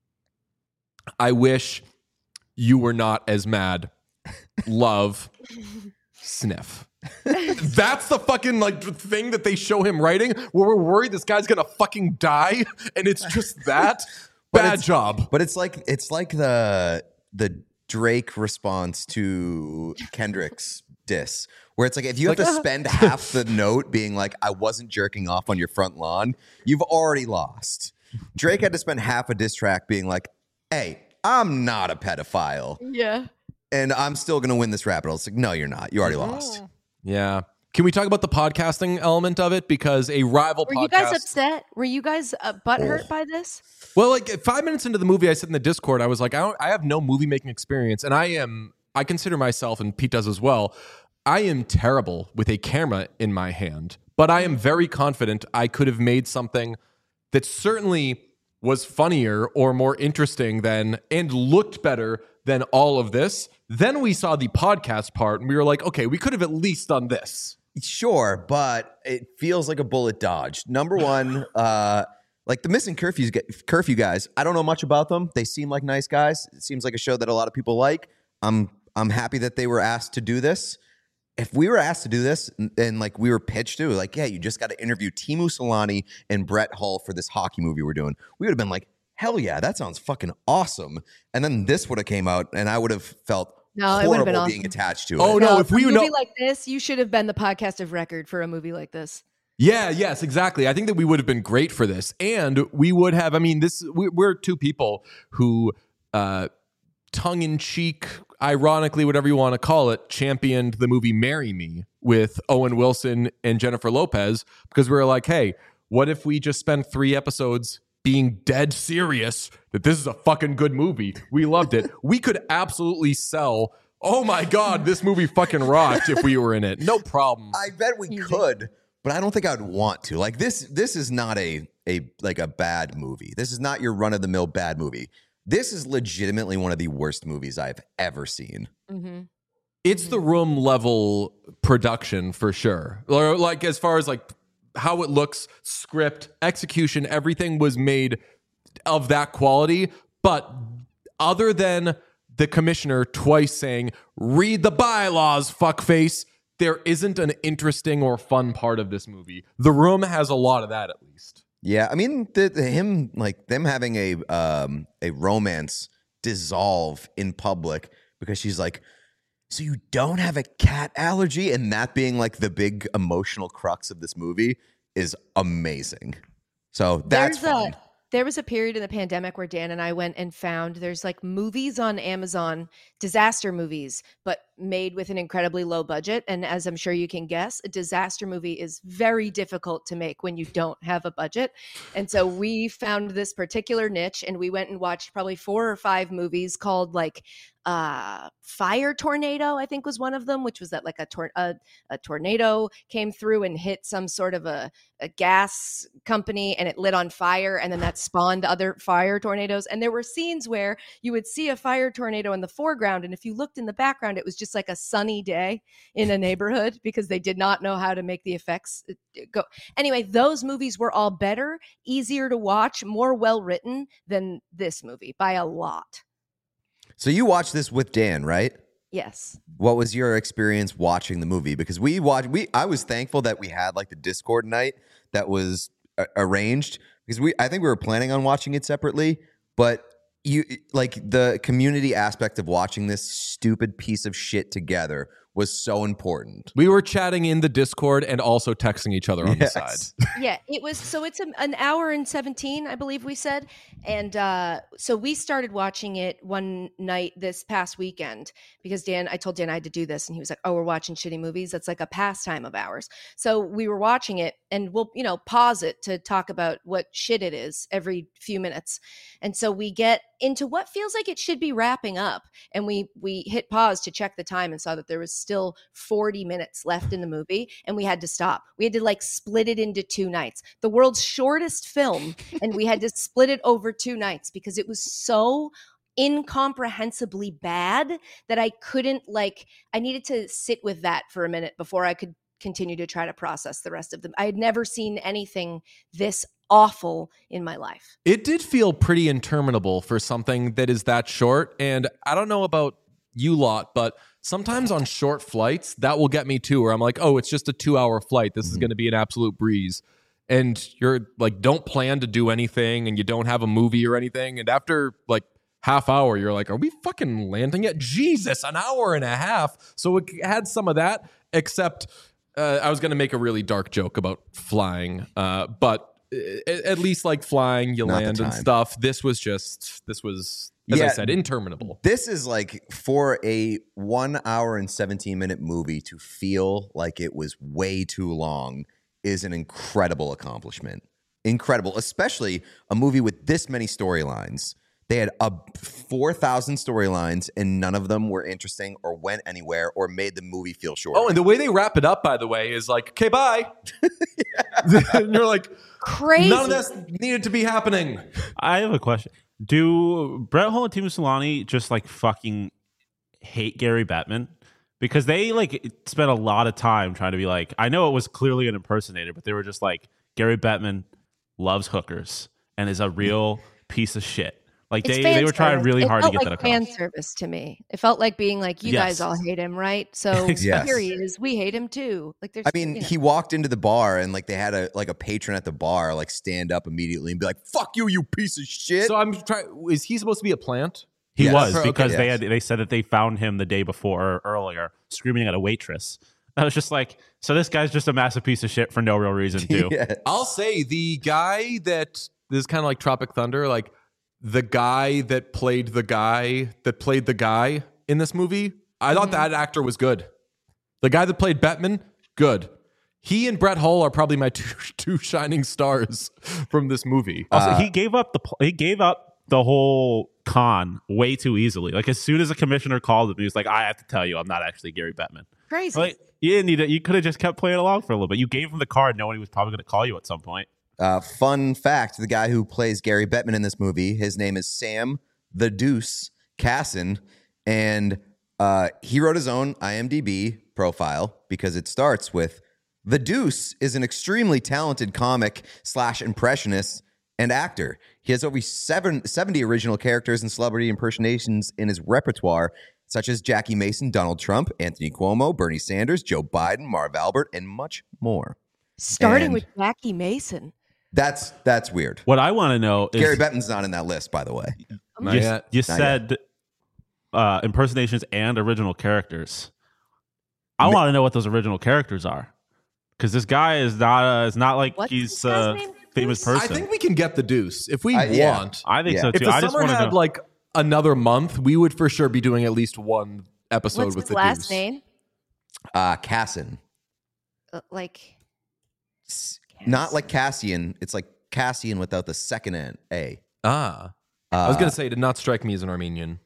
I wish you were not as mad. Love, Sniff. That's the fucking like thing that they show him writing where we're worried this guy's gonna fucking die, and it's just that. But Bad it's- job. But it's like it's like the the Drake response to Kendrick's diss, where it's like if you have to spend half the note being like, I wasn't jerking off on your front lawn, you've already lost. Drake had to spend half a diss track being like, hey, I'm not a pedophile, Yeah. and I'm still gonna win this rap battle. It's like, no, you're not. You already lost. Yeah. Can we talk about the podcasting element of it? Because a rival Were podcast. you guys upset? Were you guys uh, butthurt by this? Well, like five minutes into the movie, I said in the Discord, I was like, I, don't, I have no movie making experience, and I am. I consider myself, and Pete does as well. I am terrible with a camera in my hand, but I am very confident I could have made something that certainly was funnier or more interesting than and looked better than all of this. Then we saw the podcast part, and we were like, okay, we could have at least done this. Sure, but it feels like a bullet dodged. Number one, uh, like the Missing Curfew Curfew guys, I don't know much about them. They seem like nice guys. It seems like a show that a lot of people like. I'm I'm happy that they were asked to do this. If we were asked to do this and, and like we were pitched to, like, yeah, you just got to interview Timo Solani and Brett Hull for this hockey movie we're doing, we would have been like, hell yeah, that sounds fucking awesome. And then this would have came out, and I would have felt No, it would have been horrible being awesome. attached to Oh it. no! If for we a know, movie like this, you should have been the podcast of record for a movie like this. yeah, yes, exactly. I think that we would have been great for this, and we would have. I mean, this we, we're two people who, uh, tongue in cheek, ironically, whatever you want to call it, championed the movie "Marry Me" with Owen Wilson and Jennifer Lopez because we were like, hey, what if we just spent three episodes being dead serious that this is a fucking good movie? We loved it. We could absolutely sell. Oh my God, this movie fucking rocked if we were in it. No problem. I bet we could, but I don't think I'd want to. Like this, this is not a a like a bad movie. This is not your run of the mill bad movie. This is legitimately one of the worst movies I've ever seen. Mm-hmm. It's the room level production for sure. Or like as far as like how it looks, script, execution, everything was made of that quality. But other than the commissioner twice saying, read the bylaws, fuckface, there isn't an interesting or fun part of this movie. The Room has a lot of that, at least. Yeah, I mean, the, the, him like them having a um, a romance dissolve in public because she's like, so you don't have a cat allergy, and that being like the big emotional crux of this movie is amazing. So that's There's fun. a there was a period in the pandemic where Dan and I went and found there's like movies on Amazon, disaster movies, but made with an incredibly low budget. And as I'm sure you can guess, a disaster movie is very difficult to make when you don't have a budget. And so we found this particular niche and we went and watched probably four or five movies called like uh Fire Tornado, I think was one of them, which was that like a, tor- a, a tornado came through and hit some sort of a, a gas company and it lit on fire, and then that spawned other fire tornadoes. And there were scenes where you would see a fire tornado in the foreground, and if you looked in the background, it was just like a sunny day in a neighborhood because they did not know how to make the effects go. Anyway, those movies were all better, easier to watch, more well written than this movie by a lot. So you watched this with Dan, right? Yes. What was your experience watching the movie? Because we watched, we I was thankful that we had like the Discord night that was a- arranged because we I think we were planning on watching it separately, but you like the community aspect of watching this stupid piece of shit together was so important. We were chatting in the Discord and also texting each other on Yes. the side. Yeah, it was. So it's a, an hour and seventeen, I believe we said. And uh, so we started watching it one night this past weekend because Dan, I told Dan I had to do this. And he was like, oh, we're watching shitty movies. That's like a pastime of ours. So we were watching it and we'll, you know, pause it to talk about what shit it is every few minutes. And so we get into what feels like it should be wrapping up. And we we hit pause to check the time and saw that there was still forty minutes left in the movie, and we had to stop. We had to like split it into two nights. The world's shortest film, and we had to split it over two nights because it was so incomprehensibly bad that I couldn't like I needed to sit with that for a minute before I could continue to try to process the rest of them. I had never seen anything this awful in my life. It did feel pretty interminable for something that is that short. And I don't know about you lot, but sometimes on short flights, that will get me too, where I'm like, oh, it's just a two hour flight. This mm-hmm. is going to be an absolute breeze. And you're like, don't plan to do anything and you don't have a movie or anything. And after like half hour, you're like, are we fucking landing yet? Jesus, an hour and a half. So it had some of that, except uh, I was going to make a really dark joke about flying. Uh, but uh, at least like flying, you Not the land and time. stuff. This was just, this was, as I Yeah. said, interminable. This is like for a one hour and seventeen minute movie to feel like it was way too long is an incredible accomplishment. Incredible, especially a movie with this many storylines. They had a four thousand storylines and none of them were interesting or went anywhere or made the movie feel short. Oh, and the way they wrap it up, by the way, is like, okay, bye. And you're like, Crazy. none of this needed to be happening. I have a question. Do Brett Hull and Timo Solani just like fucking hate Gary Bettman? Because they like spent a lot of time trying to be like, I know it was clearly an impersonator, but they were just like, Gary Bettman loves hookers and is a real piece of shit. Like It's they, fan they were trying service. really It hard to felt get like that across. fan service to me. It felt like being like, you Yes. guys all hate him, right? So Yes. here he is. We hate him too. Like there's I mean, you know. he walked into the bar and like they had a like a patron at the bar like stand up immediately and be like, "Fuck you, you piece of shit." So I'm trying, is he supposed to be a plant? He Yes. was Okay, because they yes. had they said that they found him the day before or earlier screaming at a waitress. I was just like, so this guy's just a massive piece of shit for no real reason too. Yes. I'll say the guy that, this is kind of like Tropic Thunder, like the guy that played the guy that played the guy in this movie, I thought that actor was good. The guy that played Bettman, good. He and Brett Hull are probably my two, two shining stars from this movie. Also, Uh, he gave up the pl- he gave up the whole con way too easily. Like as soon as the commissioner called him, he was like, "I have to tell you, I'm not actually Gary Bettman." Crazy. Like you didn't need it. You could have just kept playing along for a little bit. You gave him the card, knowing he was probably going to call you at some point. Uh, fun fact: the guy who plays Gary Bettman in this movie, his name is Sam the Deuce Casson, and uh, he wrote his own I M D B profile because it starts with the Deuce is an extremely talented comic slash impressionist and actor. He has over seven, seventy original characters and celebrity impersonations in his repertoire, such as Jackie Mason, Donald Trump, Anthony Cuomo, Bernie Sanders, Joe Biden, Marv Albert, and much more. Starting and- with Jackie Mason. That's that's weird. What I want to know is Gary Bettman's not in that list, by the way. Not you, yet. you Not said uh, impersonations and original characters. I Ma- want to know what those original characters are, because this guy is not uh, is not like What's he's this guy's a name? famous Deuce? person. I think we can get the Deuce if we Uh, yeah. want. I think Yeah. so If too. the I just summer want to had know. like another month, we would for sure be doing at least one episode What's with his the last Deuce. name? Uh, Casson. Uh, like S- Not like Cassian. It's like Cassian without the second N, A. Ah, Uh, I was gonna say, it did not strike me as an Armenian.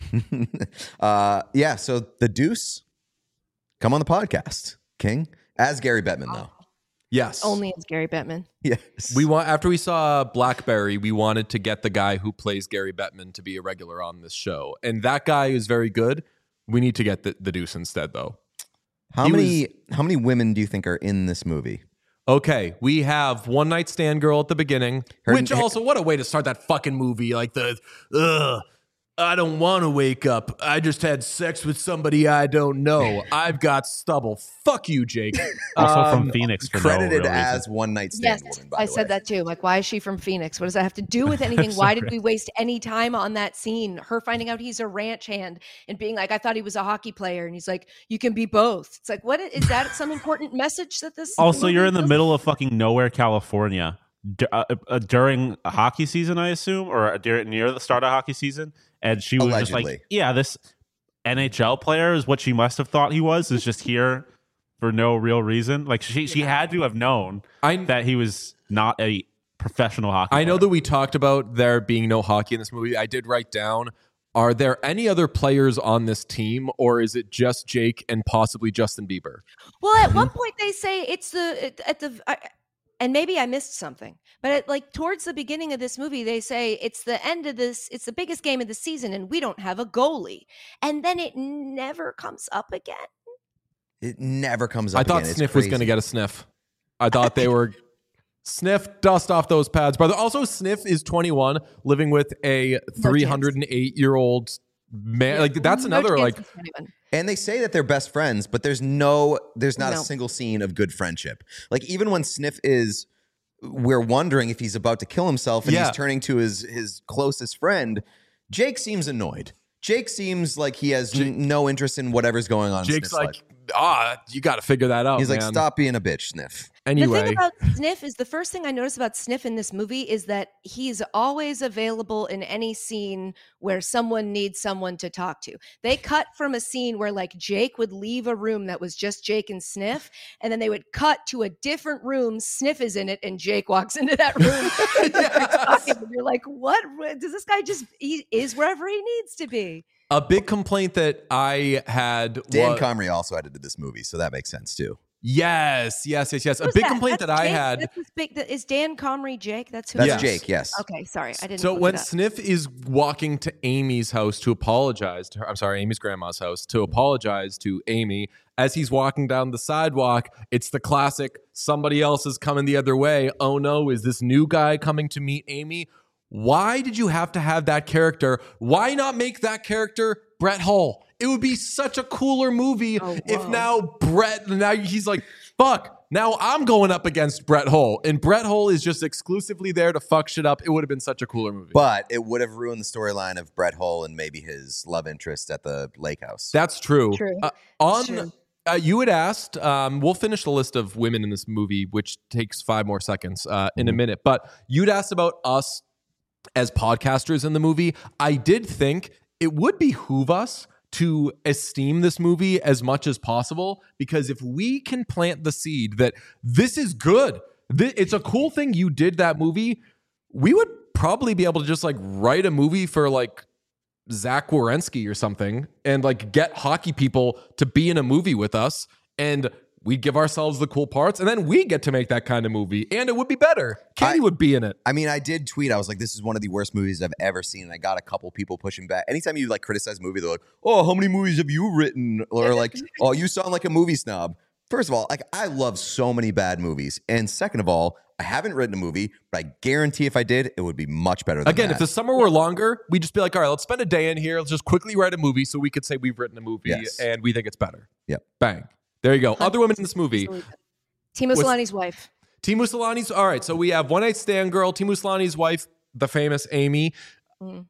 uh, yeah, so the Deuce, come on the podcast, King, as Gary Bettman, though. Yes, only as Gary Bettman. Yes. we want after we saw Blackberry, we wanted to get the guy who plays Gary Bettman to be a regular on this show, and that guy is very good. We need to get the, the Deuce instead, though. How he many how many women do you think are in this movie? Okay, we have One Night Stand Girl at the beginning, Her- which also, what a way to start that fucking movie. Like the, ugh, I don't want to wake up. I just had sex with somebody I don't know. I've got stubble. Fuck you, Jake. also Um, from Phoenix for Credited no real as reason. one night stand Yes, woman, by I the said way. that too. Like, why is she from Phoenix? What does that have to do with anything? Why did Sorry. we waste any time on that scene? Her finding out he's a ranch hand and being like, I thought he was a hockey player. And he's like, you can be both. It's like, what is that some important message that this Also, movie you're in the does? middle of fucking nowhere, California, d- uh, uh, during a hockey season, I assume, or during, near the start of hockey season. And she was just Allegedly. like, yeah, this N H L player is what she must have thought he was, is just here for no real reason. Like, she, she had to have known I, that he was not a professional hockey I know player. that we talked about there being no hockey in this movie. I did write down, are there any other players on this team, or is it just Jake and possibly Justin Bieber? Well, at one point they say it's the at the I, and maybe I missed something, but at, like towards the beginning of this movie, they say it's the end of this. It's the biggest game of the season, and we don't have a goalie. And then it never comes up again. It never comes up I thought again. It's Sniff was crazy. going to get a sniff. I thought they were Sniff, dust off those pads, brother. Also, Sniff is twenty-one, living with a three hundred eight year old man. Like that's No another chance like. it's anyone. And they say that they're best friends, but there's no, there's not No. a single scene of good friendship. Like even when Sniff is, we're wondering if he's about to kill himself, and Yeah. he's turning to his his closest friend. Jake seems annoyed. Jake seems like he has n- no interest in whatever's going on. in Jake's Sniff's like, life. ah, you got to figure that out. He's like, man. stop being a bitch, Sniff. Anyway, The thing about Sniff is the first thing I noticed about Sniff in this movie is that he's always available in any scene where someone needs someone to talk to. They cut from a scene where like Jake would leave a room that was just Jake and Sniff, and then they would cut to a different room. Sniff is in it, and Jake walks into that room. And Yes. and you're like, what? Does this guy just, he is wherever he needs to be? a big complaint that I had Dan was, Comrie also edited this movie, so that makes sense too. yes, yes, yes, yes. A Who's big that? complaint That's that I Jake? had. That's his big, that- is Dan Comrie Jake? That's who That's it Yes. is? Jake, yes. Okay, sorry. I didn't So look when it up. Sniff is walking to Amy's house to apologize to her, I'm sorry, Amy's grandma's house to apologize to Amy, as he's walking down the sidewalk, it's the classic somebody else is coming the other way. Oh no, is this new guy coming to meet Amy? Why did you have to have that character? Why not make that character Brett Hull? It would be such a cooler movie Oh, if whoa. now Brett, now he's like, fuck, now I'm going up against Brett Hull. And Brett Hull is just exclusively there to fuck shit up. It would have been such a cooler movie. But it would have ruined the storyline of Brett Hull and maybe his love interest at the lake house. That's true. True. Uh, on, true. Uh, you had asked, um, we'll finish the list of women in this movie, which takes five more seconds uh, in a Mhm. minute. But you'd asked about us as podcasters in the movie. I did think it would behoove us to esteem this movie as much as possible, because if we can plant the seed that this is good, thi- it's a cool thing you did that movie, we would probably be able to just like write a movie for like Zach Wierenski or something and like get hockey people to be in a movie with us, and we give ourselves the cool parts, and then we get to make that kind of movie, and it would be better. Katie I- would be in it. I mean, I did tweet. I was like, "This is one of the worst movies I've ever seen." And I got a couple people pushing back. Anytime you like criticize a movie, they're like, "Oh, how many movies have you written?" Or like, "Oh, you sound like a movie snob." First of all, like I love so many bad movies, and second of all, I haven't written a movie, but I guarantee if I did, it would be much better. Than Again, that. if the summer were longer, we'd just be like, all right, let's spend a day in here. Let's just quickly write a movie so we could say we've written a movie Yes. and we think it's better. Yep. Bang. There you go. Other women in this movie. Timo Was- Solani's wife. Timu Solani's. All right, so we have One Night Stand Girl, Timu Solani's wife, the famous Amy. Mm.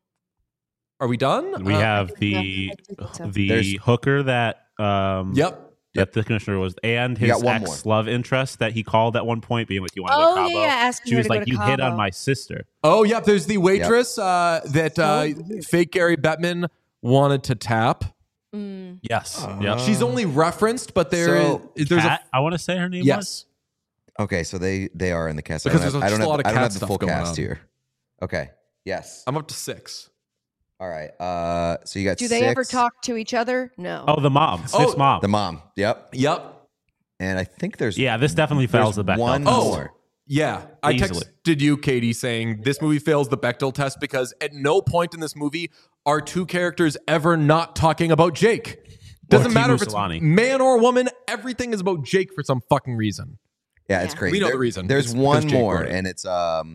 Are we done? We Uh, have I the think so. the There's- hooker that um Yep. that the commissioner was, and You his got one ex love interest that he called at one point, being like, "You want to go Oh to Cabo?" yeah, yeah, asking She her was to go like, to "You hit on Cabo. my sister." Oh, yep. There's the waitress uh, that So uh, weird. fake Gary Bettman wanted to tap. Mm. Yes. Uh, yep. She's only referenced, but there So, is there's Kat, I want to say her name a was. yes. okay, so they they are in the cast. Because I don't there's have, I just don't a lot have, of I don't cat have the stuff full going cast on. here. Okay. Yes. I'm up to six. All right. Uh, so you got. Do they six. ever talk to each other? No. Oh, the mom, Oh, Sniff's mom. The mom. Yep. Yep. And I think there's. yeah, this definitely fails the there's Bechdel. one Oh. more. Yeah. I Easily. texted you, Katie, saying this movie fails the Bechdel test because at no point in this movie are two characters ever not talking about Jake. Doesn't Timu matter if it's Solani. man or woman. Everything is about Jake for some fucking reason. Yeah, it's Yeah. crazy. We know There- the reason. There's It's because one Jake more, wrote it. and it's um,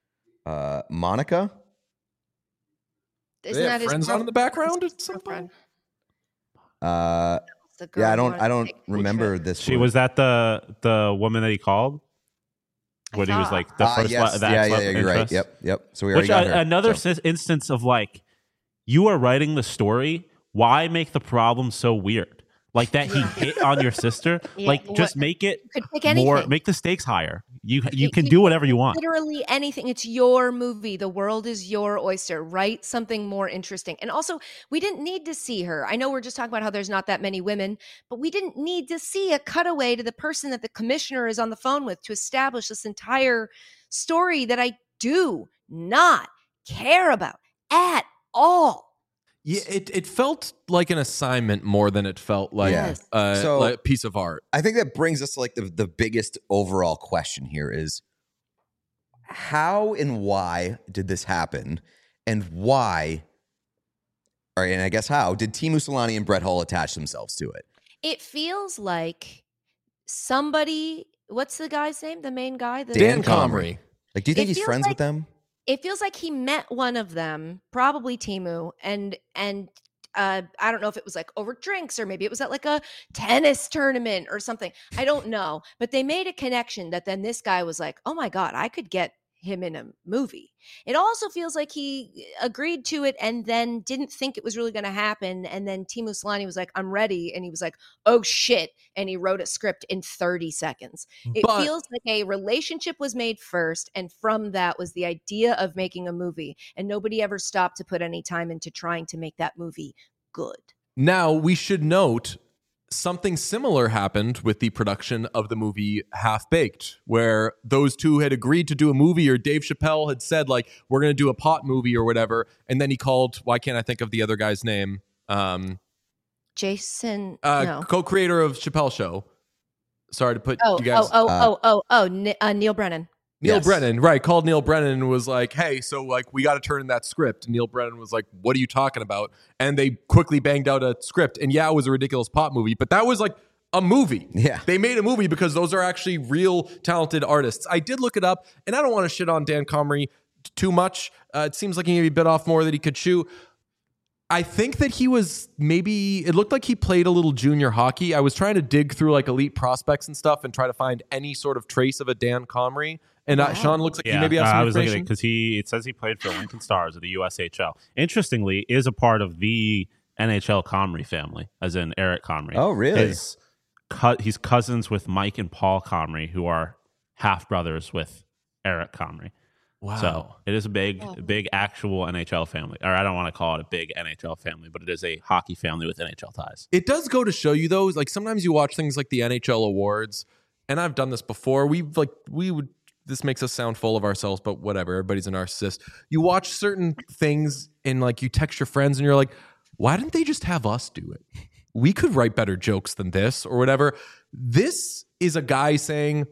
uh, Monica. Isn't They that have his friends on in the background at some girlfriend? point? Uh, The girl yeah, I who don't, wanted I to don't take a remember trip. this. She one. was that the the woman that he called I when he was thought. like the Ah, first yes. lo- the yeah, ex-love yeah, yeah, you're right. interest. Yep, yep. So we already Which got uh, her. another so. sis- instance of like, you are writing the story. Why make the problem so weird? Like that he hit on your sister. Yeah, like what- just make it You could pick anything. more. Make the stakes higher. You you You- can you do can whatever you want. Literally anything. It's your movie. The world is your oyster. Write something more interesting. And also, we didn't need to see her. I know we're just talking about how there's not that many women, but we didn't need to see a cutaway to the person that the commissioner is on the phone with to establish this entire story that I do not care about at all. Yeah, it, it felt like an assignment more than it felt like Yeah. uh, So- like a piece of art. I think that brings us to like the, the biggest overall question here is how and why did this happen? And why, all right, and I guess how did Timu Solani and Brett Hull attach themselves to it? It feels like somebody, what's the guy's name? The main guy? The Dan Dan Comrie. Comrie. Like, do you think It he's feels friends like- with them? It feels like he met one of them, probably Timu, and and uh, I don't know if it was like over drinks or maybe it was at like a tennis tournament or something. I don't know, but they made a connection that then this guy was like, "Oh my god, I could get him in a movie. It also feels like he agreed to it and then didn't think it was really going to happen. And then Timo Solani was like, I'm ready. And he was like, oh shit. And he wrote a script in thirty seconds. It But- feels like a relationship was made first. And from that was the idea of making a movie. And nobody ever stopped to put any time into trying to make that movie good. Now, we should note something similar happened with the production of the movie Half Baked, where those two had agreed to do a movie, or Dave Chappelle had said, like, we're going to do a pot movie or whatever. And then he called, why can't I think of the other guy's name? Um, Jason, uh, no. co-creator of Chappelle Show. Sorry to put Oh, you guys. oh, oh, uh, oh, oh, oh, Ni- uh, Neil Brennan. Neil Yes. Brennan, right, called Neil Brennan and was like, hey, so like we got to turn in that script. And Neil Brennan was like, what are you talking about? And they quickly banged out a script. And yeah, it was a ridiculous pot movie, but that was like a movie. Yeah. They made a movie because those are actually real talented artists. I did look it up, and I don't want to shit on Dan Comrie t- too much. Uh, it seems like he maybe bit off more that he could chew. I think that he was maybe, it looked like he played a little junior hockey. I was trying to dig through like elite prospects and stuff and try to find any sort of trace of a Dan Comrie. And uh, Wow. Sean looks like Yeah, you maybe have uh, some I was looking at it information. because he it says he played for Lincoln Stars of the U S H L. Interestingly, is a part of the N H L Comrie family, as in Eric Comrie. Oh, really? His, cu- he's cousins with Mike and Paul Comrie, who are half brothers with Eric Comrie. Wow. So it is a big, Oh. big actual N H L family. Or I don't want to call it a big N H L family, but it is a hockey family with N H L ties. It does go to show you though, like sometimes you watch things like the N H L awards, and I've done this before. We've like we would this makes us sound full of ourselves, but whatever. Everybody's a narcissist. You watch certain things and like you text your friends and you're like, why didn't they just have us do it? We could write better jokes than this or whatever. This is a guy saying,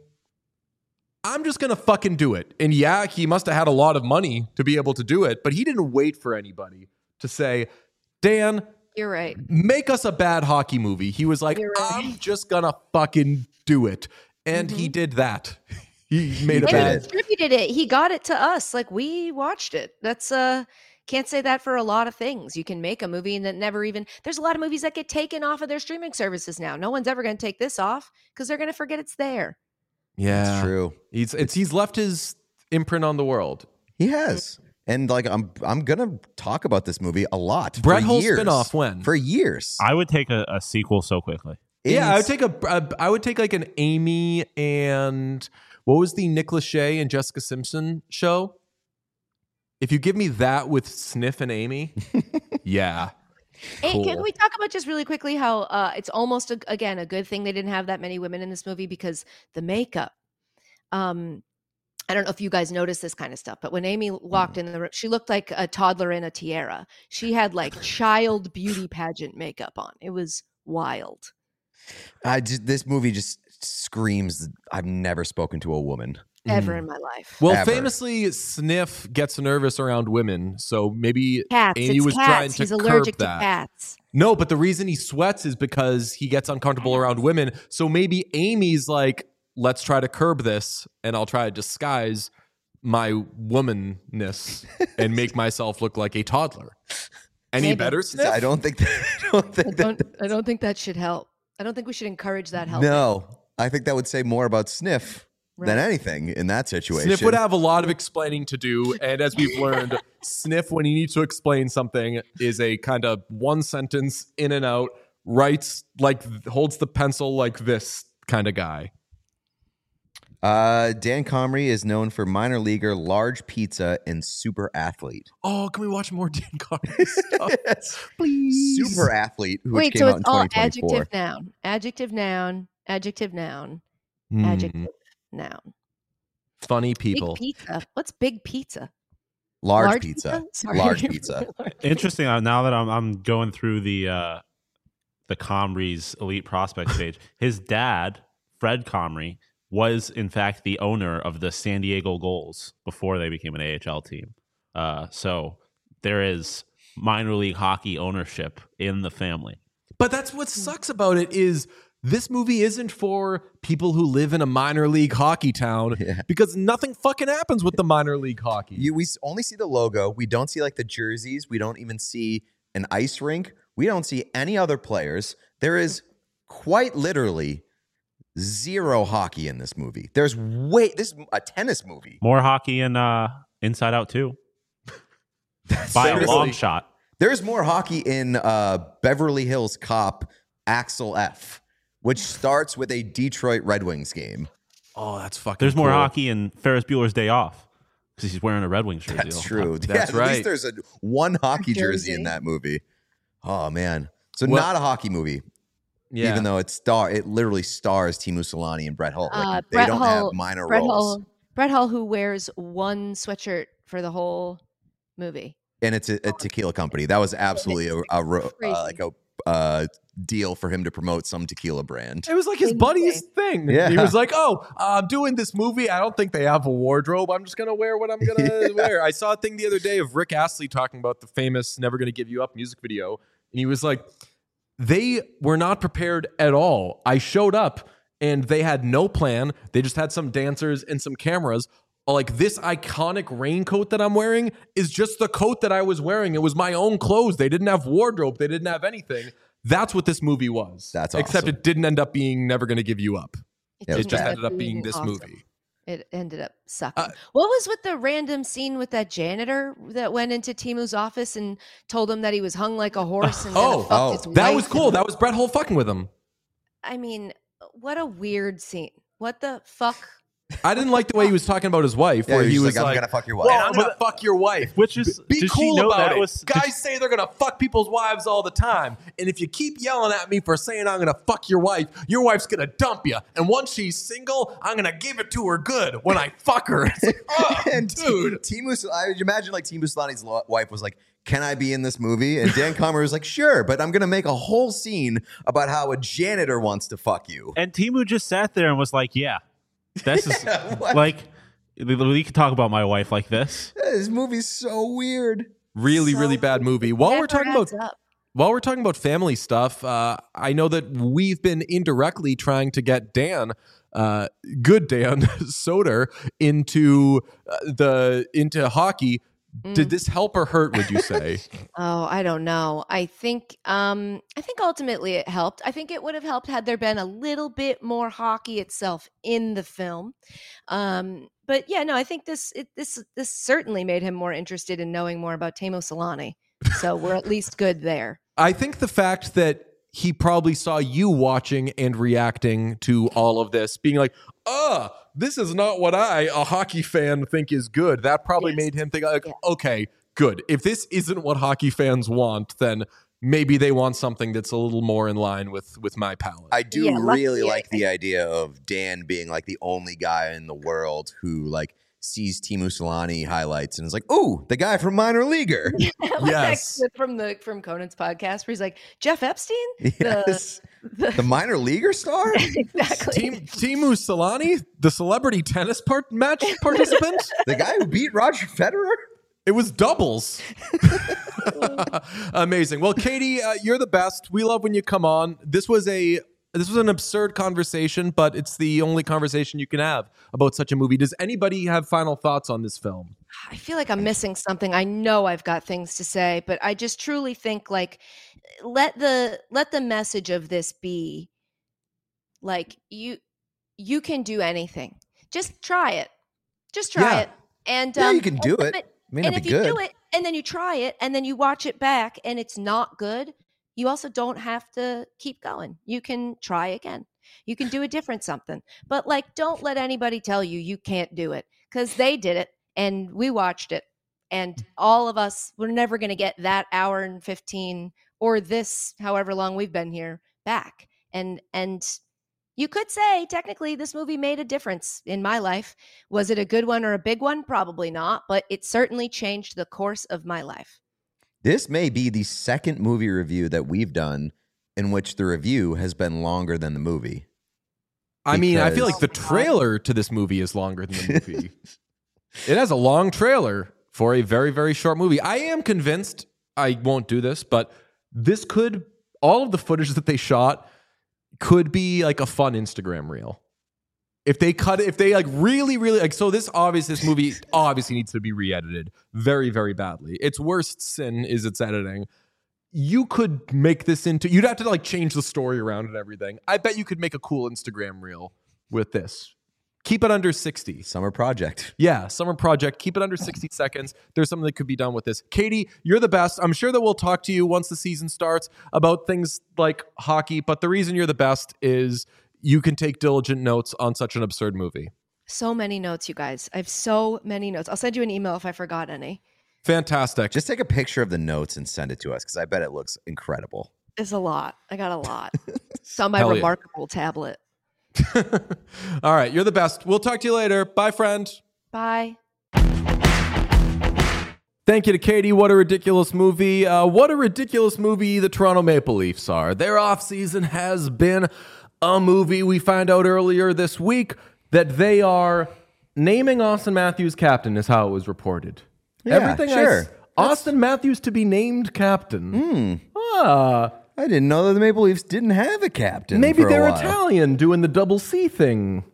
I'm just gonna fucking do it. And yeah, he must have had a lot of money to be able to do it, but he didn't wait for anybody to say, Dan, You're right. make us a bad hockey movie. He was like, You're right. I'm just gonna fucking do it. And he did that. He made a did And he bad. it. distributed it. He got it to us. Like we watched it. That's uh can't say that for a lot of things. You can make a movie and that never even there's a lot of movies that get taken off of their streaming services now. No one's ever gonna take this off because they're gonna forget it's there. Yeah. It's true. He's it's he's left his imprint on the world. He has. And like I'm I'm gonna talk about this movie a lot. Brett for Hull years. spinoff when? For years. I would take a, a sequel so quickly. Yeah, I would It's- take a, a I would take like an Amy and what was the Nick Lachey and Jessica Simpson show? If you give me that with Sniff and Amy, yeah. And Cool. can we talk about just really quickly how uh, it's almost a, again a good thing they didn't have that many women in this movie because the makeup. Um, I don't know if you guys noticed this kind of stuff, but when Amy walked in the room, she looked like a toddler in a tiara. She had like child beauty pageant makeup on. It was wild. I just, this movie just screams I've never spoken to a woman. Ever Mm. in my life. Well, Ever. famously, Sniff gets nervous around women, so maybe Cats. Amy it's was cats. trying to He's curb allergic that. to cats. No, but the reason he sweats is because he gets uncomfortable around women. So maybe Amy's like, let's try to curb this, and I'll try to disguise my womanness and make myself look like a toddler. Any Maybe. better, Sniff? I don't think that, I don't I think don't. that I don't think that should help. I don't think we should encourage that help. No. I think that would say more about Sniff than Right. anything in that situation. Sniff would have a lot of explaining to do, and as we've learned, Sniff, when he needs to explain something, is a kind of one sentence in and out, writes like holds the pencil like this kind of guy. Uh, Dan Comrie is known for minor leaguer, large pizza, and super athlete. Oh, can we watch more Dan Comrie stuff, please? Super athlete, which Wait, came so out it's in all twenty twenty-four. adjective noun, adjective noun, adjective noun, Hmm. adjective noun. Funny people. Big pizza. What's big pizza? Large, pizza. Sorry. Large pizza. Interesting. uh, Now that I'm I'm going through the uh, the Comrie's elite prospects page, his dad, Fred Comrie, was in fact the owner of the San Diego Gulls before they became an A H L team. Uh, so there is minor league hockey ownership in the family. But that's what sucks about it is this movie isn't for people who live in a minor league hockey town Yeah. because nothing fucking happens with the minor league hockey. You, we s- only see the logo. We don't see like the jerseys. We don't even see an ice rink. We don't see any other players. There is quite literally Zero hockey in this movie. There's way this is a tennis movie. More hockey in uh, Inside Out too. By a long shot. There's more hockey in uh, Beverly Hills Cop Axel F, which starts with a Detroit Red Wings game. Oh, that's fucking There's more cool. hockey in Ferris Bueller's Day Off because he's wearing a Red Wings jersey. That's true. That's yeah, right. At least there's a one hockey jersey. Jersey. in that movie. Oh man. So Well- not a hockey movie. Yeah. Even though it star it literally stars Timu Solani and Brett Hull. Like, Uh, they Brett don't Hull- have minor Brett roles. Hull, Brett Hull, who wears one sweatshirt for the whole movie. And it's a, a tequila company. That was absolutely a, a ro- Crazy. uh, like a uh, deal for him to promote some tequila brand. It was like his Same buddy's thing. Yeah. He was like, "Oh, uh, I'm doing this movie. I don't think they have a wardrobe. I'm just gonna wear what I'm gonna Yeah. wear." I saw a thing the other day of Rick Astley talking about the famous "Never Gonna Give You Up" music video, and he was like, "They were not prepared at all. I showed up, and they had no plan. They just had some dancers and some cameras." Like, this iconic raincoat that I'm wearing is just the coat that I was wearing. It was my own clothes. They didn't have wardrobe. They didn't have anything. That's what this movie was. That's Except awesome. it didn't end up being Never Gonna Give You Up. Yeah, it It just bad. ended up being this awesome. movie. It ended up sucking. Uh, what was with the random scene with that janitor that went into Timu's office and told him that he was hung like a horse and Oh, gonna fuck oh, his That wife? was cool. That was Brett Hull fucking with him. I mean, what a weird scene. What the fuck? I didn't like the way he was talking about his wife, Yeah, where he he was was like, like, I'm gonna fuck your wife. "Well, I'm gonna fuck your wife." Which is Be did cool she know about that it. was Guys say they're gonna fuck people's wives all the time, and if you keep yelling at me for saying I'm gonna fuck your wife, your wife's gonna dump you. And once she's single, I'm gonna give it to her good when I fuck her. It's like, oh, and dude. T- Timu, I would imagine like Timu Solani's lo- wife was like, "Can I be in this movie?" And Dan Comer was like, "Sure, but I'm gonna make a whole scene about how a janitor wants to fuck you." And Timu just sat there and was like, "Yeah, this is Yeah, what? like we could talk about my wife like this." This movie's so weird. Really, So really bad movie. While we're Never talking about adds up. While we're talking about family stuff, uh, I know that we've been indirectly trying to get Dan, uh, good Dan Soder, into uh, the into hockey. Did Mm. this help or hurt? Would you say? Oh, I don't know. I think um I think ultimately it helped. I think it would have helped had there been a little bit more hockey itself in the film. Um but yeah, no, I think this it, this this certainly made him more interested in knowing more about Teemu Solani. So we're at least good there. I think the fact that he probably saw you watching and reacting to all of this, being like, "Uh, this is not what I, a hockey fan, think is good." That probably Yes. made him think, like, Yeah. "Okay, good. If this isn't what hockey fans want, then maybe they want something that's a little more in line with with my palate." I do Yeah, luckily, really I like the idea of Dan being like the only guy in the world who like sees Timu Solani highlights and is like, "Ooh, the guy from Minor Leaguer." Like that Yes. clip from the from Conan's podcast where he's like, Jeff Epstein? Yes. The, The minor leaguer star? exactly. Team Timu Solani, the celebrity tennis part match participant. The guy who beat Roger Federer? It was doubles. Amazing. Well, Katie, uh, you're the best. We love when you come on. This was a this was an absurd conversation, but it's the only conversation you can have about such a movie. Does anybody have final thoughts on this film? I feel like I'm missing something. I know I've got things to say, but I just truly think like let the let the message of this be like you you can do anything. Just try it. Just try Yeah. it. And Yeah, um, you can do and- it. but- May and not if be you good. do it and then you try it and then you watch it back and it's not good, you also don't have to keep going. You can try again. You can do a different something. But like don't let anybody tell you you can't do it cuz they did it and we watched it and all of us we're never going to get that hour and fifteen or this however long we've been here back. And and you could say technically this movie made a difference in my life. Was it a good one or a big one? Probably not, but it certainly changed the course of my life. This may be the second movie review that we've done in which the review has been longer than the movie. I mean, I feel Because- like the trailer to this movie is longer than the movie. It has a long trailer for a very, very short movie. I am convinced, I won't do this, but this could, all of the footage that they shot could be like a fun Instagram reel. If they cut it, if they like really, really like, so this obviously, this movie obviously needs to be re-edited very, very badly. Its worst sin is its editing. you could make this into, you'd have to like change the story around and everything. I bet you could make a cool Instagram reel with this. Keep it under sixty. Summer project. Yeah, summer project. Keep it under sixty seconds. There's something that could be done with this. Katie, you're the best. I'm sure that we'll talk to you once the season starts about things like hockey, but the reason you're the best is you can take diligent notes on such an absurd movie. So many notes, you guys. I have so many notes. I'll send you an email if I forgot any. Fantastic. Just take a picture of the notes and send it to us because I bet it looks incredible. It's a lot. I got a lot. It's on my Hell yeah. remarkable tablet. All right, you're the best. We'll talk to you later. Bye, friend. Bye. Thank you to Katie. What a ridiculous movie. Uh, what a ridiculous movie the Toronto Maple Leafs are. Their offseason has been a movie. We find out earlier this week that they are naming Austin Matthews captain is how it was reported. Yeah, Everything sure. I s- Austin Matthews to be named captain. Hmm. Ah, I didn't know that the Maple Leafs didn't have a captain. maybe for a they're while. Italian doing the double C thing.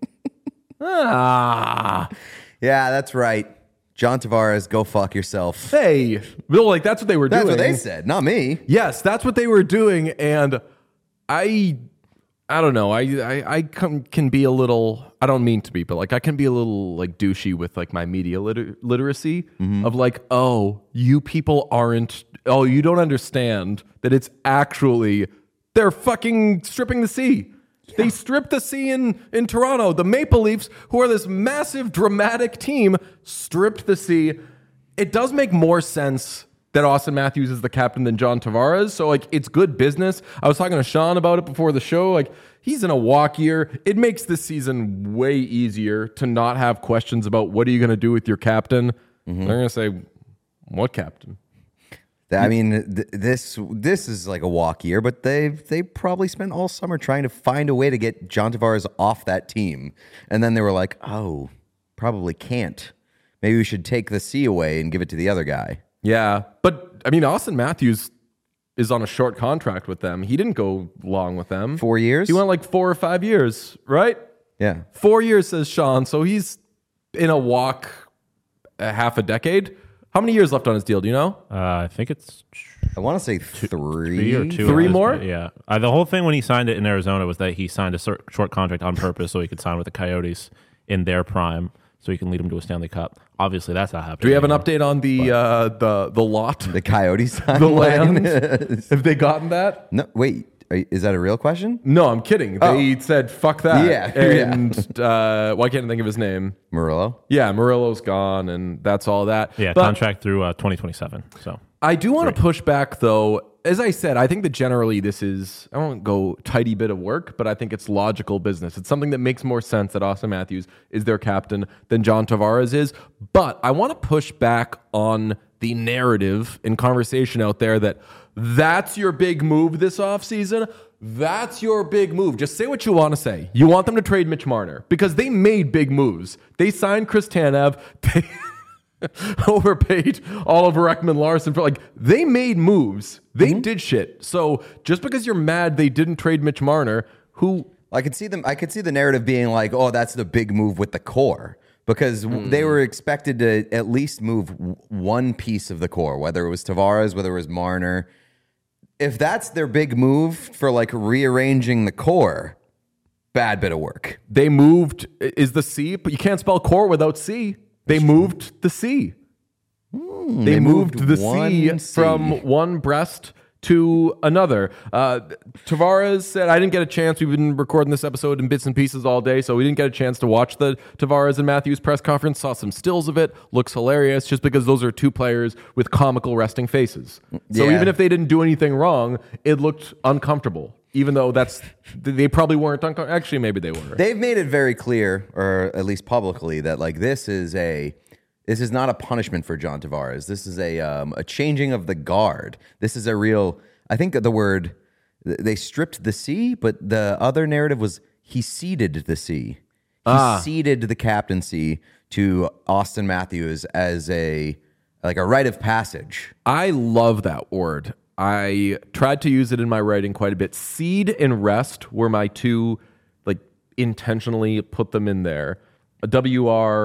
ah. Yeah, that's right. John Tavares, go fuck yourself. Hey, Bill, like that's what they were That's doing. what they said, not me. Yes, that's what they were doing, and I, I don't know. I, I, I can, can be a little. I don't mean to be, but like I can be a little like douchey with like my media liter- literacy of like, oh, you people aren't. Oh, you don't understand that it's actually they're fucking stripping the sea. They stripped the sea in, in Toronto. The Maple Leafs, who are this massive, dramatic team, stripped the sea. It does make more sense that Austin Matthews is the captain than John Tavares. So, like, it's good business. I was talking to Sean about it before the show. Like, he's in a walk year. It makes this season way easier to not have questions about what are you going to do with your captain. Mm-hmm. They're going to say, what captain? I mean, th- this this is like a walk year, but they they probably spent all summer trying to find a way to get John Tavares off that team, and then they were like, "Oh, probably can't. Maybe we should take the C away and give it to the other guy." Yeah, but I mean, Austin Matthews is on a short contract with them. He didn't go long with them. Four years. He went like four or five years, right? Yeah. Four years, says Sean. So he's in a walk a half a decade. How many years left on his deal? Do you know? Uh, I think it's I want to say three. three or two. Three It was- more? Yeah. Uh, the whole thing when he signed it in Arizona was that he signed a short, short contract on purpose so he could sign with the Coyotes in their prime, so he can lead them to a Stanley Cup. Obviously, that's not happening. Do we have an anymore. update on the uh, the the lot, The Coyotes the timeline. land? Have they gotten that? No, wait. Are, is that a real question? No, I'm kidding. They said fuck that. Yeah, yeah. and uh, why can't I think of his name? Murillo? Yeah, Murillo's gone, and that's all that. Yeah, But contract through uh, twenty twenty-seven. So I do want to push back, though. As I said, I think that generally this is, I won't go tidy bit of work, but I think it's logical business. It's something that makes more sense that Austin Matthews is their captain than John Tavares is. But I want to push back on the narrative and conversation out there that that's your big move this offseason. That's your big move. Just say what you want to say. You want them to trade Mitch Marner because they made big moves. They signed Chris Tanev. They overpaid Oliver Ekman-Larsson for like they made moves. They did shit. So just because you're mad they didn't trade Mitch Marner, who I could see them. I could see the narrative being like, "Oh, that's the big move with the core," because w they were expected to at least move w- one piece of the core, whether it was Tavares, whether it was Marner. If that's their big move for like rearranging the core, bad bit of work. they moved is the C, but you can't spell core without C. They moved the C. they, they moved, moved the C one C. from one breast to another. Uh, Tavares said, I didn't get a chance. We've been recording this episode in bits and pieces all day, so we didn't get a chance to watch the Tavares and Matthews press conference. Saw some stills of it. Looks hilarious just because those are two players with comical resting faces. So Yeah. even if they didn't do anything wrong, it looked uncomfortable. Even though that's, they probably weren't uncomfortable. Actually, maybe they were. They've made it very clear, or at least publicly, that like this is a this is not a punishment for John Tavares. This is a um, a changing of the guard. This is a real. I think the word they stripped the C, but the other narrative was he ceded the C. He Ah. ceded the captaincy to Austin Matthews as a like a rite of passage. I love that word. I tried to use it in my writing quite a bit. Seed and rest were my two, like, intentionally put them in there. W R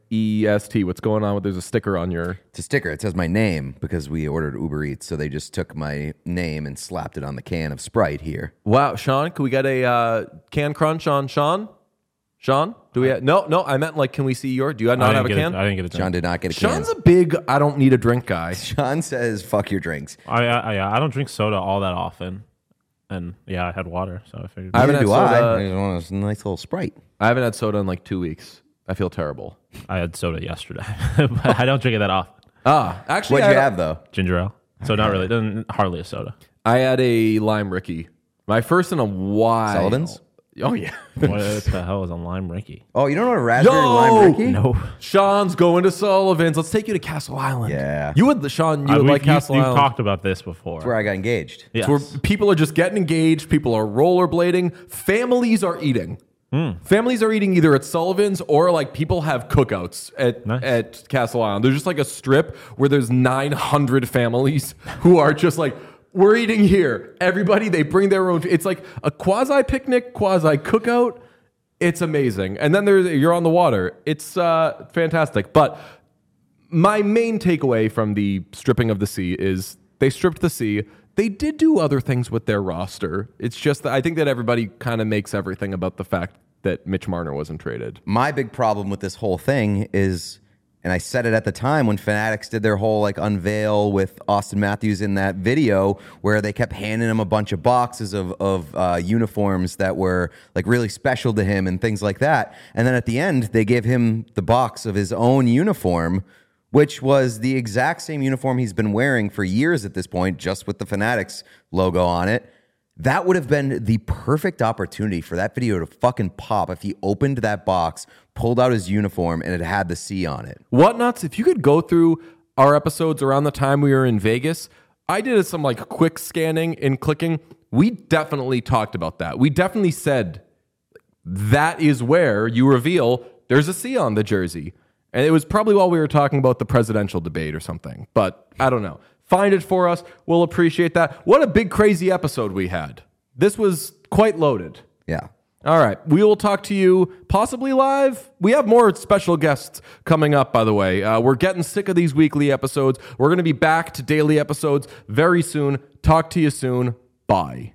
E S T. What's going on? With There's a sticker on your... It's a sticker. It says my name because we ordered Uber Eats. So they just took my name and slapped it on the can of Sprite here. Wow, Sean, can we get a uh, can crunch on Sean? Sean, do we have... No, no, I meant like, can we see your... Do you I not didn't have a get can? I didn't get a Sean drink. did not get a Sean's can. a big, I don't need a drink guy. Sean says, fuck your drinks. I, I, I I don't drink soda all that often. And yeah, I had water, so I figured. I haven't Neither had do soda. I. I just want a nice little Sprite. I haven't had soda in like two weeks. I feel terrible. I had soda yesterday, but I don't drink it that often. Ah, actually, What'd I, you have, though? Ginger ale. So not really, then hardly a soda. I had a lime Ricky. My first in a while. Sullivan's? Oh, yeah. What the hell is a lime Ricky? Oh, you don't know what a raspberry Yo! lime Ricky? No. Sean's going to Sullivan's. Let's take you to Castle Island. Yeah. You would, Sean, you Uh, would we've- like you- Castle You've Island. talked about this before. That's where I got engaged. Yes. It's where people are just getting engaged. People are rollerblading. Families are eating. Families are eating either at Sullivan's or like people have cookouts at, Nice. at Castle Island. There's just like a strip where there's nine hundred families who are just like, we're eating here. Everybody, they bring their own. It's like a quasi picnic, quasi cookout. It's amazing. And then there's you're on the water. It's uh, fantastic. But my main takeaway from the stripping of the sea is they stripped the sea. They did do other things with their roster. It's just that I think that everybody kind of makes everything about the fact that Mitch Marner wasn't traded. My big problem with this whole thing is, and I said it at the time when Fanatics did their whole like unveil with Austin Matthews in that video where they kept handing him a bunch of boxes of, of uh, uniforms that were like really special to him and things like that. And then at the end, they gave him the box of his own uniform, which was the exact same uniform he's been wearing for years at this point, just with the Fanatics logo on it. That would have been the perfect opportunity for that video to fucking pop if he opened that box, pulled out his uniform, and it had the C on it. Whatnots, if you could go through our episodes around the time we were in Vegas, I did some like quick scanning and clicking. We definitely talked about that. We definitely said that is where you reveal there's a C on the jersey. And it was probably while we were talking about the presidential debate or something. But I don't know. Find it for us. We'll appreciate that. What a big, crazy episode we had. This was quite loaded. Yeah. All right. We will talk to you possibly live. We have more special guests coming up, by the way. Uh, we're getting sick of these weekly episodes. We're going to be back to daily episodes very soon. Talk to you soon. Bye.